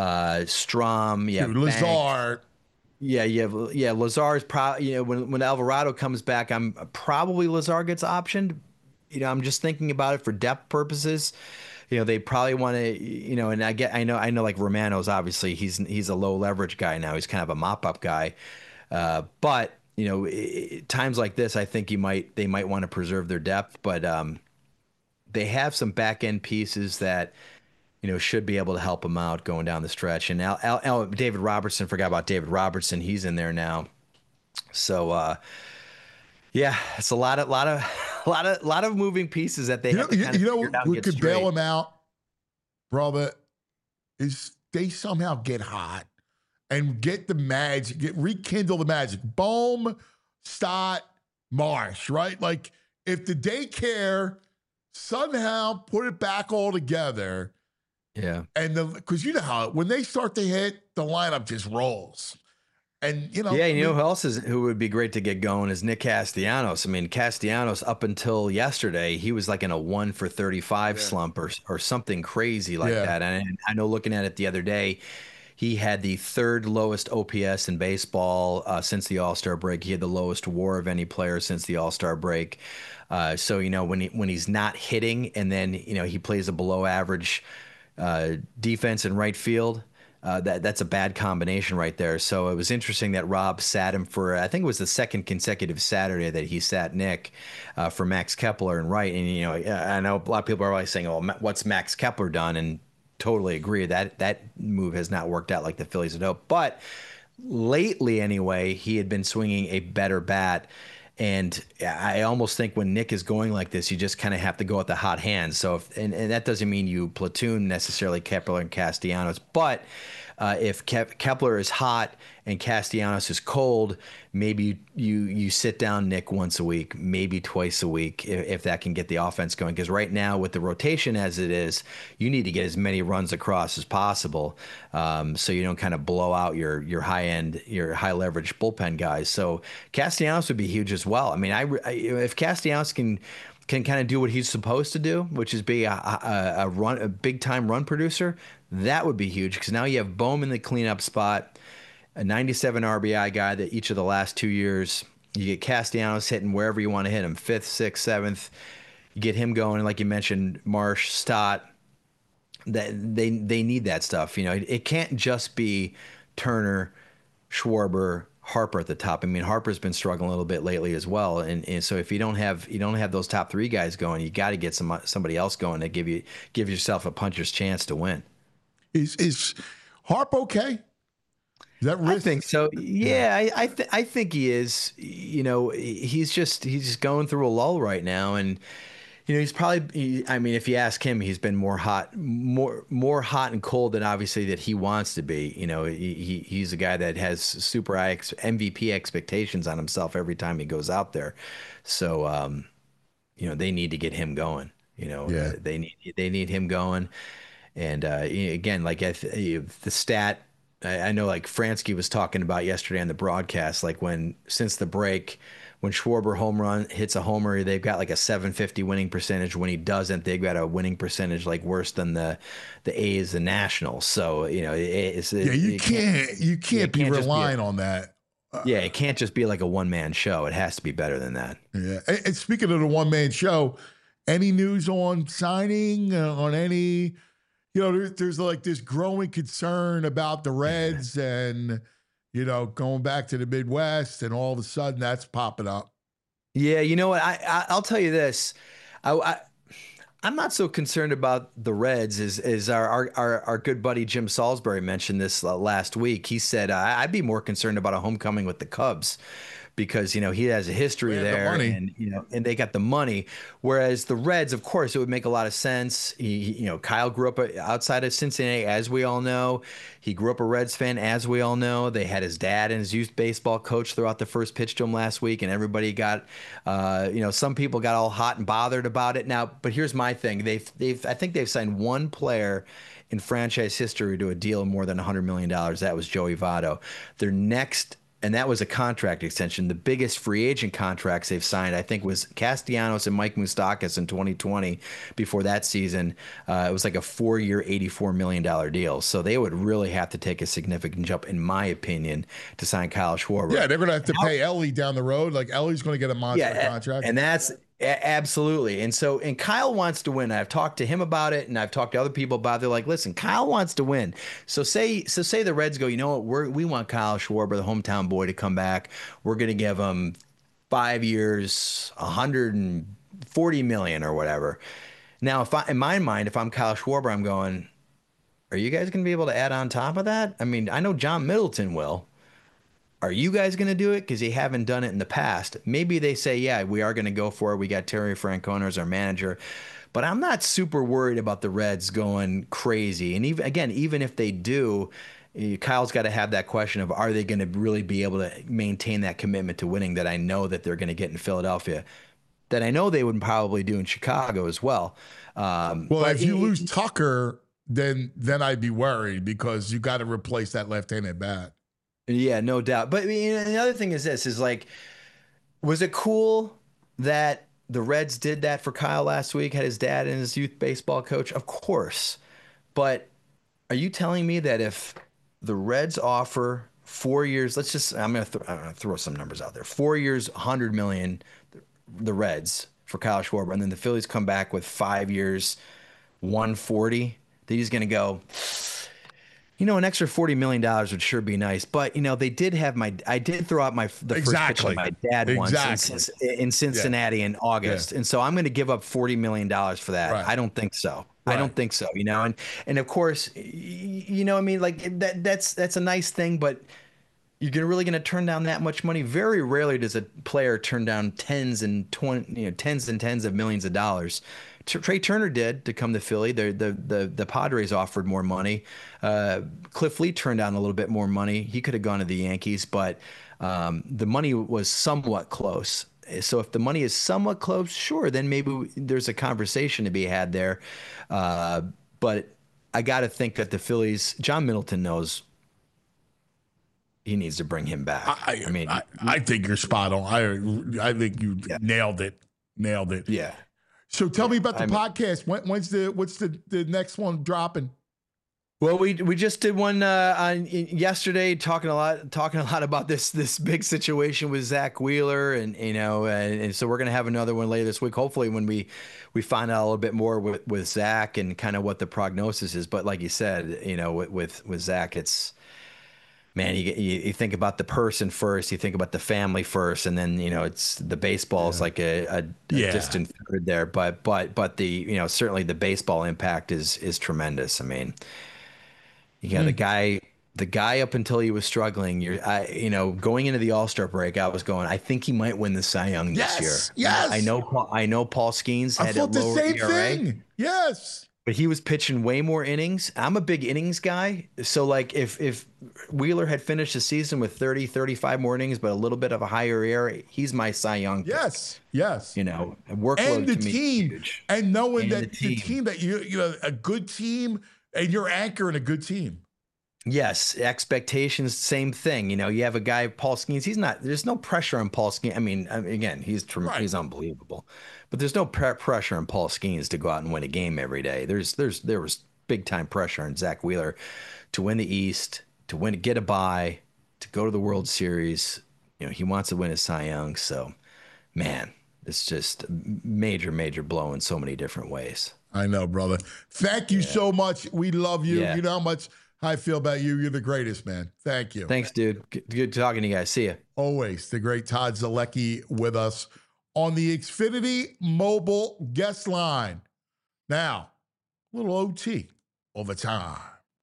Strom. Yeah, Lazar. Yeah, Lazar's probably. When Alvarado comes back, I'm probably Lazar gets optioned. I'm just thinking about it for depth purposes. They probably want to, and I know like Romano's obviously he's a low leverage guy now. He's kind of a mop up guy. But times like this, I think they might want to preserve their depth, but they have some back end pieces that, should be able to help them out going down the stretch. And David Robertson, forgot about David Robertson. He's in there now. So, yeah, it's a lot of moving pieces that they have to kind of figure out and get could straight. bail them out, brother, is they somehow get hot and get the magic, rekindle the magic. Bohm, Stott, Marsh, right? Like if the daycare somehow put it back all together. Yeah. And because you know how when they start to hit, the lineup just rolls. And who else who would be great to get going is Nick Castellanos. I mean, Castellanos up until yesterday, he was like in a 1 for 35 slump or something crazy like that. And I know looking at it the other day, he had the third lowest OPS in baseball since the All-Star break. He had the lowest WAR of any player since the All-Star break. So when he's not hitting and then he plays a below average defense in right field. That's a bad combination right there. So it was interesting that Rob sat him for, I think it was the second consecutive Saturday that he sat Nick for Max Kepler and right. And, I know a lot of people are always saying, oh, what's Max Kepler done? And totally agree that move has not worked out like the Phillies had hoped. But lately anyway, he had been swinging a better bat. And I almost think when Nick is going like this, you just kind of have to go with the hot hand. So, and that doesn't mean you platoon necessarily Kepler and Castellanos, but if Kepler is hot and Castellanos is cold, maybe you sit down Nick once a week, maybe twice a week, if that can get the offense going. Because right now with the rotation as it is, you need to get as many runs across as possible, so you don't kind of blow out your high leverage bullpen guys. So Castellanos would be huge as well. I mean, if Castellanos can kind of do what he's supposed to do, which is be a big time run producer, that would be huge. Because now you have Bohm in the cleanup spot, a 97 RBI guy that each of the last 2 years, you get Castellanos hitting wherever you want to hit him, 5th, 6th, 7th. You get him going, like you mentioned, Marsh, Stott. That they need that stuff. It can't just be Turner, Schwarber, Harper at the top. I mean, Harper's been struggling a little bit lately as well, and so if you don't have those top three guys going, you got to get somebody else going to give yourself a puncher's chance to win. Is Harp okay? Is that risk? I think so. Yeah, I think he is. He's just going through a lull right now, and he's probably. I mean, if you ask him, he's been more hot and cold than obviously that he wants to be. He's a guy that has super high MVP expectations on himself every time he goes out there. So, they need to get him going. They need him going. And again, like the stat, I know like Fransky was talking about yesterday on the broadcast, like since the break, when Schwarber hits a homer, they've got like a 750 winning percentage. When he doesn't, they've got a winning percentage like worse than the A's, the Nationals. So you can't be relying on that. Yeah, it can't just be like a one-man show. It has to be better than that. Yeah. And speaking of the one-man show, any news on signing on any? There's like this growing concern about the Reds and, going back to the Midwest, and all of a sudden that's popping up. Yeah, you know what? I'll tell you this. I'm not so concerned about the Reds as our good buddy Jim Salisbury mentioned this last week. He said, I'd be more concerned about a homecoming with the Cubs because, he has a history there and, and they got the money. Whereas the Reds, of course, it would make a lot of sense. Kyle grew up outside of Cincinnati, as we all know. He grew up a Reds fan, as we all know. They had his dad and his youth baseball coach throughout the first pitch to him last week, and everybody got, some people got all hot and bothered about it. Now, but here's my thing: I think they've signed one player in franchise history to a deal of more than $100 million. That was Joey Votto. Their next. And that was a contract extension. The biggest free agent contracts they've signed, I think, was Castellanos and Mike Moustakas in 2020. Before that season, it was like a 4-year, $84 million deal. So they would really have to take a significant jump, in my opinion, to sign Kyle Schwarber. Yeah, they're going to have to pay Ellie down the road. Like, Ellie's going to get a monster contract. And that's absolutely. And Kyle wants to win. I've talked to him about it, and I've talked to other people about it. They're like, listen, Kyle wants to win. So say the Reds go, you know what, we want Kyle Schwarber, the hometown boy, to come back. We're going to give him 5 years, $140 million or whatever. Now, in my mind, if I'm Kyle Schwarber, I'm going, are you guys going to be able to add on top of that? I mean, I know John Middleton will. Are you guys going to do it? Because you haven't done it in the past. Maybe they say, yeah, we are going to go for it. We got Terry Francona as our manager. But I'm not super worried about the Reds going crazy. And even if they do, Kyle's got to have that question of, are they going to really be able to maintain that commitment to winning that I know that they're going to get in Philadelphia, that I know they would probably do in Chicago as well. If you lose Tucker, then I'd be worried because you got to replace that left-handed bat. Yeah, no doubt. But the other thing is this, is like, was it cool that the Reds did that for Kyle last week, had his dad and his youth baseball coach? Of course. But are you telling me that if the Reds offer 4 years, I'm going to throw some numbers out there, 4 years, $100 million, the Reds for Kyle Schwarber, and then the Phillies come back with 5 years, $140, that he's going to go, an extra $40 million would sure be nice. But, they did have I did throw out the first pitch of my dad once in Cincinnati in August. And so I'm going to give up $40 million for that. Right. I don't think so. Right. I don't think so, and of course, that's a nice thing, but you're really going to turn down that much money? Very rarely does a player turn down tens and tens of millions of dollars. Trey Turner did to come to Philly. The Padres offered more money. Cliff Lee turned down a little bit more money. He could have gone to the Yankees, but the money was somewhat close. So if the money is somewhat close, sure, then maybe there's a conversation to be had there. But I got to think that the Phillies, John Middleton knows he needs to bring him back. I think you're spot on. I think you nailed it. Yeah. So tell me about the podcast. What's the next one dropping? Well, we just did one on yesterday, talking a lot about this big situation with Zach Wheeler, and so we're gonna have another one later this week. Hopefully, when we find out a little bit more with Zach and kind of what the prognosis is. But like you said, with Zach, it's. Man, you think about the person first, you think about the family first, and then it's the baseball is like a distant third there. But the certainly the baseball impact is tremendous. I mean, you got the guy up until he was struggling. Going into the All-Star break, I was going, I think he might win the Cy Young this year. Yes, I know Paul Skeens had a lower the same ERA. thing. Yes. But he was pitching way more innings. I'm a big innings guy. So, like, if Wheeler had finished the season with 30, 35 more innings, but a little bit of a higher ERA, he's my Cy Young pick. Yes. Workload and the to me team. huge. And knowing that the team that a good team, and you're anchoring a good team. Yes, expectations, same thing. You have a guy, Paul Skeens. There's no pressure on Paul Skeens. I mean, again, he's unbelievable. But there's no pressure on Paul Skeens to go out and win a game every day. There was big time pressure on Zach Wheeler to win the East, to get a bye, to go to the World Series. He wants to win his Cy Young. So, man, it's just major blow in so many different ways. I know, brother. Thank you so much. We love you. Yeah. You know how much I feel about you. You're the greatest, man. Thank you. Thanks, dude. Good talking to you guys. See ya. Always the great Todd Zolecki with us on the Xfinity mobile guest line. Now, a little OT overtime.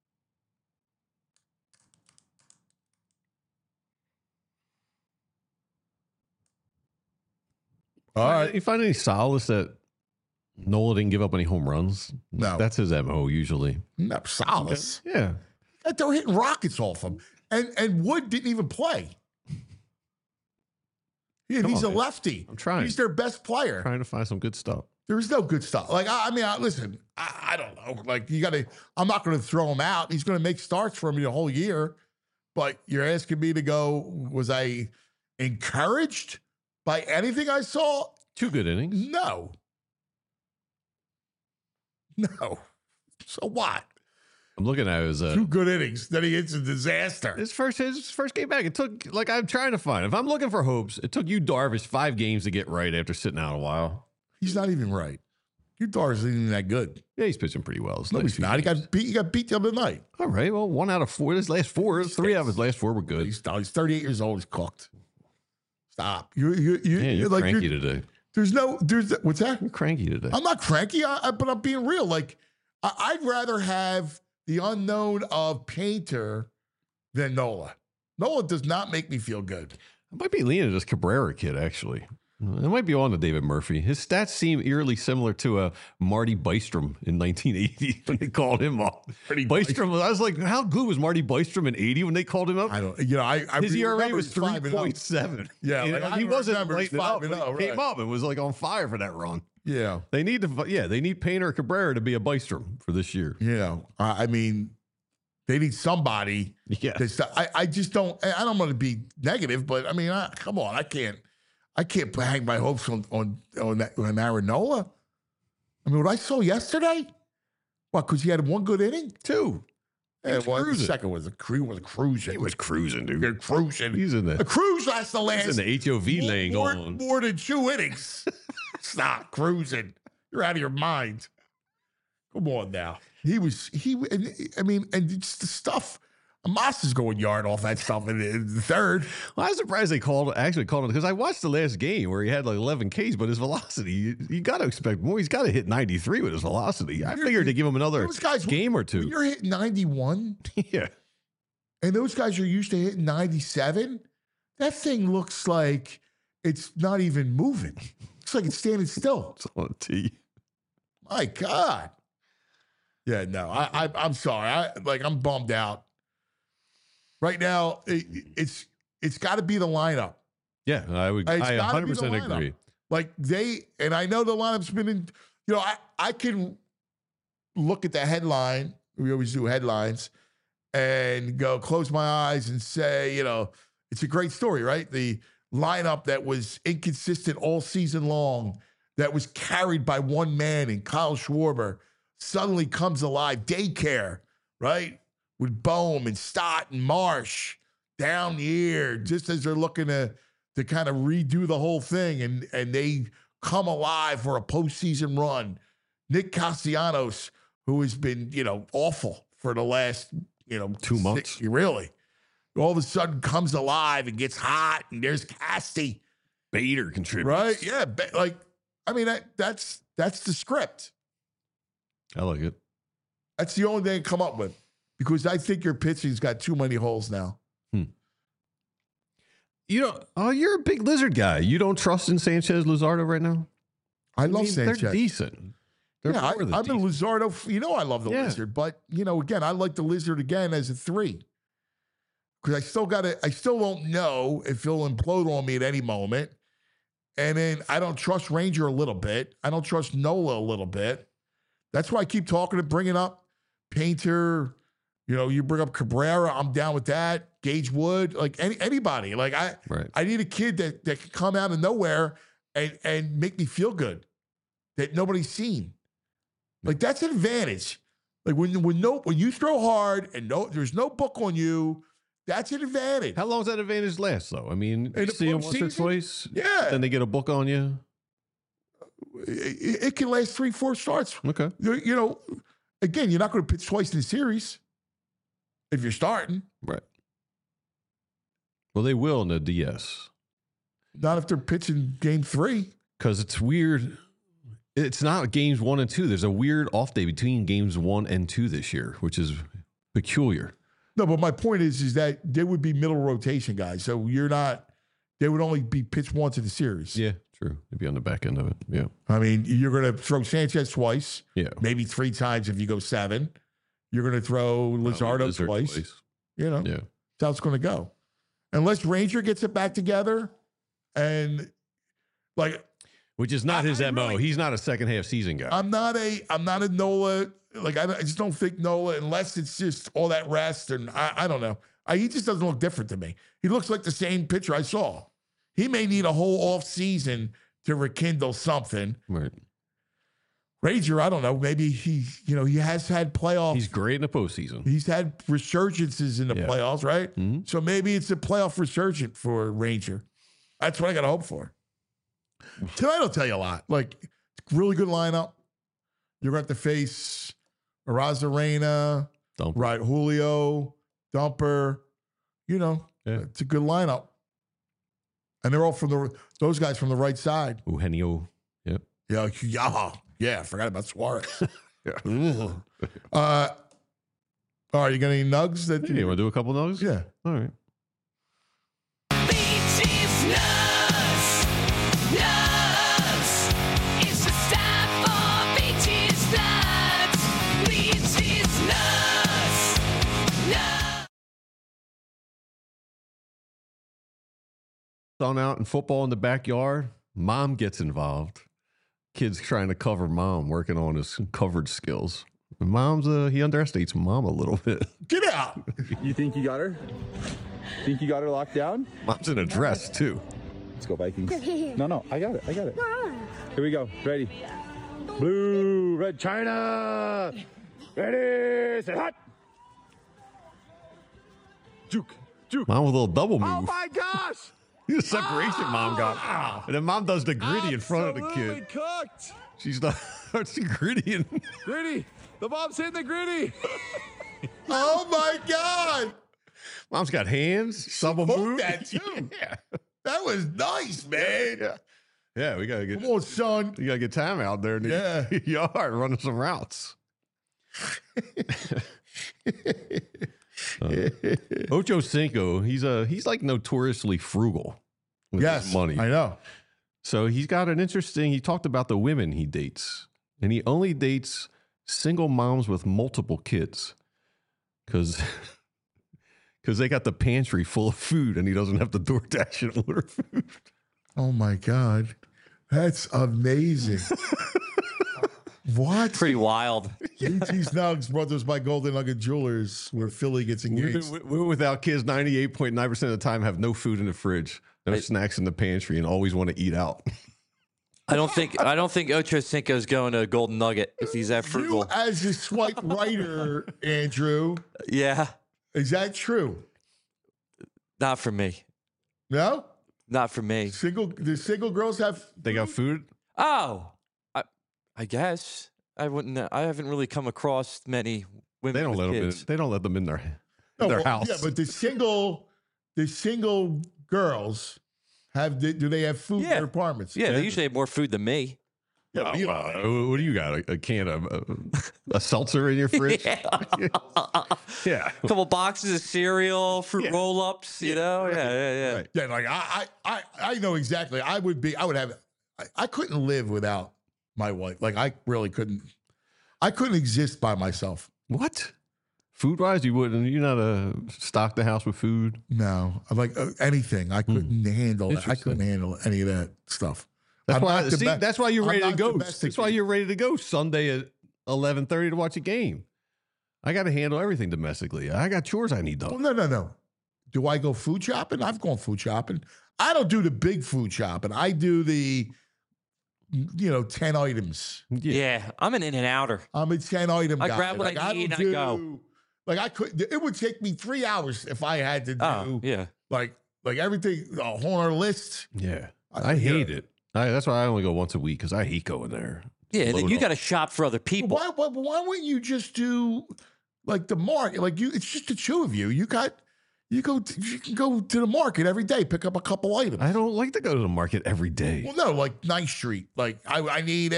All right. You find any solace that Nola didn't give up any home runs? No. That's his MO usually. No, solace. Yeah. They're hitting rockets off him. And Wood didn't even play. Yeah, he's a lefty. I'm trying. He's their best player. Trying to find some good stuff. There's no good stuff. Like, listen, I don't know. Like, I'm not going to throw him out. He's going to make starts for me the whole year. But you're asking me to go, was I encouraged by anything I saw? 2 good innings. No. So what? I'm looking at his 2 good innings. Then he hits a disaster. His first game back. It took, like, I'm trying to find. If I'm looking for hopes, it took you Darvish 5 games to get right after sitting out a while. He's not even right. Your Darvish isn't even that good. Yeah, he's pitching pretty well. No, he's not. He got beat the other night. All right. Well, 1 out of 4. His last 3 out of his last 4 were good. He's 38 years old. He's cooked. Stop. You're like, cranky today. There's what's that? You're cranky today. I'm not cranky, but I'm being real. Like, I'd rather have the unknown of Painter than Nola. Nola does not make me feel good. I might be leaning this Cabrera kid, actually. It might be on to David Murphy. His stats seem eerily similar to Marty Bystrom in 1980 when they called him up. Bystrom, I was like, how good was Marty Bystrom in 80 when they called him up? I don't, his ERA was 3.7. Yeah, he wasn't lighting up. He came up and was like on fire for that run. Yeah. They need Painter or Cabrera to be a Bystrom for this year. Yeah. I mean, they need somebody. Yeah. I just don't, I don't want to be negative, but I mean, come on, I can't hang my hopes on Aaron Nola. I mean, what I saw yesterday, because he had 1 good inning? 2. And the second was cruising. He was cruising, dude. You're cruising. He's in the cruise lasts the last. He's in the HOV lane going more than 2 innings. Stop cruising. You're out of your mind. Come on now. And it's the stuff. Amos is going yard off that stuff in the 3rd. Well, I was surprised they actually called him because I watched the last game where he had like 11 Ks, but his velocity, you got to expect more. He's got to hit 93 with his velocity. I figured to give him another game or 2. When you're hitting 91, yeah, and those guys are used to hitting 97, that thing looks like it's not even moving. Looks like it's standing still. It's on a tee. My God. Yeah, no, I'm sorry. I'm bummed out. Right now, it's got to be the lineup. Yeah, I 100% agree. Like and I know the lineup's been in, I can look at the headline. We always do headlines and go close my eyes and say, it's a great story, right? The lineup that was inconsistent all season long, that was carried by one man in Kyle Schwarber, suddenly comes alive. Daycare, right? With Bohm and Stott and Marsh down the year, just as they're looking to kind of redo the whole thing, and they come alive for a postseason run. Nick Castellanos, who has been, awful for the last, 2 months. Really. All of a sudden comes alive and gets hot, and there's Casty. Bader contributes. Right? Yeah. That's the script. I like it. That's the only thing I come up with. Because I think your pitching's got too many holes now. You're a big Lizard guy. You don't trust in Sanchez Luzardo right now? I love Sanchez. They're decent. I'm a Luzardo. I love the Lizard. But, again, I like the Lizard again as a 3. Because I still don't know if he'll implode on me at any moment. And then I don't trust Ranger a little bit. I don't trust Nola a little bit. That's why I keep bringing up Painter. You bring up Cabrera, I'm down with that. Gage Wood, like anybody. Like I need a kid that can come out of nowhere and make me feel good that nobody's seen. Like that's an advantage. Like when you throw hard and there's no book on you, that's an advantage. How long does that advantage last though? I mean, you see them once or twice, yeah. Then they get a book on you. It can last 3-4 starts. Okay. Again, you're not going to pitch twice in the series. If you're starting. Right. Well, they will in the DS. Not if they're pitching game 3. because it's weird. It's not games 1 and 2. There's a weird off day between games 1 and 2 this year, which is peculiar. No, but my point is that they would be middle rotation guys. So you're not. They would only be pitched once in the series. Yeah, true. They'd be on the back end of it. Yeah. I mean, you're going to throw Sanchez twice. Yeah. Maybe 3 times if you go 7. You're going to throw Luzardo twice. You know. Yeah. That's how it's going to go. Unless Ranger gets it back together, and like. Which is not his MO. Really, he's not a second half season guy. I'm not a Nola. Like I just don't think Nola, unless it's just all that rest, and I don't know. He just doesn't look different to me. He looks like the same pitcher I saw. He may need a whole off season to rekindle something. Right. Ranger, I don't know. Maybe he has had playoffs. He's great in the postseason. He's had resurgences in the playoffs, right? Mm-hmm. So maybe it's a playoff resurgent for Ranger. That's what I got to hope for. Tonight will tell you a lot. Like, really good lineup. You're going to have to face Arozarena, right? Julio, Dumper. You know, it's a good lineup. And they're all from those guys from the right side. Eugenio. Yep. Yeah. Yeah. I forgot about Suarez. All right. You got any nugs? You want to do a couple nugs? Yeah. All right. On out in football in the backyard, mom gets involved. Kid's trying to cover mom, working on his coverage skills. And mom's he underestimates mom a little bit. Get out! You think you got her? Think you got her locked down? Mom's in a dress too. Let's go Vikings. No, I got it. Here we go. Ready? Blue, red China. Ready, set, hot. Juke. Mom with a little double move. Oh my gosh! The separation mom got. And then mom does the gritty in front of the kid. Cooked. She's not. She gritty. Gritty. The mom's hitting the gritty. Oh my God. Mom's got hands. Some of them. That too. Yeah. That was nice, man. Yeah, we got to get. Come on, son. You got to get time out there in the yard running some routes. Ocho Cinco, he's like notoriously frugal with his money. I know. So he's got an interesting. He talked about the women he dates, and he only dates single moms with multiple kids, because they got the pantry full of food, and he doesn't have to DoorDash and order food. Oh my God, that's amazing. What? Pretty wild. BT's Nugs brought to us by Golden Nugget Jewelers, where Philly gets engaged. Women without kids 98.9% of the time have no food in the fridge, no snacks in the pantry, and always want to eat out. I don't think Ocho Cinco's going to Golden Nugget if he's that frugal. You as a swipe writer, Andrew. Yeah. Is that true? Not for me. No? Not for me. The single girls have food? They got food? Oh. I guess I haven't really come across many women. They don't let kids. them in. They don't let them in their house. Yeah, but the single girls do they have food in their apartments? Yeah, they usually have more food than me. Yeah, what do you got? A can of a seltzer in your fridge? Yeah. A couple boxes of cereal, fruit roll-ups. You know, yeah. Right. Yeah, like I know exactly. I couldn't live without my wife. Like I really couldn't. I couldn't exist by myself. What? Food wise, you wouldn't. You're not stock the house with food. No, like anything. I couldn't handle that. I couldn't handle any of that stuff. That's why you're ready to go. That's why you're ready to go Sunday at 11:30 to watch a game. I got to handle everything domestically. I got chores I need done. Well, no. Do I go food shopping? I've gone food shopping. I don't do the big food shopping. I do the 10 items. Yeah, I'm an in-and-outer. I'm a 10-item guy. I grab what I need and I go. Like I could. It would take me 3 hours if I had to do. Like everything on our list. Yeah, I hate it. That's why I only go once a week because I hate going there. Yeah, then you got to shop for other people. Why wouldn't you just do like the market? Like it's just the two of you. You got You can go to the market every day, pick up a couple items. I don't like to go to the market every day. Well, no, like Ninth Street. Like I need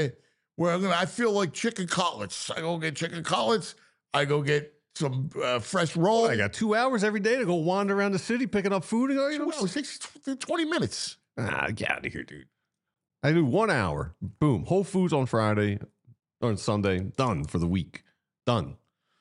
I feel like chicken cutlets. I go get chicken cutlets. I go get some fresh roll. I got 2 hours every day to go wander around the city picking up food. It takes 20 minutes. Get out of here, dude. I do 1 hour. Boom. Whole Foods on Friday or on Sunday. Done for the week. Done.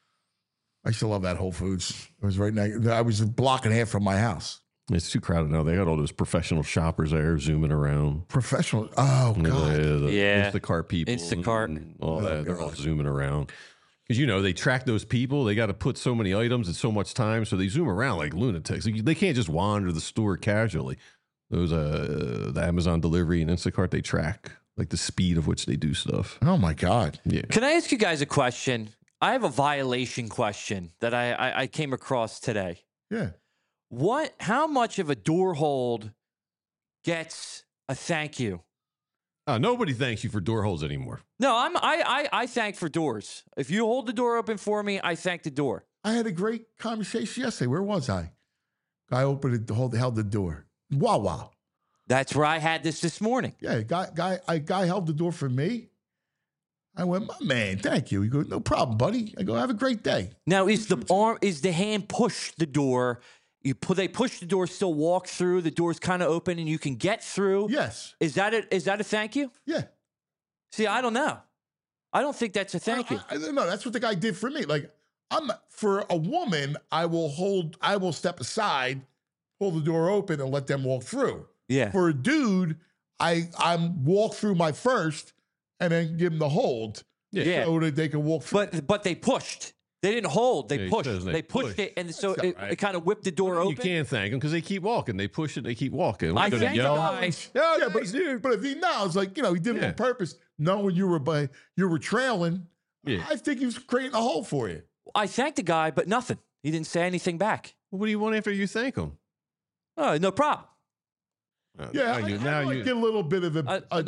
I still love that Whole Foods. It was right now. I was a block and a half from my house. It's too crowded now. They got all those professional shoppers there zooming around. Professional? Oh, God. The Yeah. Instacart people. Instacart. And all that. They're all zooming around. Because, they track those people. They got to put so many items at so much time. So they zoom around like lunatics. They can't just wander the store casually. Those, the Amazon delivery and Instacart, they track like the speed of which they do stuff. Oh, my God. Yeah. Can I ask you guys a question? I have a violation question that I came across today. Yeah. How much of a door hold gets a thank you? Nobody thanks you for door holds anymore. No, I thank for doors. If you hold the door open for me, I thank the door. I had a great conversation yesterday. Where was I? Guy opened it, held the door. Wow. That's where I had this morning. Yeah, guy held the door for me. I went, my man, thank you. He goes, no problem, buddy. I go, have a great day. Now, is the hand push the door? They push the door, still walk through. The door's kind of open, and you can get through. Yes. Is that a thank you? Yeah. See, I don't know. I don't think that's a thank you. I don't know. That's what the guy did for me. Like, for a woman, I will step aside, pull the door open, and let them walk through. Yeah. For a dude, I'm walk through my first, and then give them the hold. Yeah. So that they can walk through. But they pushed. They didn't hold. They pushed. They pushed it, and so it kind of whipped the door open. You can't thank them because they keep walking. They push it. They keep walking. I thank the guy. But if he knows, like, he did it on purpose, knowing you were trailing. Yeah. I think he was creating a hole for you. I thanked the guy, but nothing. He didn't say anything back. What do you want after you thank him? Oh, no problem. Yeah, I get a little bit of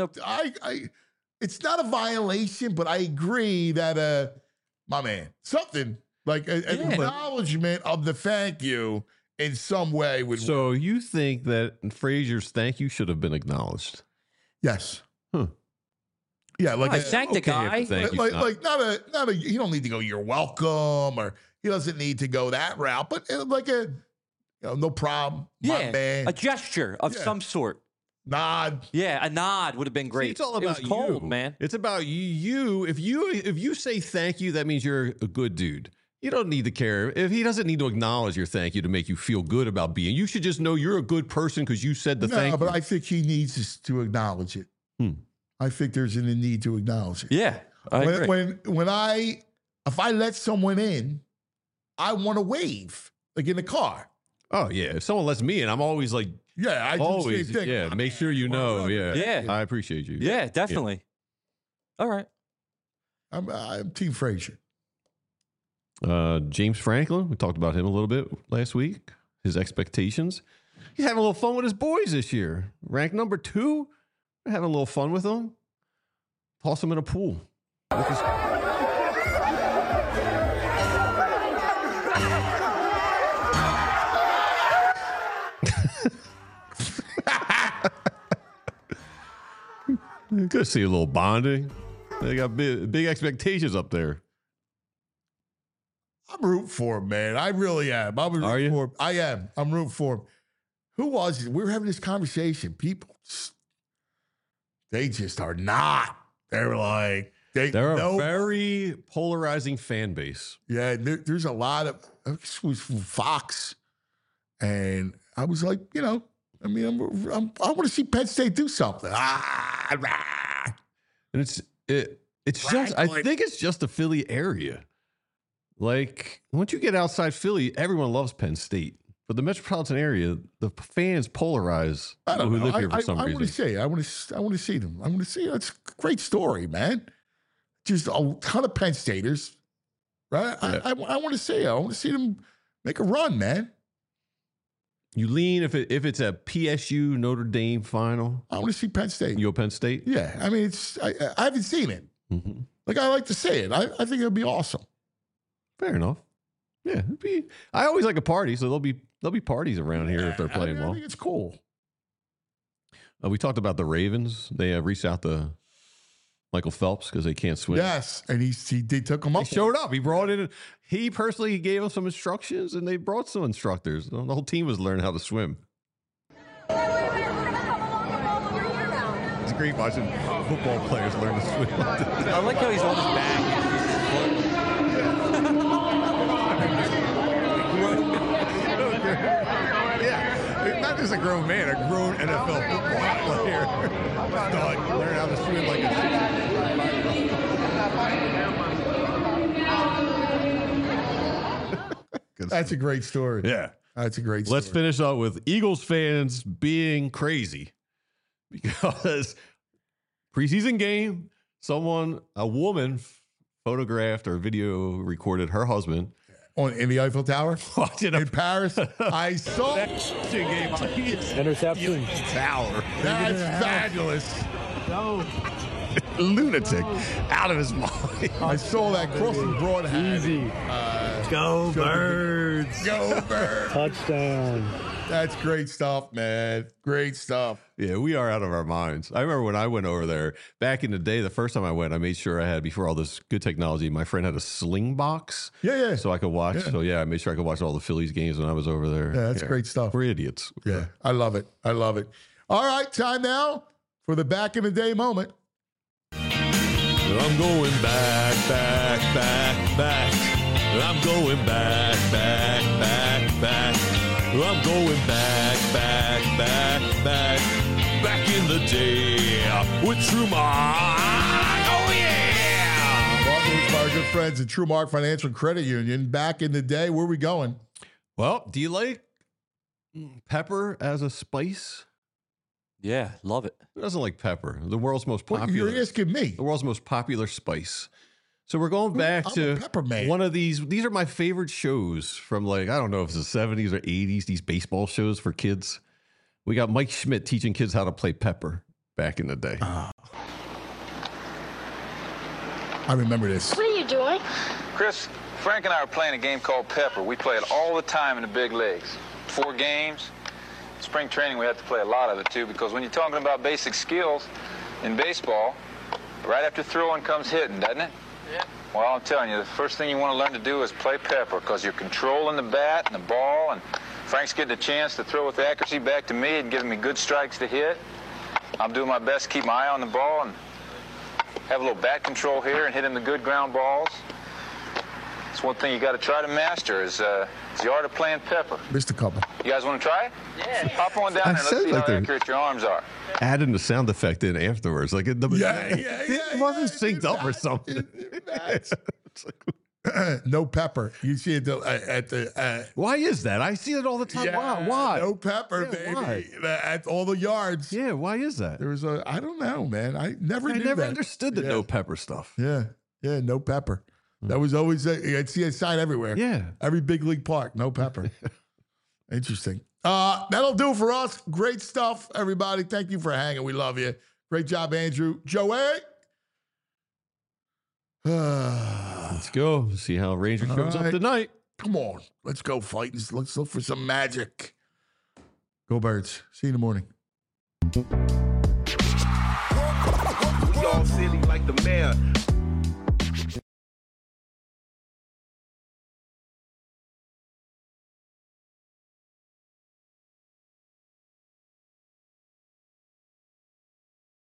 it's not a violation, but I agree that my man, something like an acknowledgement of the thank you in some way would. So you think that Frazier's thank you should have been acknowledged? Yes. Huh. Yeah, like I thanked the guy. Like not a. You don't need to go, you're welcome, or he doesn't need to go that route. But like no problem. Yeah, my man. A gesture of some sort. Nod. Yeah, a nod would have been great. See, it's all about it was cold, you. Man. It's about you. If you say thank you, that means you're a good dude. You don't need to care. If he doesn't need to acknowledge your thank you to make you feel good about being, you should just know you're a good person because you said the thank you. No, but I think he needs to acknowledge it. I think there's a need to acknowledge it. Yeah. I agree. If I let someone in, I want to wave, like in the car. Oh yeah. If someone lets me in, I'm always like, yeah, I always, do the same thing. Yeah, make sure you know. Yeah. I appreciate you. Yeah, definitely. Yeah. All right. I'm Team Frazier. James Franklin, we talked about him a little bit last week. His expectations. He's having a little fun with his boys this year. Ranked number 2. We're having a little fun with him. Toss him in a pool. Good to see a little bonding. They got big expectations up there. I'm rooting for him, man. I really am. Are you? For him. I am. I'm rooting for him. Who was it? We were having this conversation. People, they just are not. They're like, they're a very polarizing fan base. Yeah, there's a lot of, this was from Fox. And I was like, I want to see Penn State do something. And it's just, I think it's just the Philly area. Like, once you get outside Philly, everyone loves Penn State. But the metropolitan area, the fans polarize people who live here for some reason. I want to see them. I want to see. It's a great story, man. Just a ton of Penn Staters, right? Yeah. I want to see. I want to see them make a run, man. You lean if it's a PSU Notre Dame final. I want to see Penn State. You go Penn State? Yeah, I mean, I haven't seen it. Mm-hmm. Like, I like to see it. I think it'll be awesome. Fair enough. Yeah, I always like a party, so there'll be parties around here if they're playing well. I think it's cool. We talked about the Ravens. They reached out to Michael Phelps because they can't swim. Yes, and they took him up. He showed up. He brought in. He personally gave us some instructions, and they brought some instructors. The whole team was learning how to swim. It's great watching football players learn to swim. I like how he's on his back. Yeah, not just a grown man, a grown NFL football player. Dog, learn how to swim like a That's a great story. Yeah. That's a great story. Let's finish up with Eagles fans being crazy because preseason game, a woman photographed or video recorded her husband in the Eiffel Tower in Paris. I saw Interception. Tower. That's fabulous. Lunatic, out of his mind. I saw that crossing broad hat. Easy. Go Birds. Go Birds. Touchdown. That's great stuff, man. Great stuff. Yeah, we are out of our minds. I remember when I went over there back in the day, the first time I went, I made sure I had, before all this good technology, my friend had a sling box. Yeah. So I could watch. Yeah. So yeah, I made sure I could watch all the Phillies games when I was over there. Yeah, that's great stuff. We're idiots. Yeah, I love it. I love it. All right, time now for the back in the day moment. I'm going back. I'm going back. I'm going back in the day with TrueMark. Oh, yeah! Brought to us by our good friends at TrueMark Financial Credit Union. Back in the day, where are we going? Well, do you like pepper as a spice? Yeah, love it. Who doesn't like pepper? The world's most popular. You're asking me. The world's most popular spice. So we're going back to one of these. These are my favorite shows from, like, I don't know if it's the 70s or 80s, these baseball shows for kids. We got Mike Schmidt teaching kids how to play pepper back in the day. I remember this. What are you doing? Chris, Frank and I are playing a game called Pepper. We play it all the time in the big leagues. 4 games. Spring training, we have to play a lot of it, too, because when you're talking about basic skills in baseball, right after throwing comes hitting, doesn't it? Yeah. Well, I'm telling you, the first thing you want to learn to do is play pepper, because you're controlling the bat and the ball, and Frank's getting a chance to throw with accuracy back to me and giving me good strikes to hit. I'm doing my best to keep my eye on the ball and have a little bat control here and hit him the good ground balls. That's one thing you got to try to master is the art of playing pepper. Missed a couple. You guys want to try it? Yeah. Hop on down there and let's see how accurate your arms are. Adding the sound effect in afterwards. Like, it wasn't synced up or something. No pepper. You see it at the. Why is that? I see it all the time. Yeah, why? No pepper, baby. At all the yards. Yeah, why is that? There was I don't know, man. I never understood the no pepper stuff. Yeah, no pepper. That was always, I'd see a sign everywhere. Yeah. Every big league park, no pepper. Interesting. That'll do for us. Great stuff, everybody. Thank you for hanging. We love you. Great job, Andrew. Joey. Let's go. See how Ranger comes up tonight. Come on. Let's go fighting. Let's look for some magic. Go Birds. See you in the morning. We all silly like the mayor.